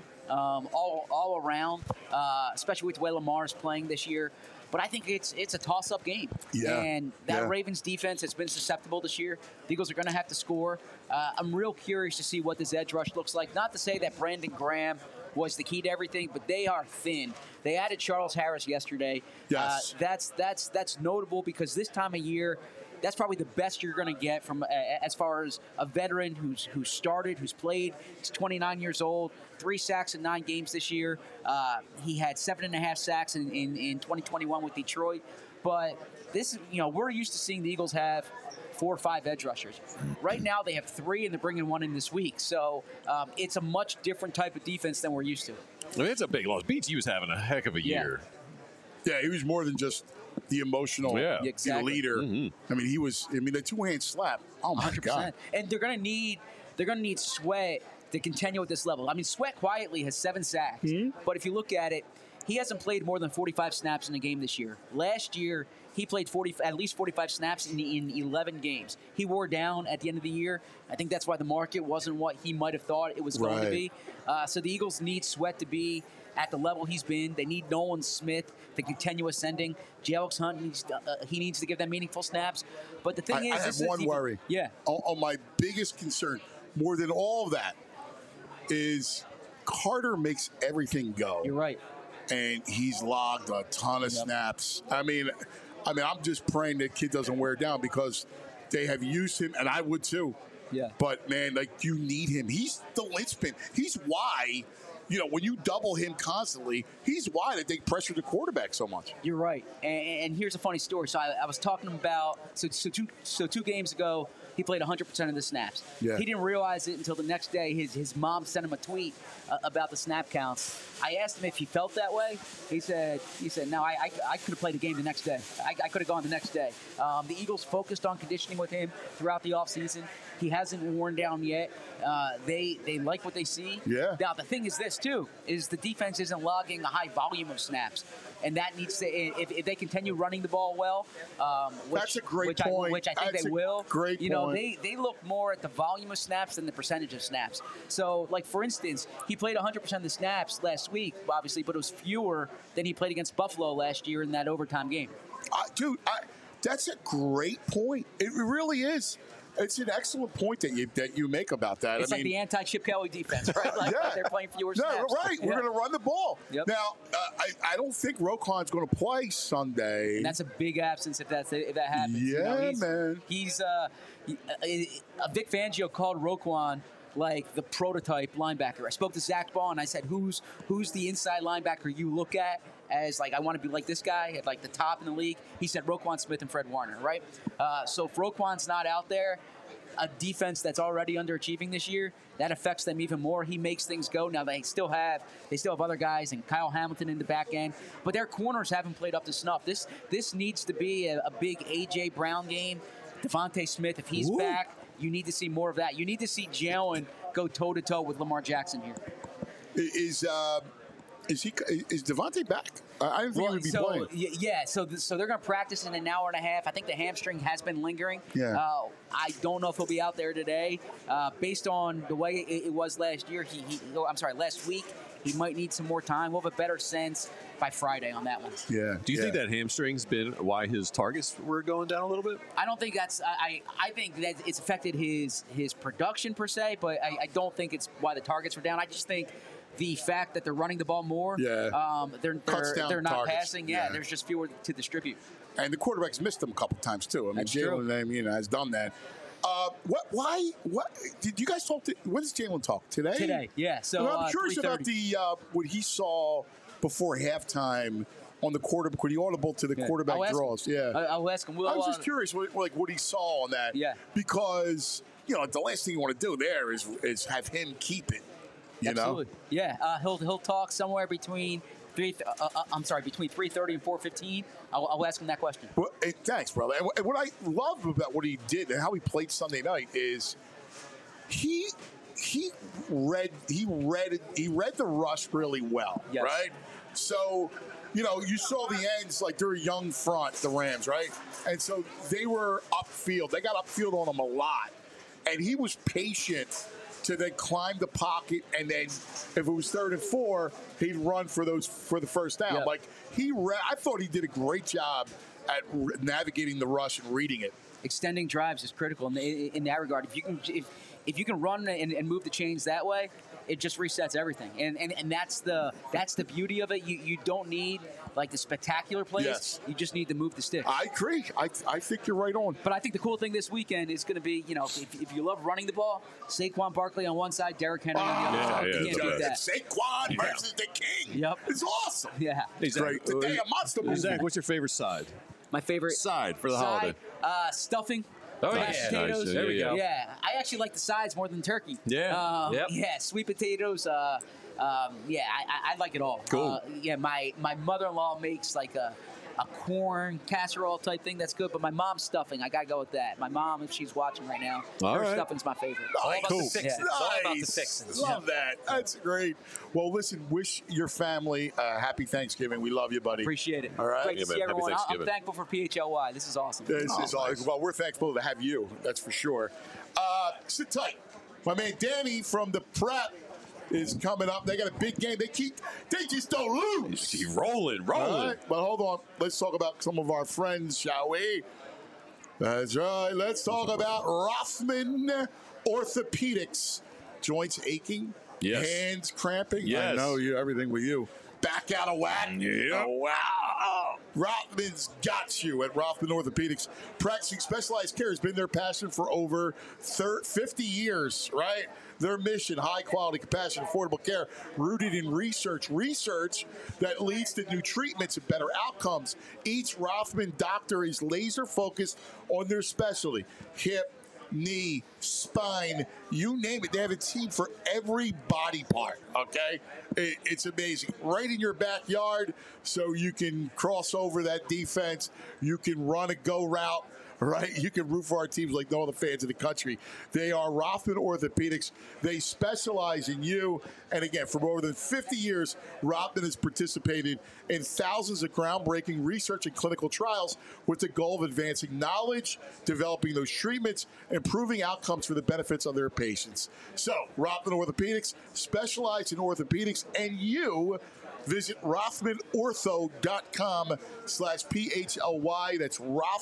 all around, especially with the way Lamar is playing this year. But I think it's a toss-up game. Yeah. And that Ravens defense has been susceptible this year. The Eagles are going to have to score. I'm real curious to see what this edge rush looks like. Not to say that Brandon Graham was the key to everything, but they are thin. They added Charles Harris yesterday. Yes. That's notable because this time of year, that's probably the best you're going to get from as far as a veteran who's started, who's played. He's 29 years old, 3 sacks in 9 games this year. He had 7.5 sacks in 2021 with Detroit. But this, we're used to seeing the Eagles have 4 or 5 edge rushers. Right now they have 3, and they're bringing 1 in this week. So it's a much different type of defense than we're used to. I mean, it's a big loss. BT was having a heck of a year. Yeah, he was more than just the emotional leader. Mm-hmm. I mean, the 2-hand slap. Oh my 100%. God! And they're gonna need Sweat to continue at this level. I mean, Sweat quietly has 7 sacks, but if you look at it, he hasn't played more than 45 snaps in a game this year. Last year, he played at least 45 snaps in 11 games. He wore down at the end of the year. I think that's why the market wasn't what he might have thought it was going to be. So the Eagles need Sweat to be at the level he's been. They need Nolan Smith to continue ascending. J.Alex Hunt needs to give them meaningful snaps. But the thing I have one worry. Yeah. On my biggest concern, more than all of that, is Carter makes everything go. You're right. And he's logged a ton of snaps. I mean, I'm just praying that kid doesn't wear down because they have used him, and I would too. Yeah. But, man, you need him. He's the linchpin. He's why, when you double him constantly, he's why that they pressure the quarterback so much. You're right. And here's a funny story. So I was talking about, so 2 games ago, he played 100% of the snaps. Yeah. He didn't realize it until the next day. His mom sent him a tweet about the snap counts. I asked him if he felt that way. He said, no, I could have played the game the next day. I could have gone the next day. The Eagles focused on conditioning with him throughout the offseason. He hasn't worn down yet. They like what they see. Yeah. Now, the thing is this, too, is the defense isn't logging a high volume of snaps. And that needs to, if they continue running the ball well, that's a great point. Which I think they will. Great point. They look more at the volume of snaps than the percentage of snaps. So, for instance, he played 100% of the snaps last week, obviously, but it was fewer than he played against Buffalo last year in that overtime game. Dude, that's a great point. It really is. It's an excellent point that you make about that. It's like the anti-Chip Kelly defense, right? They're playing fewer snaps. No, right. We're going to run the ball. Yep. Now, I don't think Roquan's going to play Sunday. And that's a big absence if that happens. Yeah, man. He's Vic Fangio called Roquan like the prototype linebacker. I spoke to Zach Ball and I said, who's the inside linebacker you look at as I want to be like this guy at the top in the league? He said Roquan Smith and Fred Warner, right? So if Roquan's not out there, a defense that's already underachieving this year, that affects them even more. He makes things go. Now they still have other guys and Kyle Hamilton in the back end, but their corners haven't played up to snuff. This needs to be a big A.J. Brown game. Devontae Smith, if he's back, you need to see more of that. You need to see Jalen go toe to toe with Lamar Jackson here. Is Devontae back? I didn't think he would be playing. Yeah, so they're going to practice in an hour and a half. I think the hamstring has been lingering. Yeah. I don't know if he'll be out there today. Based on the way it was last year, last week, he might need some more time. We'll have a better sense by Friday on that one. Yeah. Do you think that hamstring's been why his targets were going down a little bit? I don't think that's. I think that it's affected his production per se, but I don't think it's why the targets were down. I just think the fact that they're running the ball more, they're not targets. passing. Yeah, there's just fewer to distribute. And the quarterback's missed them a couple times too. I mean, Jalen, has done that. Why? Did you guys talk to? When does Jalen talk today? Today, yeah. So well, I'm curious about 3:30. what he saw before halftime on the quarterback. When he audible to the quarterback draws. Yeah, I'll ask him. I was just curious, what he saw on that. Yeah, because the last thing you want to do there is have him keep it. You Absolutely. know? Yeah, he'll talk somewhere between between 3:30 and 4:15. I'll ask him that question. Well, thanks, brother. And what I love about what he did and how he played Sunday night is he read the rush really well, right? So, you saw the ends, like they're a young front, the Rams, right? And so they were upfield. They got upfield on him a lot. And he was patient to then climb the pocket, and then if it was 3rd and 4, he'd run for the first down. Yep. I thought he did a great job at navigating the rush and reading it. Extending drives is critical in that regard. If you can run and move the chains that way, it just resets everything. And that's the beauty of it. You don't need like the spectacular plays. Yes. You just need to move the stick. I agree. I think you're right on. But I think the cool thing this weekend is going to be, if you love running the ball, Saquon Barkley on one side, Derrick Henry on the other side. You can't beat that. Saquon versus the King. Yep. It's awesome. Yeah. It's great. Today a monster movie. Zach, what's your favorite side? My favorite side for the holiday? Stuffing. Oh, yeah. Mashed potatoes. Nice. There we go. Yeah, I actually like the sides more than turkey. Yeah. Yeah, sweet potatoes. I like it all. Cool. My mother-in-law makes like a corn casserole type thing that's good, but my mom's stuffing, I gotta go with that. My mom, if she's watching right now, her stuffing's my favorite. All about cool. the fixins. It's all about the fixins. Love that. That's great. Well, listen, wish your family a happy Thanksgiving. We love you, buddy. Appreciate it. All right. Great to see happy everyone. I'm Thanksgiving. thankful for PHLY. This is awesome. This is awesome. Well, we're thankful to have you. That's for sure. Sit tight. My man Danny from the Prep is coming up. They got a big game. They just don't lose. Keep rolling. All right, but hold on. Let's talk about some of our friends, shall we? That's right. Let's talk about Rothman Orthopedics. Joints aching? Yes. Hands cramping? Yes. I know everything with you. Back out of whack? Yep. Oh, wow. Rothman's got you at Rothman Orthopedics. Practicing specialized care has been their passion for over 50 years, right? Their mission, high-quality, compassionate, affordable care, rooted in research that leads to new treatments and better outcomes. Each Rothman doctor is laser-focused on their specialty, hip, knee, spine, you name it. They have a team for every body part, okay? It's amazing. Right in your backyard, so you can cross over that defense. You can run a go route. Right? You can root for our teams like no other fans in the country. They are Rothman Orthopedics. They specialize in you. And again, for more than 50 years, Rothman has participated in thousands of groundbreaking research and clinical trials with the goal of advancing knowledge, developing those treatments, improving outcomes for the benefits of their patients. So, Rothman Orthopedics specialize in orthopedics, and you visit RothmanOrtho.com/PHLY. That's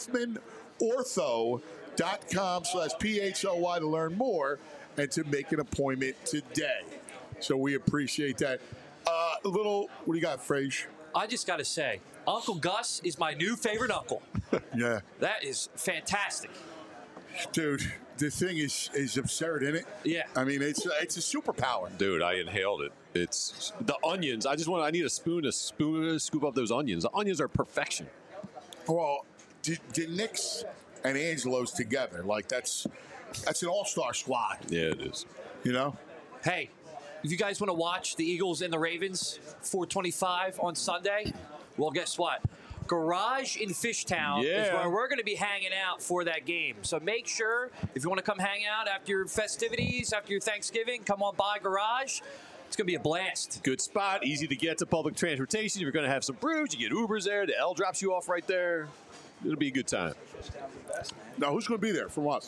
RothmanOrtho.com/PHLY to learn more and to make an appointment today. So we appreciate that. What do you got, Frage? I just got to say, Uncle Gus is my new favorite uncle. Yeah. That is fantastic. Dude, the thing is absurd, isn't it? Yeah. I mean, it's a superpower. Dude, I inhaled it. It's the onions. I need a spoon to scoop up those onions. The onions are perfection. Well, did Nick's and Angelo's together, like that's an all-star squad. Yeah, it is. You know? Hey, if you guys want to watch the Eagles and the Ravens 4:25 on Sunday, well, guess what? Garage in Fishtown is where we're going to be hanging out for that game. So make sure, if you want to come hang out after your festivities, after your Thanksgiving, come on by Garage. It's going to be a blast. Good spot, easy to get to public transportation. If you're going to have some brews, you get Ubers there. The L drops you off right there. It'll be a good time. Now, who's going to be there from us?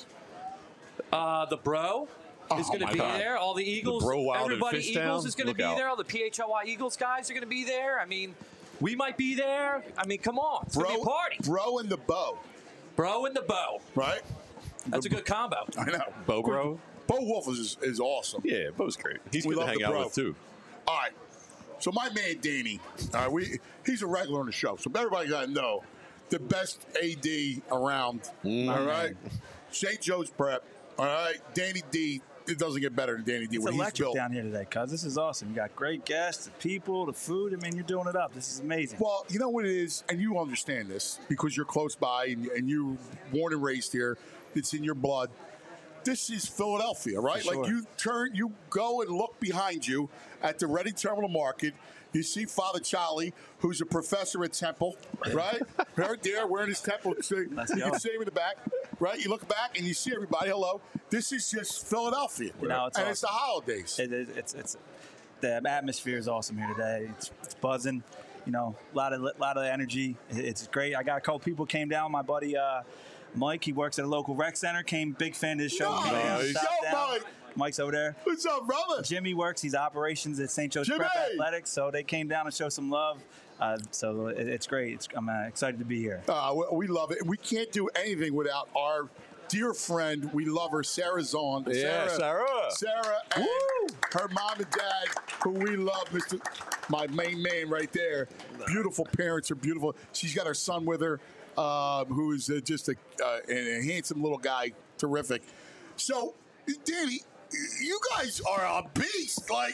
The Bro is going to be there. All the Eagles. The Bro Wild everybody in Fishtown. Eagles is going to be Look out. there. All the PHLY Eagles guys are going to be there. I mean, we might be there. I mean, come on. It's going to be a party. Bro and the Bow. Bro and the Bow. Right? That's a good combo. I know. Bro. Bo Wolf is awesome. Yeah, Bo's great. He's We good to love hang the out Bro. with, too. All right. So my man Danny, he's a regular on the show. So everybody got to know the best AD around. All right. St. Joe's Prep. All right. Danny D. It doesn't get better than Danny D. It's when he's electric built. down here today, cuz. This is awesome. You got great guests, the people, the food. I mean, you're doing it up. This is amazing. Well, you know what it is, and you understand this because you're close by and you born and raised here. It's in your blood. This is Philadelphia, right? For Like you go and look behind you at the Reading Terminal Market. You see Father Charlie, who's a professor at Temple, right? Right there, wearing his Temple. You can see him in the back, right? You look back and you see everybody. Hello. This is just Philadelphia, You know, it's and awesome. it's the holidays. It's the atmosphere is awesome here today. It's buzzing. You know, a lot of energy. It's great. I got a couple people came down. My buddy Mike, he works at a local rec center. Came big fan of his show. Nice. Stopped Yo, down. Mike. Mike's over there. What's up, brother? Jimmy works. He's operations at St. Joe's Prep Athletics. So they came down to show some love. So it's great. I'm excited to be here. We love it. We can't do anything without our dear friend. We love her, Sarah Zahn. Yeah, Sarah. Sarah and her mom and dad, who we love, my main man right there. Beautiful parents are beautiful. She's got her son with her, who is just a handsome little guy. Terrific. So, Danny, you guys are a beast. Like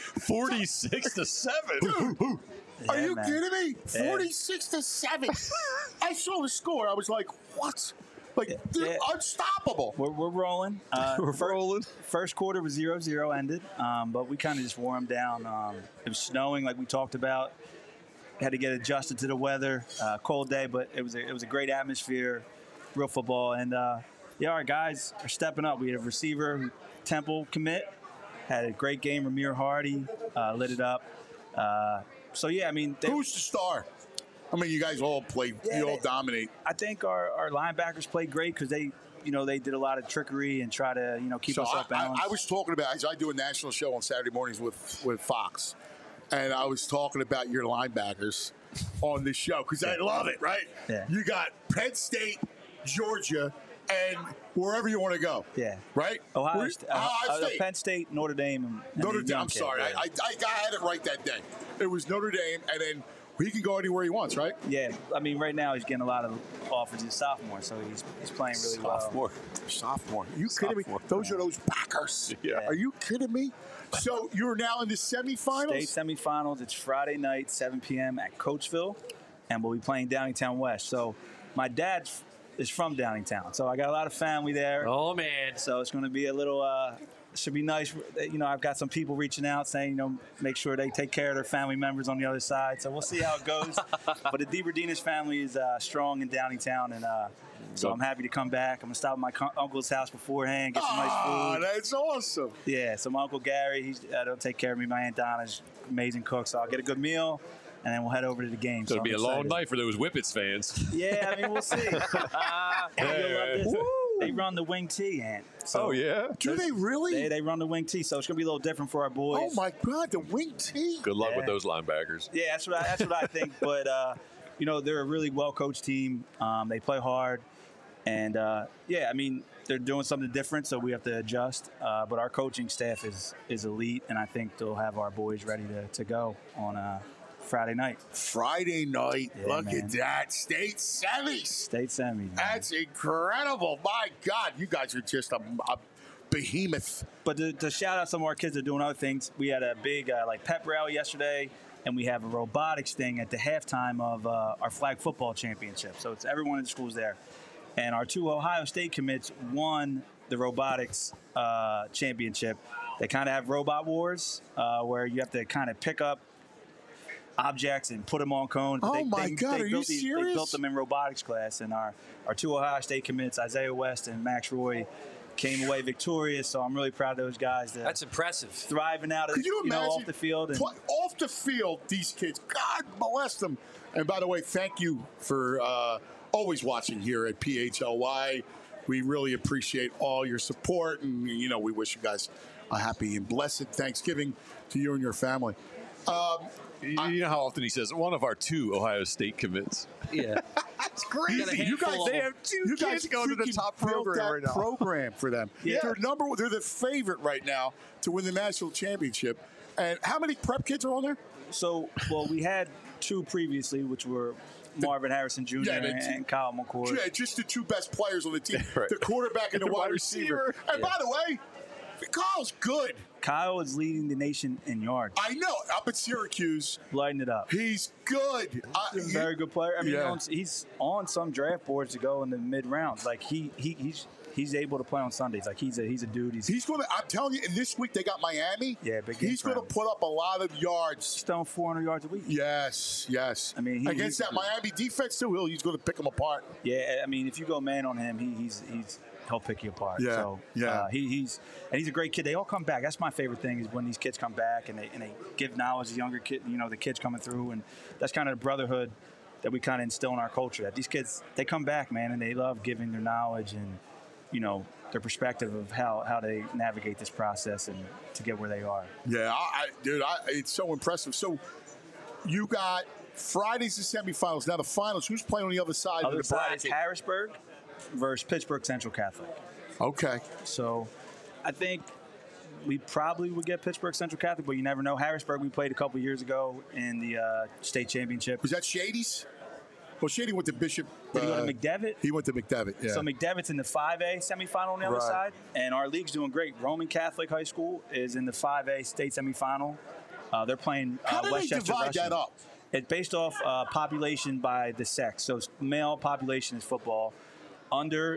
46-7. Dude, are you man. kidding me? Yeah. 46-7. I saw the score. I was like, what? Like, they're unstoppable. We're rolling. We're rolling. First quarter was 0-0 ended, but we kind of just wore them down. It was snowing, like we talked about. Had to get adjusted to the weather. Cold day, but it was a great atmosphere, real football. And, our guys are stepping up. We had a receiver, Temple commit, had a great game. Ramir Hardy lit it up. Who's the star? I mean, you guys all play. You all dominate. I think our linebackers played great because they did a lot of trickery and try to keep us off balance. I was talking about. I do a national show on Saturday mornings with Fox, and I was talking about your linebackers on this show because I love it. Right? Yeah. You got Penn State, Georgia, and wherever you want to go. Yeah. Right? Ohio Ohio State. Penn State, Notre Dame. And Notre then Dame. Young I'm Kid, sorry. yeah. I had it right that day. It was Notre Dame, and then he can go anywhere he wants, right? Yeah. I mean, right now he's getting a lot of offers. He's a sophomore, so he's playing really well. Sophomore. Are you kidding me? Those are those backers. Yeah. Are you kidding me? So you're now in the semifinals? State semifinals. It's Friday night, 7 p.m. at Coatesville, and we'll be playing Downingtown West. So my dad is from Downingtown, so I got a lot of family there. Oh, man. So it's going to be a little should be nice. I've got some people reaching out saying, make sure they take care of their family members on the other side. So we'll see how it goes. But the DeBerdinas family is strong in Downingtown, and so I'm happy to come back. I'm going to stop at my uncle's house beforehand, get some nice food. Oh, that's awesome. Yeah, so my Uncle Gary, he'll take care of me. My Aunt Donna's amazing cook, so I'll get a good meal, and then we'll head over to the game. So it'll be a I'm long excited. night for those Whippets fans. Yeah, I mean, we'll see. You'll love this. They run the wing tee, Ant. So Oh, yeah? Do they really? They run the wing tee, so it's going to be a little different for our boys. Oh, my God, the wing tee. Good luck with Yeah. those linebackers. Yeah, that's what I think. But they're a really well-coached team. They play hard, and they're doing something different, so we have to adjust. But our coaching staff is elite, and I think they'll have our boys ready to go on Friday night. Friday night. Yeah, Look man. at that. State semis. State semis. man. That's incredible. My God, you guys are just a behemoth. But to shout out some of our kids that are doing other things, we had a big pep rally yesterday, and we have a robotics thing at the halftime of our flag football championship. So it's everyone in the schools there. And our 2 Ohio State commits won the robotics championship. They kind of have robot wars where you have to kind of pick up objects and put them on cones. Oh, my God, are you They serious? built them in robotics class, and our two Ohio State commits, Isaiah West and Max Roy, came away victorious. So I'm really proud of those guys. That's impressive. Thriving out of, Could you imagine off the field. And, off the field, these kids, God bless them. And by the way, thank you for always watching here at PHLY. We really appreciate all your support, and we wish you guys a happy and blessed Thanksgiving to you and your family. You know how often he says one of our 2 Ohio State commits. Yeah, it's crazy. You guys, they have 2 kids going to the top program right now. Program for them. Yeah. They're the favorite right now to win the national championship. And how many prep kids are on there? So, we had 2 previously, which were Marvin Harrison Jr. and Kyle McCord. Yeah, just the 2 best players on the team, Right. the quarterback and the wide receiver. And by the way, Kyle's good. Kyle is leading the nation in yards. I know. Up at Syracuse. Lighting it up. He's good. He's a very good player. I mean, he's on some draft boards to go in the mid-rounds. Like, he's able to play on Sundays. Like, he's a dude. He's going to, I'm telling you, and this week they got Miami. Yeah, big game. He's going to put up a lot of yards. He's throwing 400 yards a week. Yes. I mean, against that Miami defense, too, he's going to pick them apart. Yeah, I mean, if you go man on him, he'll pick you apart. Yeah, so, he's a great kid. They all come back. That's my favorite thing is when these kids come back and they give knowledge to younger kids, the kids coming through, and that's kind of the brotherhood that we kind of instill in our culture. That these kids, they come back, man, and they love giving their knowledge and their perspective of how they navigate this process and to get where they are. Yeah, it's so impressive. So you got Friday's the semifinals. Now the finals. Who's playing on the other side of the bracket? Is Harrisburg versus Pittsburgh Central Catholic. Okay. So I think we probably would get Pittsburgh Central Catholic, but you never know. Harrisburg, we played a couple years ago in the state championship. Was that Shady's? Well, Shady went to Bishop. Did he go to McDevitt? He went to McDevitt, yeah. So McDevitt's in the 5A semifinal on the other side, and our league's doing great. Roman Catholic High School is in the 5A state semifinal. They're playing How do Westchester they divide Russian. that up? It's based off population by the sex. So male population is football. Under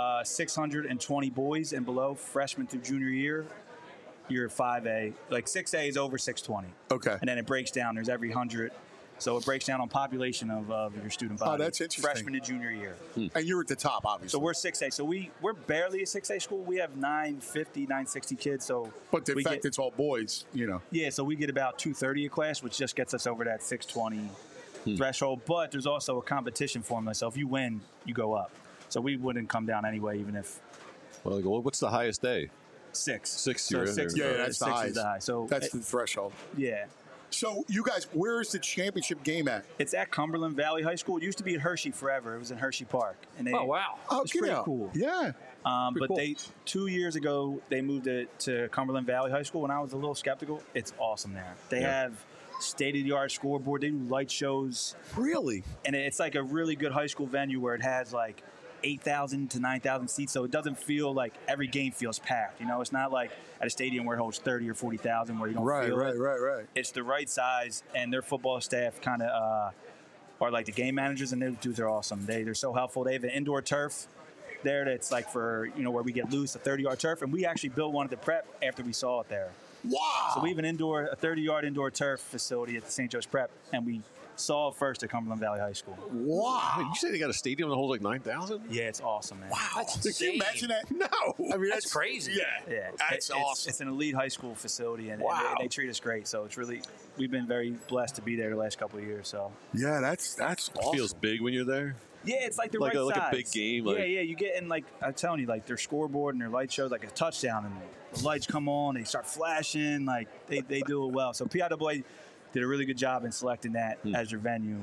620 boys and below, freshman through junior year, you're 5A. Like 6A is over 620. Okay. And then it breaks down. There's every 100. So it breaks down on population of your student body. Oh, that's interesting. Freshman to junior year. And you're at the top, obviously. So we're 6A. So we're barely a 6A school. We have 950, 960 kids. So but in fact, it's all boys, Yeah, so we get about 230 a class, which just gets us over that 620 threshold. But there's also a competition formula. So if you win, you go up. So we wouldn't come down anyway, even if. Well, what's the highest day? 6. 6. So You're in 6. there. Yeah, that's the highest. Is the high. So that's the threshold. Yeah. So you guys, where is the championship game at? It's at Cumberland Valley High School. It used to be at Hershey forever. It was in Hershey Park. And Oh, wow. It's pretty cool. Yeah. But cool. 2 years ago, they moved it to Cumberland Valley High School. When I was a little skeptical, it's awesome there. They have state-of-the-art scoreboard. They do light shows. Really? And it's like a really good high school venue where it has like 8,000 to 9,000 seats, so it doesn't feel like every game feels packed. It's not like at a stadium where it holds 30 or 40,000 where you don't feel it. Right. It's the right size, and their football staff kind of are like the game managers, and those dudes are awesome. They're so helpful. They have an indoor turf there that's like for, where we get loose, a 30-yard turf, and we actually built one at the prep after we saw it there. Wow. So we have a 30-yard indoor turf facility at the St. Joe's Prep, and we saw it first at Cumberland Valley High School. Wow. You say they got a stadium that holds like 9,000? Yeah, it's awesome, man. Wow. Can you imagine that? No. I mean, That's crazy. Yeah, That's awesome. It's an elite high school facility, and they treat us great. So it's really, we've been very blessed to be there the last couple of years. So yeah, that's awesome. It feels big when you're there. Yeah, it's like the like right like size. a big game. Yeah, you get in, like I'm telling you, like their scoreboard and their light shows like a touchdown, and the lights come on, they start flashing, like they do it well. So PIAA did a really good job in selecting that as their venue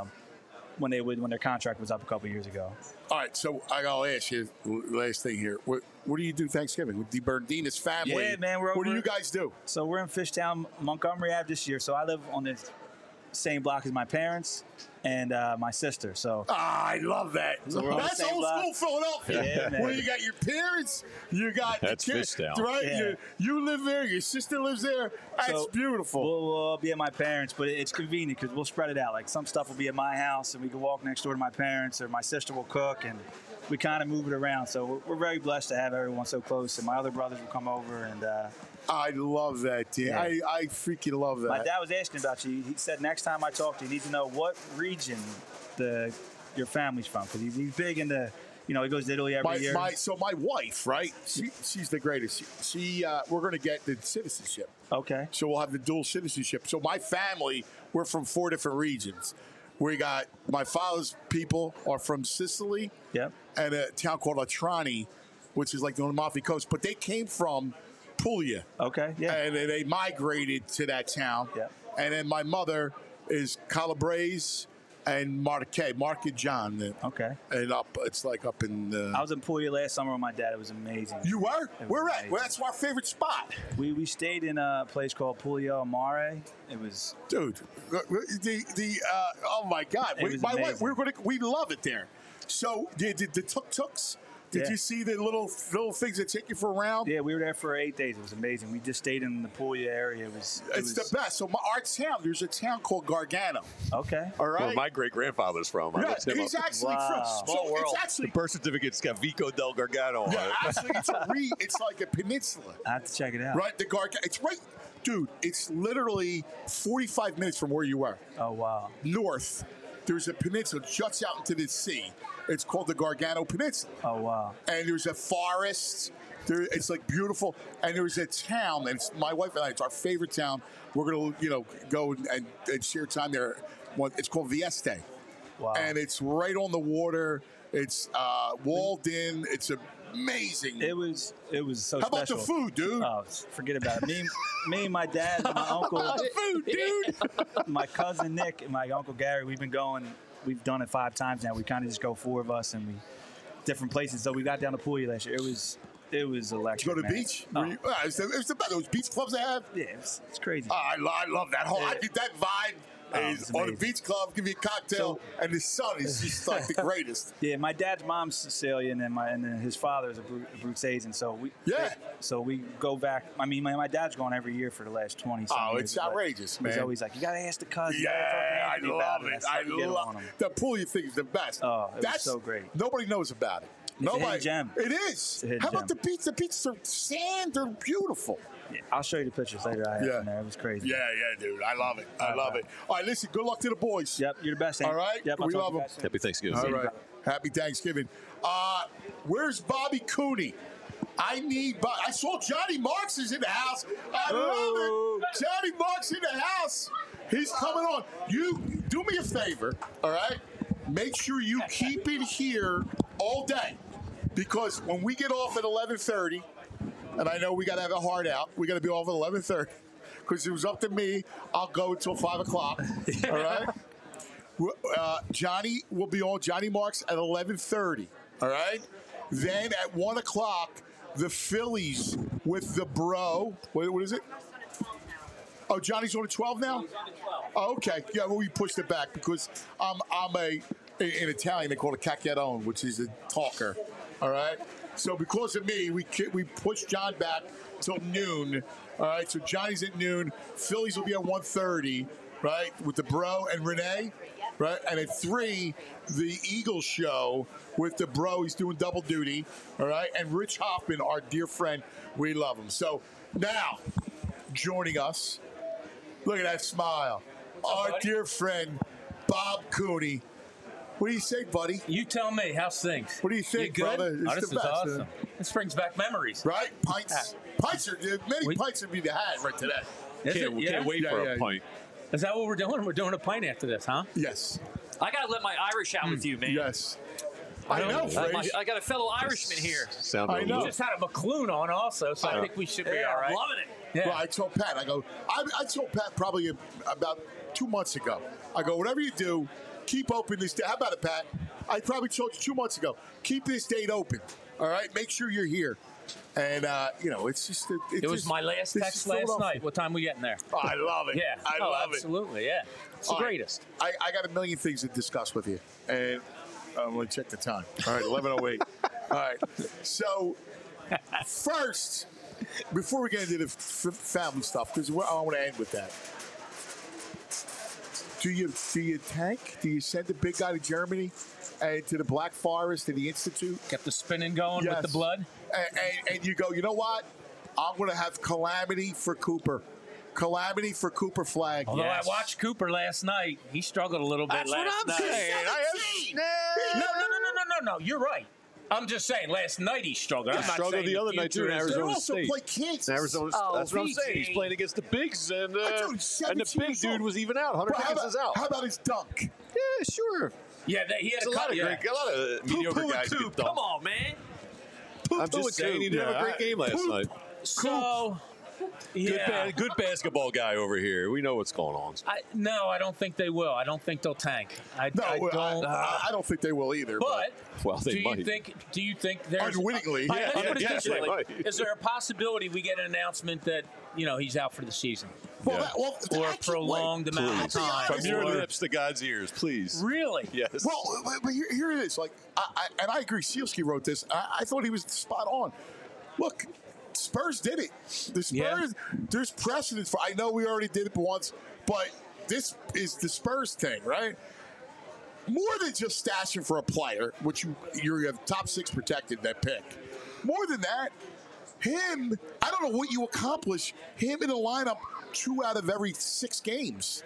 when their contract was up a couple years ago. All right, so I'll ask you last thing here. What do you do Thanksgiving with the Bernardinez family? Yeah, man. What do you guys do? So we're in Fishtown, Montgomery Ave this year. So I live on the same block as my parents and my sister. So I love that. So that's old school Philadelphia. Yeah, man. Where you got your parents, you got that's the kids, Fishtown. right? Yeah. You live there. Your sister lives there. That's So beautiful. We'll be at my parents', but it's convenient because we'll spread it out. Like some stuff will be at my house, and we can walk next door to my parents, or my sister will cook, and we kind of move it around. So we're very blessed to have everyone so close. And my other brothers will come over, and I love that, dude. Yeah. I freaking love that. My dad was asking about you. He said next time I talk to you, you need to know what region your family's from, because he's big into, he goes to Italy every year. So my wife, right? She's the greatest. We're going to get the citizenship. Okay. So we'll have the dual citizenship. So my family, we're from 4 different regions. We got my father's people are from Sicily. Yep. And a town called Atrani, which is like the Amalfi Coast, but they came from Puglia. Okay, yeah. And they migrated to that town. Yeah. And then my mother is Calabrese and Marchigiano. Okay. And it's like up in... I was in Puglia last summer with my dad. It was amazing. You were? Where at? Well, that's our favorite spot. We stayed in a place called Puglia Mare. It was... Dude, oh my God. My wife, we love it there. So, the tuk-tuks... Did you see the little things that take you for a round? Yeah, we were there for 8 days. It was amazing. We just stayed in the Puglia area. It's the best. So our town, there's a town called Gargano. Okay. All right. Where my great-grandfather's from. Yeah, he's actually from. Small world. It's actually, the birth certificate's got Vico del Gargano on it. Actually, it's like a peninsula. I have to check it out. Right, the Gargano. It's right, dude. It's literally 45 minutes from where you were. Oh wow. North, there's a peninsula juts out into the sea. It's called the Gargano Peninsula. Oh, wow. And there's a forest. It's like beautiful. And there's a town, and it's my wife and I, it's our favorite town. We're going to, go and share time there. It's called Vieste. Wow. And it's right on the water. It's walled in. It's amazing. It was so How special. about the food, dude? Oh, forget about it. Me and my dad and my uncle. How about the food, dude? My cousin Nick and my uncle Gary, we've done it 5 times now. We kind of just go 4 of us and we different places. So we got down to Puglia last year. It was electric. Did you go to the beach? It's the best. Those beach clubs they have? Yeah, it's crazy. I love that whole. I think that vibe is on the beach club. Give me a cocktail, and the sun is just like the greatest. Yeah, my dad's mom's Sicilian, and then his father is a Bruzzese, so we go back. I mean, my dad's gone every year for the last 20. Oh, it's outrageous, man. He's always like, you gotta ask the cousin. Yeah, I love it. I love it. The Puglia thing is the best. Oh, that's so great. Nobody knows about it. It's a hidden gem. It is. How about the beach? The beaches are sand. They're beautiful. Yeah, I'll show you the pictures later. I had from there. It was crazy. Yeah, dude. I love it. I love it. All right, listen. Good luck to the boys. Yep, you're the best. All right. Yep, we love them. Happy Thanksgiving. All right. Happy Thanksgiving. Where's Bobby Cooney? I need. I saw Johnny Marks is in the house. I love it. Johnny Marks in the house. He's coming on. You do me a favor. All right. Make sure you keep it here all day, because when we get off at 11:30, and I know we got to have a hard out, we got to be off at 11:30, because it was up to me. I'll go until 5 o'clock. All right. Johnny will be on. Johnny Marks at 11:30. All right. Then at 1 o'clock, the Phillies with the Bro. What is it? Oh, Johnny's on at 12 now? He's on at 12. Oh, okay. Yeah, well, we pushed it back because I'm in Italian, they call it cacchiarone, which is a talker. All right? So because of me, we pushed John back till noon. All right? So Johnny's at noon. Phillies will be at 1:30, right, with the Bro and Renee. Right? And at 3, the Eagles show with the Bro. He's doing double duty. All right? And Rich Hoffman, our dear friend. We love him. So now, joining us, look at that smile. Our dear friend, Bob Cooney. What do you say, buddy? You tell me. How's things? What do you think, you good? brother? Oh, this is awesome. This brings back memories. Right? Pints. Pints are, many pints would be the hat right today. Can't wait for a pint. Is that what we're doing? We're doing a pint after this, huh? Yes. I got to let my Irish out with you, man. Yes. I know. I got a fellow Irishman here. I know. You just had a McClune on also, so I think we should be all right. I'm loving it. Yeah. Well, I told Pat, I told Pat probably about 2 months ago. I go, whatever you do, keep open this day. How about it, Pat? I probably told you 2 months ago. Keep this date open. All right? Make sure you're here. And, it's just... It was my last text last night. What time we getting there? Oh, I love it. Yeah. I love it. Absolutely, yeah. It's the greatest. I got a million things to discuss with you. And I'm going to check the time. All right, 11:08. All right. So, first, before we get into the family stuff, because I want to end with that. Do you tank? Do you send the big guy to Germany and to the Black Forest, to the Institute? Get the spinning going with the blood? And you go, you know what? I'm going to have calamity for Cooper. Calamity for Cooper Flag. Although I watched Cooper last night, he struggled a little bit last night. No. You're right. I'm just saying, last night he struggled. He struggled the other night too in Arizona State. Play Kansas. Arizona, that's what I'm saying. He's playing against the bigs, and the big dude was even out. Hunter Higgins is out. How about his dunk? Yeah, sure. Yeah, he had a lot of mediocre guys get dunked. Come on, man. I'm just saying he didn't have a great game last night. So, good basketball guy over here. We know what's going on. No, I don't think they will. I don't think they'll tank. I don't think they will either. But they might. Do you think there's unwittingly? Let's put it this way. might. Is there a possibility we get an announcement that he's out for the season? Or a prolonged amount of time. From your lips to God's ears, please. Really? Yes. Well, but here it is. Like, I agree. Sealski wrote this. I thought he was spot on. Look, Spurs did it. The Spurs. There's precedence for. I know we already did it once, but this is the Spurs thing, right? More than just stashing for a player, which you have top 6 protected that pick. More than that, him. I don't know what you accomplish. Him in the lineup 2 out of every 6 games.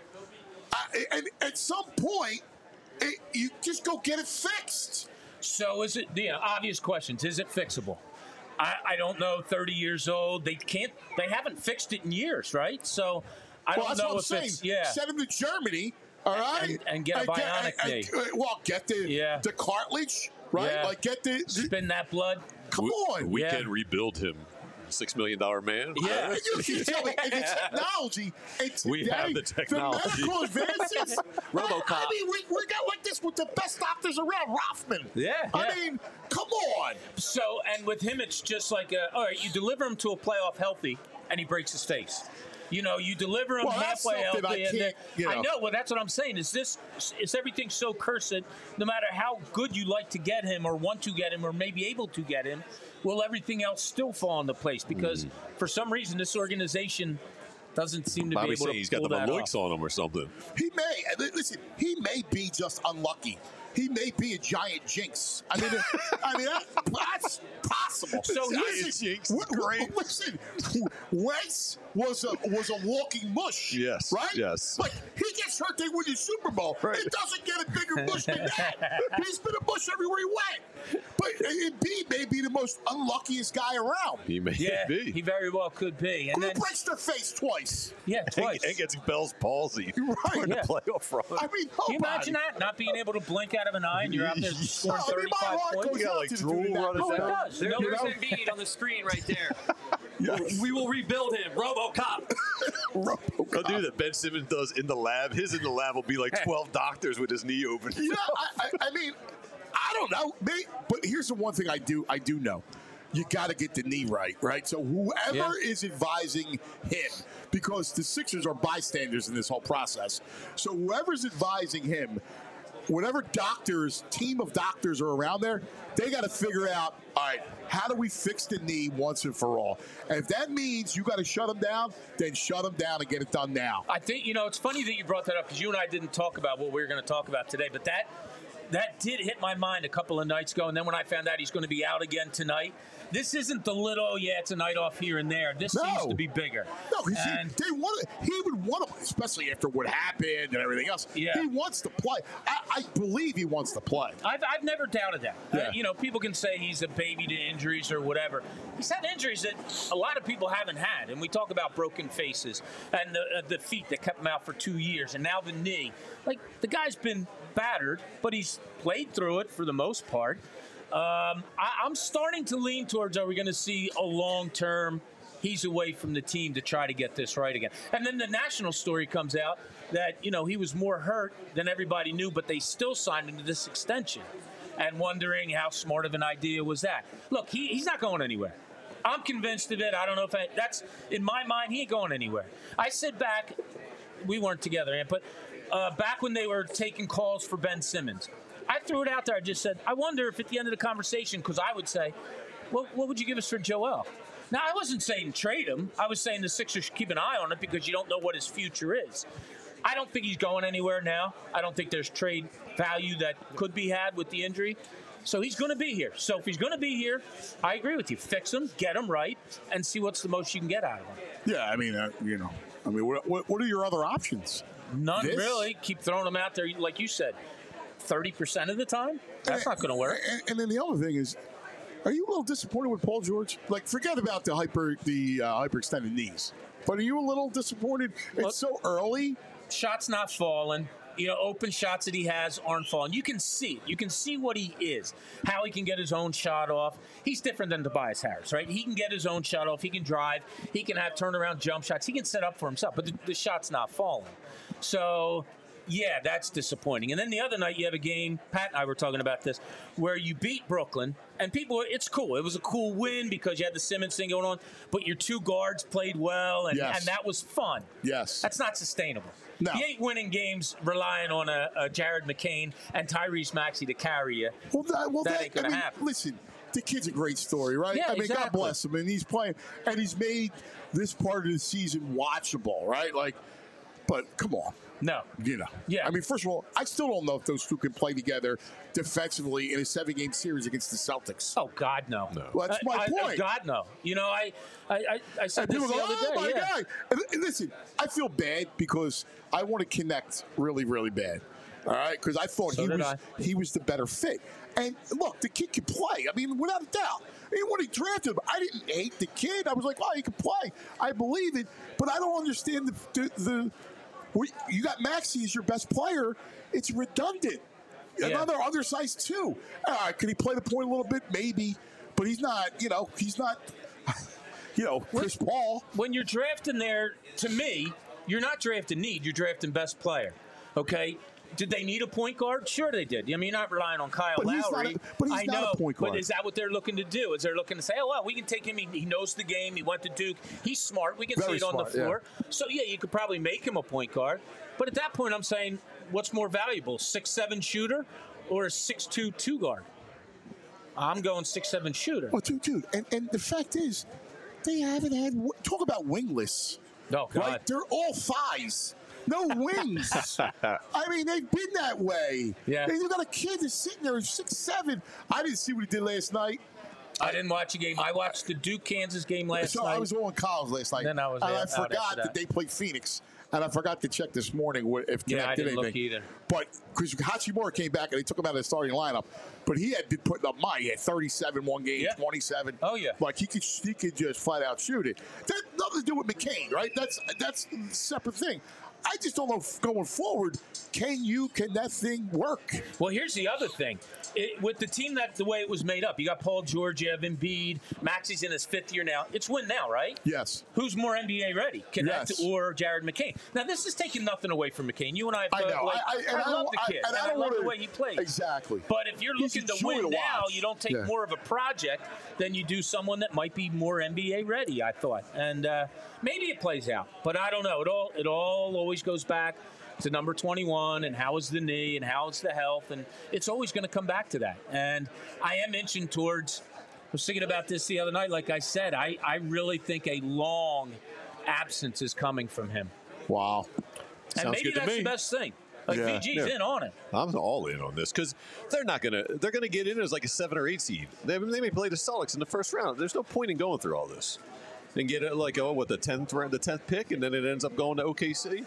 And at some point, you just go get it fixed. So is it, obvious questions, is it fixable? I don't know, 30 years old. They haven't fixed it in years, right? So I don't know if it's, Send him to Germany, all right? And get a bionic knee. Get the cartilage, right? Yeah. Like get the... Spin that blood. Come on. We can rebuild him. $6 million man. Yeah, you can tell me, and the technology. We have the technology. The medical advances. RoboCop. I mean, we got like this with the best doctors around. Rothman. Yeah. I mean, come on. So, and with him, it's just like, all right, you deliver him to a playoff healthy, and he breaks his face. You deliver him halfway healthy. I know. Well, that's what I'm saying. Is everything so cursed? No matter how good you like to get him, or want to get him, or maybe able to get him, will everything else still fall into place? Because for some reason, this organization doesn't seem to be able to pull that off. He's got the Maluks on him or something. He may be just unlucky. He may be a giant jinx. I mean, that's possible. So he's jinx. Great. Listen, Wentz was a walking mush. Yes. Right. Yes. Like he gets hurt, they win the Super Bowl. Right. It doesn't get a bigger mush than that. He's been a mush everywhere he went. But B may be the most unluckiest guy around. He may be. He very well could be. And Who breaks their face twice? Yeah, twice. And gets Bell's palsy. Right. In the playoff run. I mean, can you imagine that? Not being able to blink out of an eye and you're out there scoring 35 points? You got like drool running down. It does. There's Embiid on the screen right there. Yes. We will rebuild him. RoboCop. I'll do that Ben Simmons does in the lab. His in the lab will be like 12 doctors with his knee open. I mean, I don't know. But here's the one thing I do know. You got to get the knee right? So whoever is advising him, because the Sixers are bystanders in this whole process. So whoever's advising him, whatever team of doctors are around there, they got to figure out, all right, how do we fix the knee once and for all? And if that means you got to shut him down, then shut him down and get it done now. I think, it's funny that you brought that up because you and I didn't talk about what we were going to talk about today, but that did hit my mind a couple of nights ago. And then when I found out he's going to be out again tonight, this isn't the little, it's a night off here and there. This seems to be bigger. No, he would want to, especially after what happened and everything else. Yeah. He wants to play. I believe he wants to play. I've never doubted that. Yeah. People can say he's a baby to injuries or whatever. He's had injuries that a lot of people haven't had. And we talk about broken faces and the feet that kept him out for 2 years and now the knee. Like, the guy's been battered, but he's played through it for the most part. I'm starting to lean towards, are we going to see a long-term, he's away from the team to try to get this right again. And then the national story comes out that, he was more hurt than everybody knew, but they still signed him to this extension. And wondering how smart of an idea was that. Look, he's not going anywhere. I'm convinced of it. I don't know if that's, in my mind, he ain't going anywhere. I said back, we weren't together, but back when they were taking calls for Ben Simmons, I threw it out there. I just said, I wonder if at the end of the conversation, because I would say, what would you give us for Joel? Now, I wasn't saying trade him. I was saying the Sixers should keep an eye on it because you don't know what his future is. I don't think he's going anywhere now. I don't think there's trade value that could be had with the injury. So he's going to be here. So if he's going to be here, I agree with you. Fix him, get him right, and see what's the most you can get out of him. Yeah, I mean, what are your other options? None really. Keep throwing them out there, like you said, 30% of the time. That's not going to work. And then the other thing is, are you a little disappointed with Paul George? Like, forget about the hyperextended knees. But are you a little disappointed? It's so early. Shots not falling. Open shots that he has aren't falling. You can see it. You can see what he is, how he can get his own shot off. He's different than Tobias Harris, right? He can get his own shot off. He can drive. He can have turnaround jump shots. He can set up for himself, but the shot's not falling. So, yeah, that's disappointing. And then the other night you have a game, Pat and I were talking about this, where you beat Brooklyn, and it's cool. It was a cool win because you had the Simmons thing going on, but your two guards played well, and that was fun. Yes. That's not sustainable. No. You ain't winning games relying on a Jared McCain and Tyrese Maxey to carry you. That ain't going to happen. Listen, the kid's a great story, right? Yeah, God bless him. And he's playing, and he's made this part of the season watchable, right? But come on. No. Yeah. I mean, first of all, I still don't know if those two can play together defensively in a 7-game series against the Celtics. Oh, God, no. Well, that's my point. God, no. I said this the other day. Oh, my God. And listen, I feel bad because I want to connect really, really bad. All right? Because I thought he was the better fit. And, look, the kid can play. I mean, without a doubt. When he drafted him, I didn't hate the kid. I was like, he can play. I believe it. But I don't understand you got Maxey as your best player. It's redundant. Another undersized too. All right, can he play the point a little bit? Maybe, but he's not. Chris Paul. When you're drafting there, to me, you're not drafting need. You're drafting best player. Okay. Did they need a point guard? Sure, they did. I mean, you're not relying on Kyle Lowry. He's not a point guard. But is that what they're looking to do? Is they're looking to say, we can take him. He knows the game. He went to Duke. He's smart. We can see it on the floor. Yeah. So, you could probably make him a point guard. But at that point, I'm saying, what's more valuable, 6'7" shooter or a 6'2" two guard? I'm going 6'7" shooter. Oh, dude. And the fact is, they haven't had – talk about wingless. Oh, God. Right? They're all thighs. No wings. I mean, they've been that way. Yeah. They've got a kid that's sitting there who's 6'7". I didn't see what he did last night. I didn't watch a game. I watched the Duke-Kansas game last night. I was on college last night. Then I forgot that they played Phoenix. And I forgot to check this morning if Connect did anything. I didn't look either. But because Hachimura came back and they took him out of the starting lineup, but he had been putting up He had 37 one game, 27. Oh yeah, like he could just flat out shoot it. That nothing to do with McCain, right? That's a separate thing. I just don't know going forward. Can that thing work? Well, here's the other thing. With the team the way it was made up, you got Paul George, you have Embiid, Maxey's in his 5th year now. It's win now, right? Yes. Who's more NBA ready, Connect or Jared McCain? Now, this is taking nothing away from McCain. You and I have I love the kid. I love the way he plays. Exactly. But if you're looking to win now, you don't take more of a project than you do someone that might be more NBA ready, I thought. And maybe it plays out, but I don't know. It all always goes back to number 21 and how is the knee and how is the health, and it's always going to come back to that. And I am inching towards, I was thinking about this the other night, like I said, I really think a long absence is coming from him. Wow. Sounds and maybe good to that's me. the best thing. Like VG's in on it. I'm all in on this because they're gonna get in as like a 7 or 8 seed. They may play the Celtics in the first round. There's no point in going through all this and get it like the 10th pick, and then it ends up going to OKC.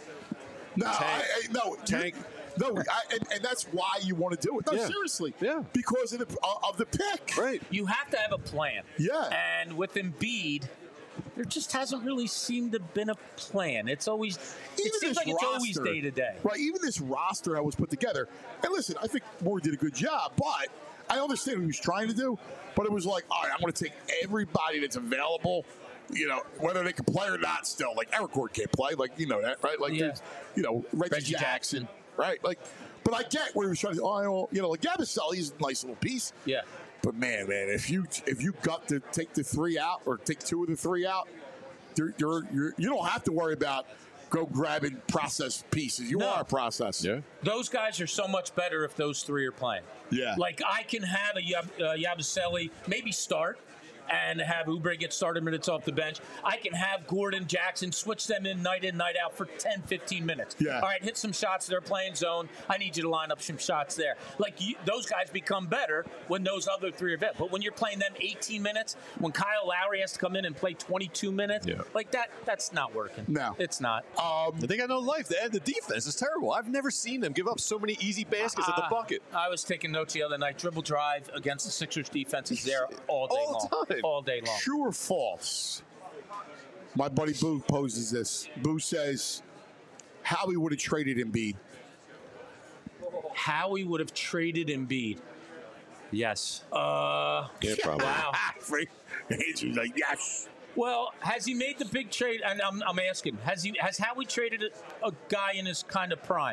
Tank. And that's why you want to do it. No, seriously. Yeah. Because of the pick. Right. You have to have a plan. Yeah. And with Embiid, there just hasn't really seemed to have been a plan. It's always it's always day to day. Right. Even this roster that was put together. And listen, I think Moore did a good job, but I understand what he was trying to do. But it was like, all right, I'm going to take everybody that's available. Whether they can play or not still. Like, Eric Gordon can't play. Like, that, right? Like, Reggie Jackson, right? Like, but I get where he was trying to, like Yabusele's a nice little piece. Yeah. But, man, if you got to take the 3 out or take 2 of the 3 out, you don't have to worry about go grabbing process pieces. You are a process. Yeah. Those guys are so much better if those 3 are playing. Yeah. Like, I can have a Yabusele maybe start, and have Oubre get started minutes off the bench. I can have Gordon, Jackson, switch them in, night out for 10, 15 minutes. Yeah. All right, hit some shots. They're playing zone. I need you to line up some shots there. Like, those guys become better when those other three are vet. But when you're playing them 18 minutes, when Kyle Lowry has to come in and play 22 minutes, like that's not working. No. It's not. They got no life. The defense is terrible. I've never seen them give up so many easy baskets at the bucket. I was taking notes the other night. Dribble drive against the Sixers defense is there all day long. All day long. True or false? My buddy Boo poses this. Boo says Howie would have traded Embiid. Howie would have traded Embiid. Yes. Yeah, probably. Wow. Andrew's like, yes. Well, has he made the big trade? And I'm asking, has Howie traded a guy in his kind of prime?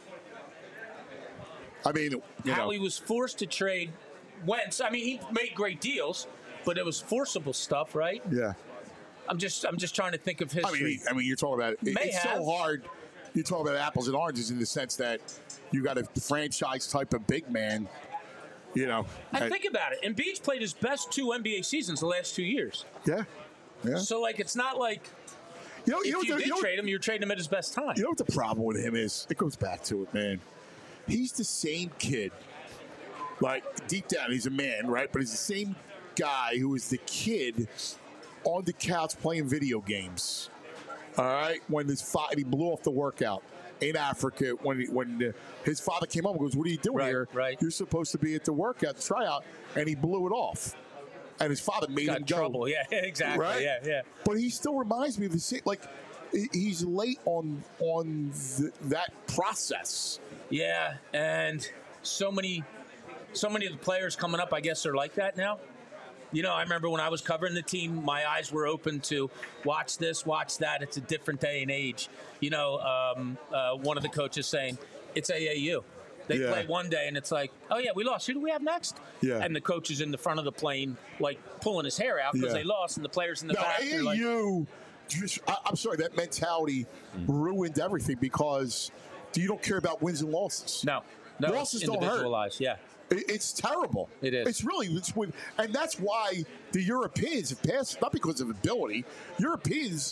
I mean, Howie was forced to trade Wentz. I mean, he made great deals, but it was forcible stuff, right? Yeah. I'm just trying to think of history. I mean, you're talking about it's so hard. You're talking about apples and oranges in the sense that you got a franchise type of big man. And think about it. Embiid's played his best 2 NBA seasons the last 2 years. Yeah. So, like, it's not like if you did trade him, you're trading him at his best time. You know what the problem with him is? It goes back to it, man. He's the same kid. Like, deep down, he's a man, right? But he's the same guy who was the kid on the couch playing video games. All right? When he blew off the workout in Africa, when his father came home and goes, "What are you doing here? Right. You're supposed to be at the workout, tryout," and he blew it off. And his father made him go. Trouble. Yeah, exactly. Right? Yeah. But he still reminds me of the same. Like, he's late on that process. Yeah, and so many of the players coming up, I guess, are like that now. I remember when I was covering the team, my eyes were open to watch this, watch that. It's a different day and age. One of the coaches saying, it's AAU. They play one day, and it's like, oh, yeah, we lost. Who do we have next? Yeah. And the coach is in the front of the plane, like, pulling his hair out because they lost, and the players in the back are like... AAU, I'm sorry, that mentality ruined everything because you don't care about wins and losses. No, losses don't hurt. Individualized, yeah. It's terrible. It is. And that's why the Europeans have passed, not because of ability. Europeans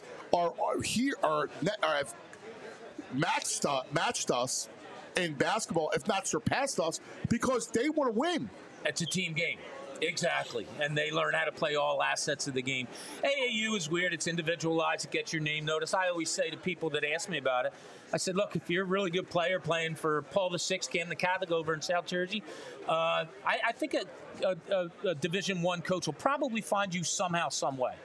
have matched us in basketball, if not surpassed us, because they want to win. It's a team game. Exactly. And they learn how to play all assets of the game. AAU is weird. It's individualized. It gets your name noticed. I always say to people that ask me about it, I said, look, if you're a really good player playing for Paul VI, Cam the Catholic over in South Jersey, I think a Division I coach will probably find you somehow, some way.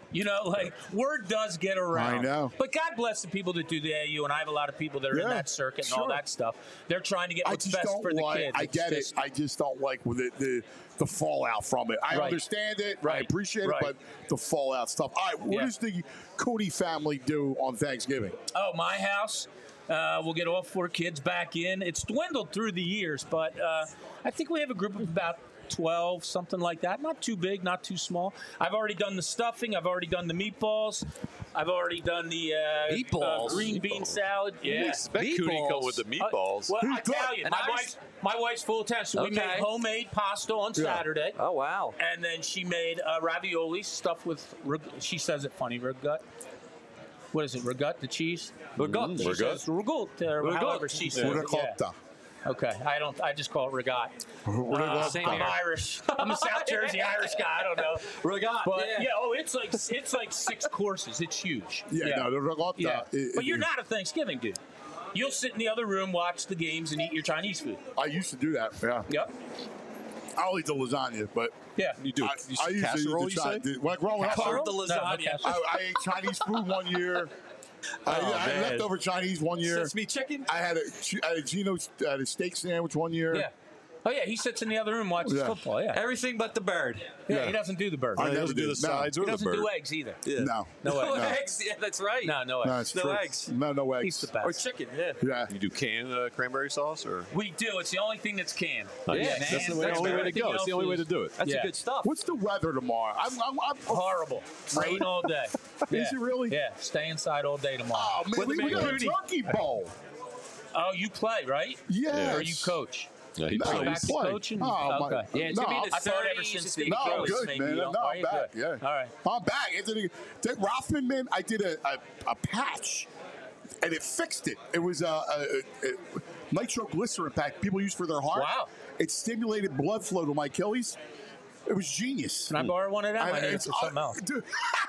Word does get around. I know. But God bless the people that do the AAU, and I have a lot of people that are in that circuit and all that stuff. They're trying to get what's best for the kids. I get it. I just don't like the fallout from it. I understand it. I appreciate it, but the fallout stuff. All right, what does the Cooney family do on Thanksgiving? Oh, my house. We'll get all 4 kids back in. It's dwindled through the years, but I think we have a group of about 12, something like that. Not too big, not too small. I've already done the stuffing. I've already done the meatballs. I've already done the green bean salad. Yeah, expect Cooney come with the meatballs. Well, Italian. My wife's full of talent. So we made homemade pasta on Saturday. Oh, wow. And then she made ravioli stuffed with, she says it funny, ragut. What is it, ragut, the cheese? Ragut. She says ragut, however she says it. Ricotta. Okay, I just call it regat. I'm Irish. I'm a South Jersey Irish guy. I don't know. Regat. But it's like 6 courses. It's huge. The regatta. Yeah. But you're not a Thanksgiving dude. You'll sit in the other room, watch the games, and eat your Chinese food. I used to do that. Yeah. Yep. I'll eat the lasagna, but you do. I used to eat the growing up. The lasagna. I ate Chinese food one year. I had leftover Chinese one year. Sesame chicken? I had a steak sandwich one year. Yeah. Oh, yeah, he sits in the other room watches football, Everything but the bird. Yeah, he doesn't do the bird. I never do the sides or the bird. He doesn't do eggs either. Yeah. No. No eggs. Yeah, that's right. No eggs. No eggs. No eggs. He's the best. Or chicken, Yeah. You do canned cranberry sauce? Or We do. It's the only thing that's canned. That's the only way to go. It's the only way to do it. That's good stuff. What's the weather tomorrow? I'm horrible. Rain all day. Is it really? Yeah. Stay inside all day tomorrow. Oh, man, we got a turkey bowl. Oh, you play, right? Yeah. Or you coach? Yeah, he No, plays. he's playing. Oh, okay. Yeah, it's going to be the I thought ever 30s. since It's the gonna be No, close. good, maybe man. you don't- No, are I'm you back. good? Yeah. All right. I'm back. Anthony, Rothman, man, I did a patch, and it fixed it. It was a nitroglycerin pack people use for their heart. Wow. It stimulated blood flow to my Achilles. It was genius. Can I borrow one of them? I need it it's- for something else. Dude,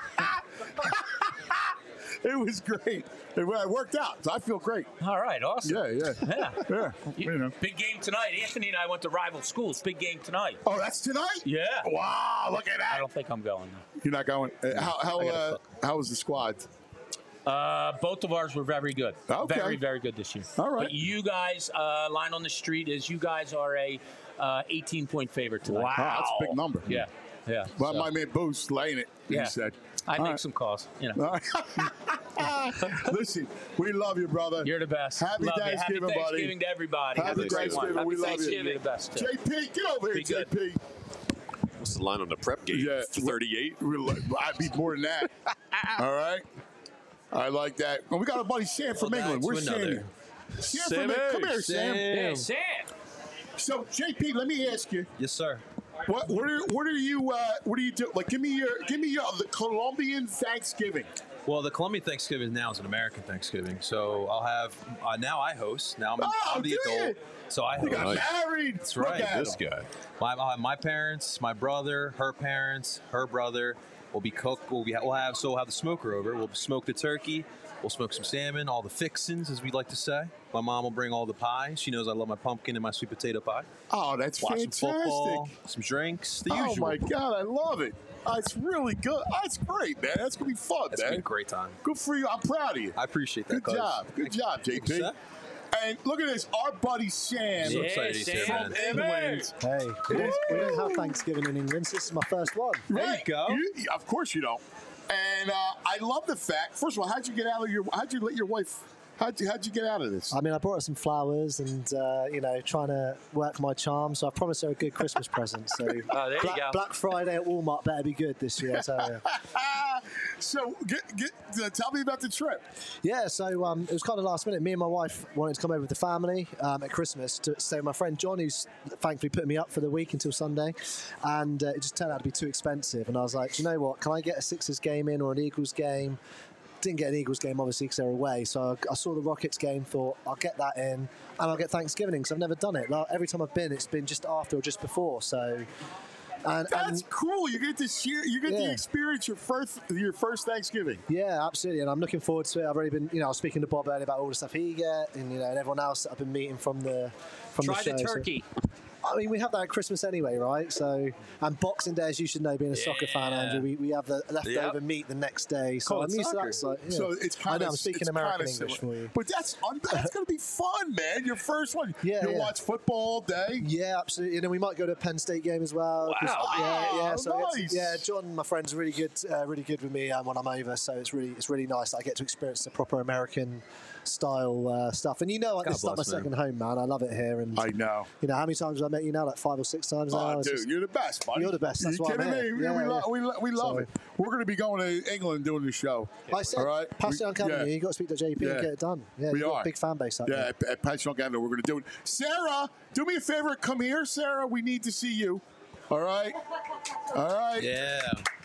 it was great. It worked out. So I feel great. All right, awesome. Yeah. You know. Big game tonight. Anthony and I went to rival schools. Big game tonight. Oh, that's tonight? Yeah. Wow, look at that. I don't think I'm going. Though. You're not going. How was the squad? Both of ours were very good. Okay. Very, very good this year. All right. But you guys, line on the street is you guys are a 18-point favorite tonight. Wow, that's a big number. Yeah. Yeah. Well, so- my man Boost laying it. Yeah. He said. I'd All make right. some calls. You know. All right. Listen, we love you, brother. You're the best. Happy Love you. Thanksgiving, Happy buddy. Thanksgiving to everybody. Happy Thanksgiving. Happy We love you. Thanksgiving. You're the best. Too. JP, get over here, Be good. JP. What's the line on the prep game? Yeah. 38. I'd be more than that. All right. I like that. Well, we got a buddy Sam from Well, England. back to Where's Sam? another. Sam from Sammy. England. Come here, Sam. Yeah, Sam. So, JP, let me ask you. Yes, sir. What do you do? Like, give me the Colombian Thanksgiving. Well, the Colombian Thanksgiving now is an American Thanksgiving, so I'll have. Now I host. Now I'm the do adult, you? so I You host. got married. That's Look right. at This him. guy. I'll have my parents, my brother, her parents, her brother. We'll be cooked. We'll have the smoker over. We'll smoke the turkey. We'll smoke some salmon, all the fixins, as we like to say. My mom will bring all the pies. She knows I love my pumpkin and my sweet potato pie. Oh, that's Watch fantastic. some football, some drinks, the Oh usual. my God, I love it. It's really good. That's great, man. That's gonna be fun, It's man. been a great time. Good for you. I'm proud of you. I appreciate that. Good cuz. job. Good job, Thank you, JP. sir. And look at this, our buddy Sam So excited he's here, from man. England. Hey, we don't have Thanksgiving in England, so this is my first one. Right. go. Of course you don't. And I love the fact. First of all, how'd you let your wife? How'd you get out of this? I mean, I brought her some flowers and, trying to work my charm. So I promised her a good Christmas present. So there you go. Black Friday at Walmart better be good this year, I tell you. So tell me about the trip. Yeah, so it was kind of last minute. Me and my wife wanted to come over with the family at Christmas to stay with my friend John, who's thankfully put me up for the week until Sunday. And it just turned out to be too expensive. And I was like, do you know what? Can I get a Sixers game in or an Eagles game? Didn't get an Eagles game, obviously, because they're away. So I saw the Rockets game, thought, I'll get that in, and I'll get Thanksgiving in, because I've never done it. Like, every time I've been, it's been just after or just before. So... That's cool. You get to share. You get to experience your first Thanksgiving. Yeah, absolutely, and I'm looking forward to it. I've already been, I was speaking to Bob earlier about all the stuff he get, and and everyone else that I've been meeting from the Try show. the turkey. So, I mean, we have that at Christmas anyway, right? So, and Boxing Day, as you should know, being a soccer fan, Andrew, we have the leftover meat the next day. So I'm used to that. So, So it's kind I know, of. I'm speaking American English for you. But that's going to be fun, man. Your first one. You'll watch football all day. Yeah, absolutely. And then we might go to a Penn State game as well. Yeah. So nice. John, my friend's really good with me when I'm over. So it's really nice that I get to experience the proper American style stuff. And this is like my second home, man. I love it here. And I know. How many times have I met you now? Like 5 or 6 times now. Oh, dude, you're the best, buddy. You're the best. That's you why kidding I'm here. me? We love it. We're going to be going to England doing the show. I said, all right? pass it on, Kevin. You got to speak to JP and get it done. Yeah, we you've got are. a big fan base out there. Yeah, at Pass It on Kevin, we're going to do it. Sarah, do me a favor. Come here, Sarah. We need to see you. All right? All right? Yeah.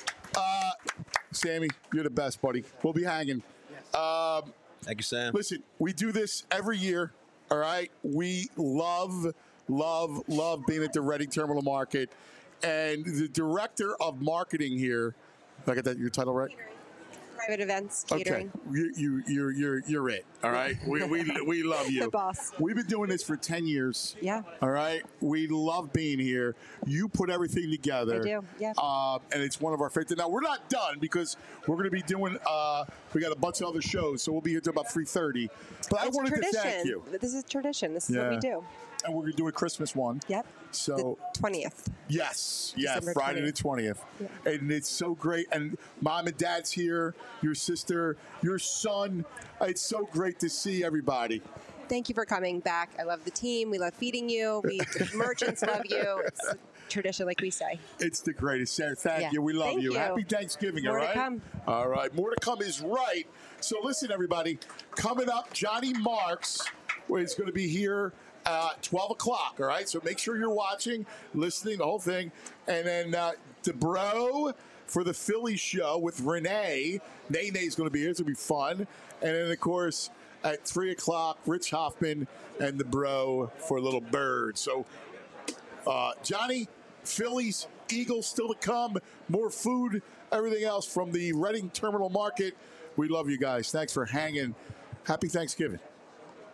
Sammy, you're the best, buddy. We'll be hanging. Thank you, Sam. Listen, we do this every year, all right? We love being at the Reading Terminal Market. And the director of marketing here, did I get that your title right? Private events, catering. Okay, you're it. All right, we love you. The boss. We've been doing this for 10 years. Yeah. All right, we love being here. You put everything together. I do. Yeah. And it's one of our favorites. Now we're not done because we're going to be doing. We got a bunch of other shows, so we'll be here till about 3:30. But I wanted to thank you. This is tradition. This is what we do. And we're going to do a Christmas one. Yep. So the 20th. Yes. December Friday 20th. the 20th. Yeah. And it's so great. And Mom and Dad's here, your sister, your son. It's so great to see everybody. Thank you for coming back. I love the team. We love feeding you. The merchants love you. It's a tradition, like we say. It's the greatest. Sarah, thank you. We love Thank you. you. Happy Thanksgiving, More all to right? come. All right. More to come is right. So listen, everybody. Coming up, Johnny Marks is going to be here 12 o'clock, all right? So make sure you're watching, listening, the whole thing. And then DeBro for the Philly show with Renee. Nene is going to be here. It's going to be fun. And then, of course, at 3 o'clock, Rich Hoffman and the Bro for Little Bird. So, Johnny, Phillies, Eagles still to come. More food, everything else from the Reading Terminal Market. We love you guys. Thanks for hanging. Happy Thanksgiving.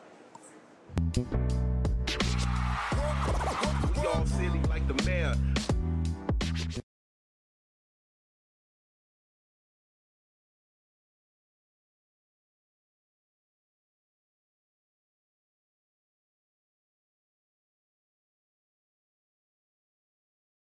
We all silly like the mayor.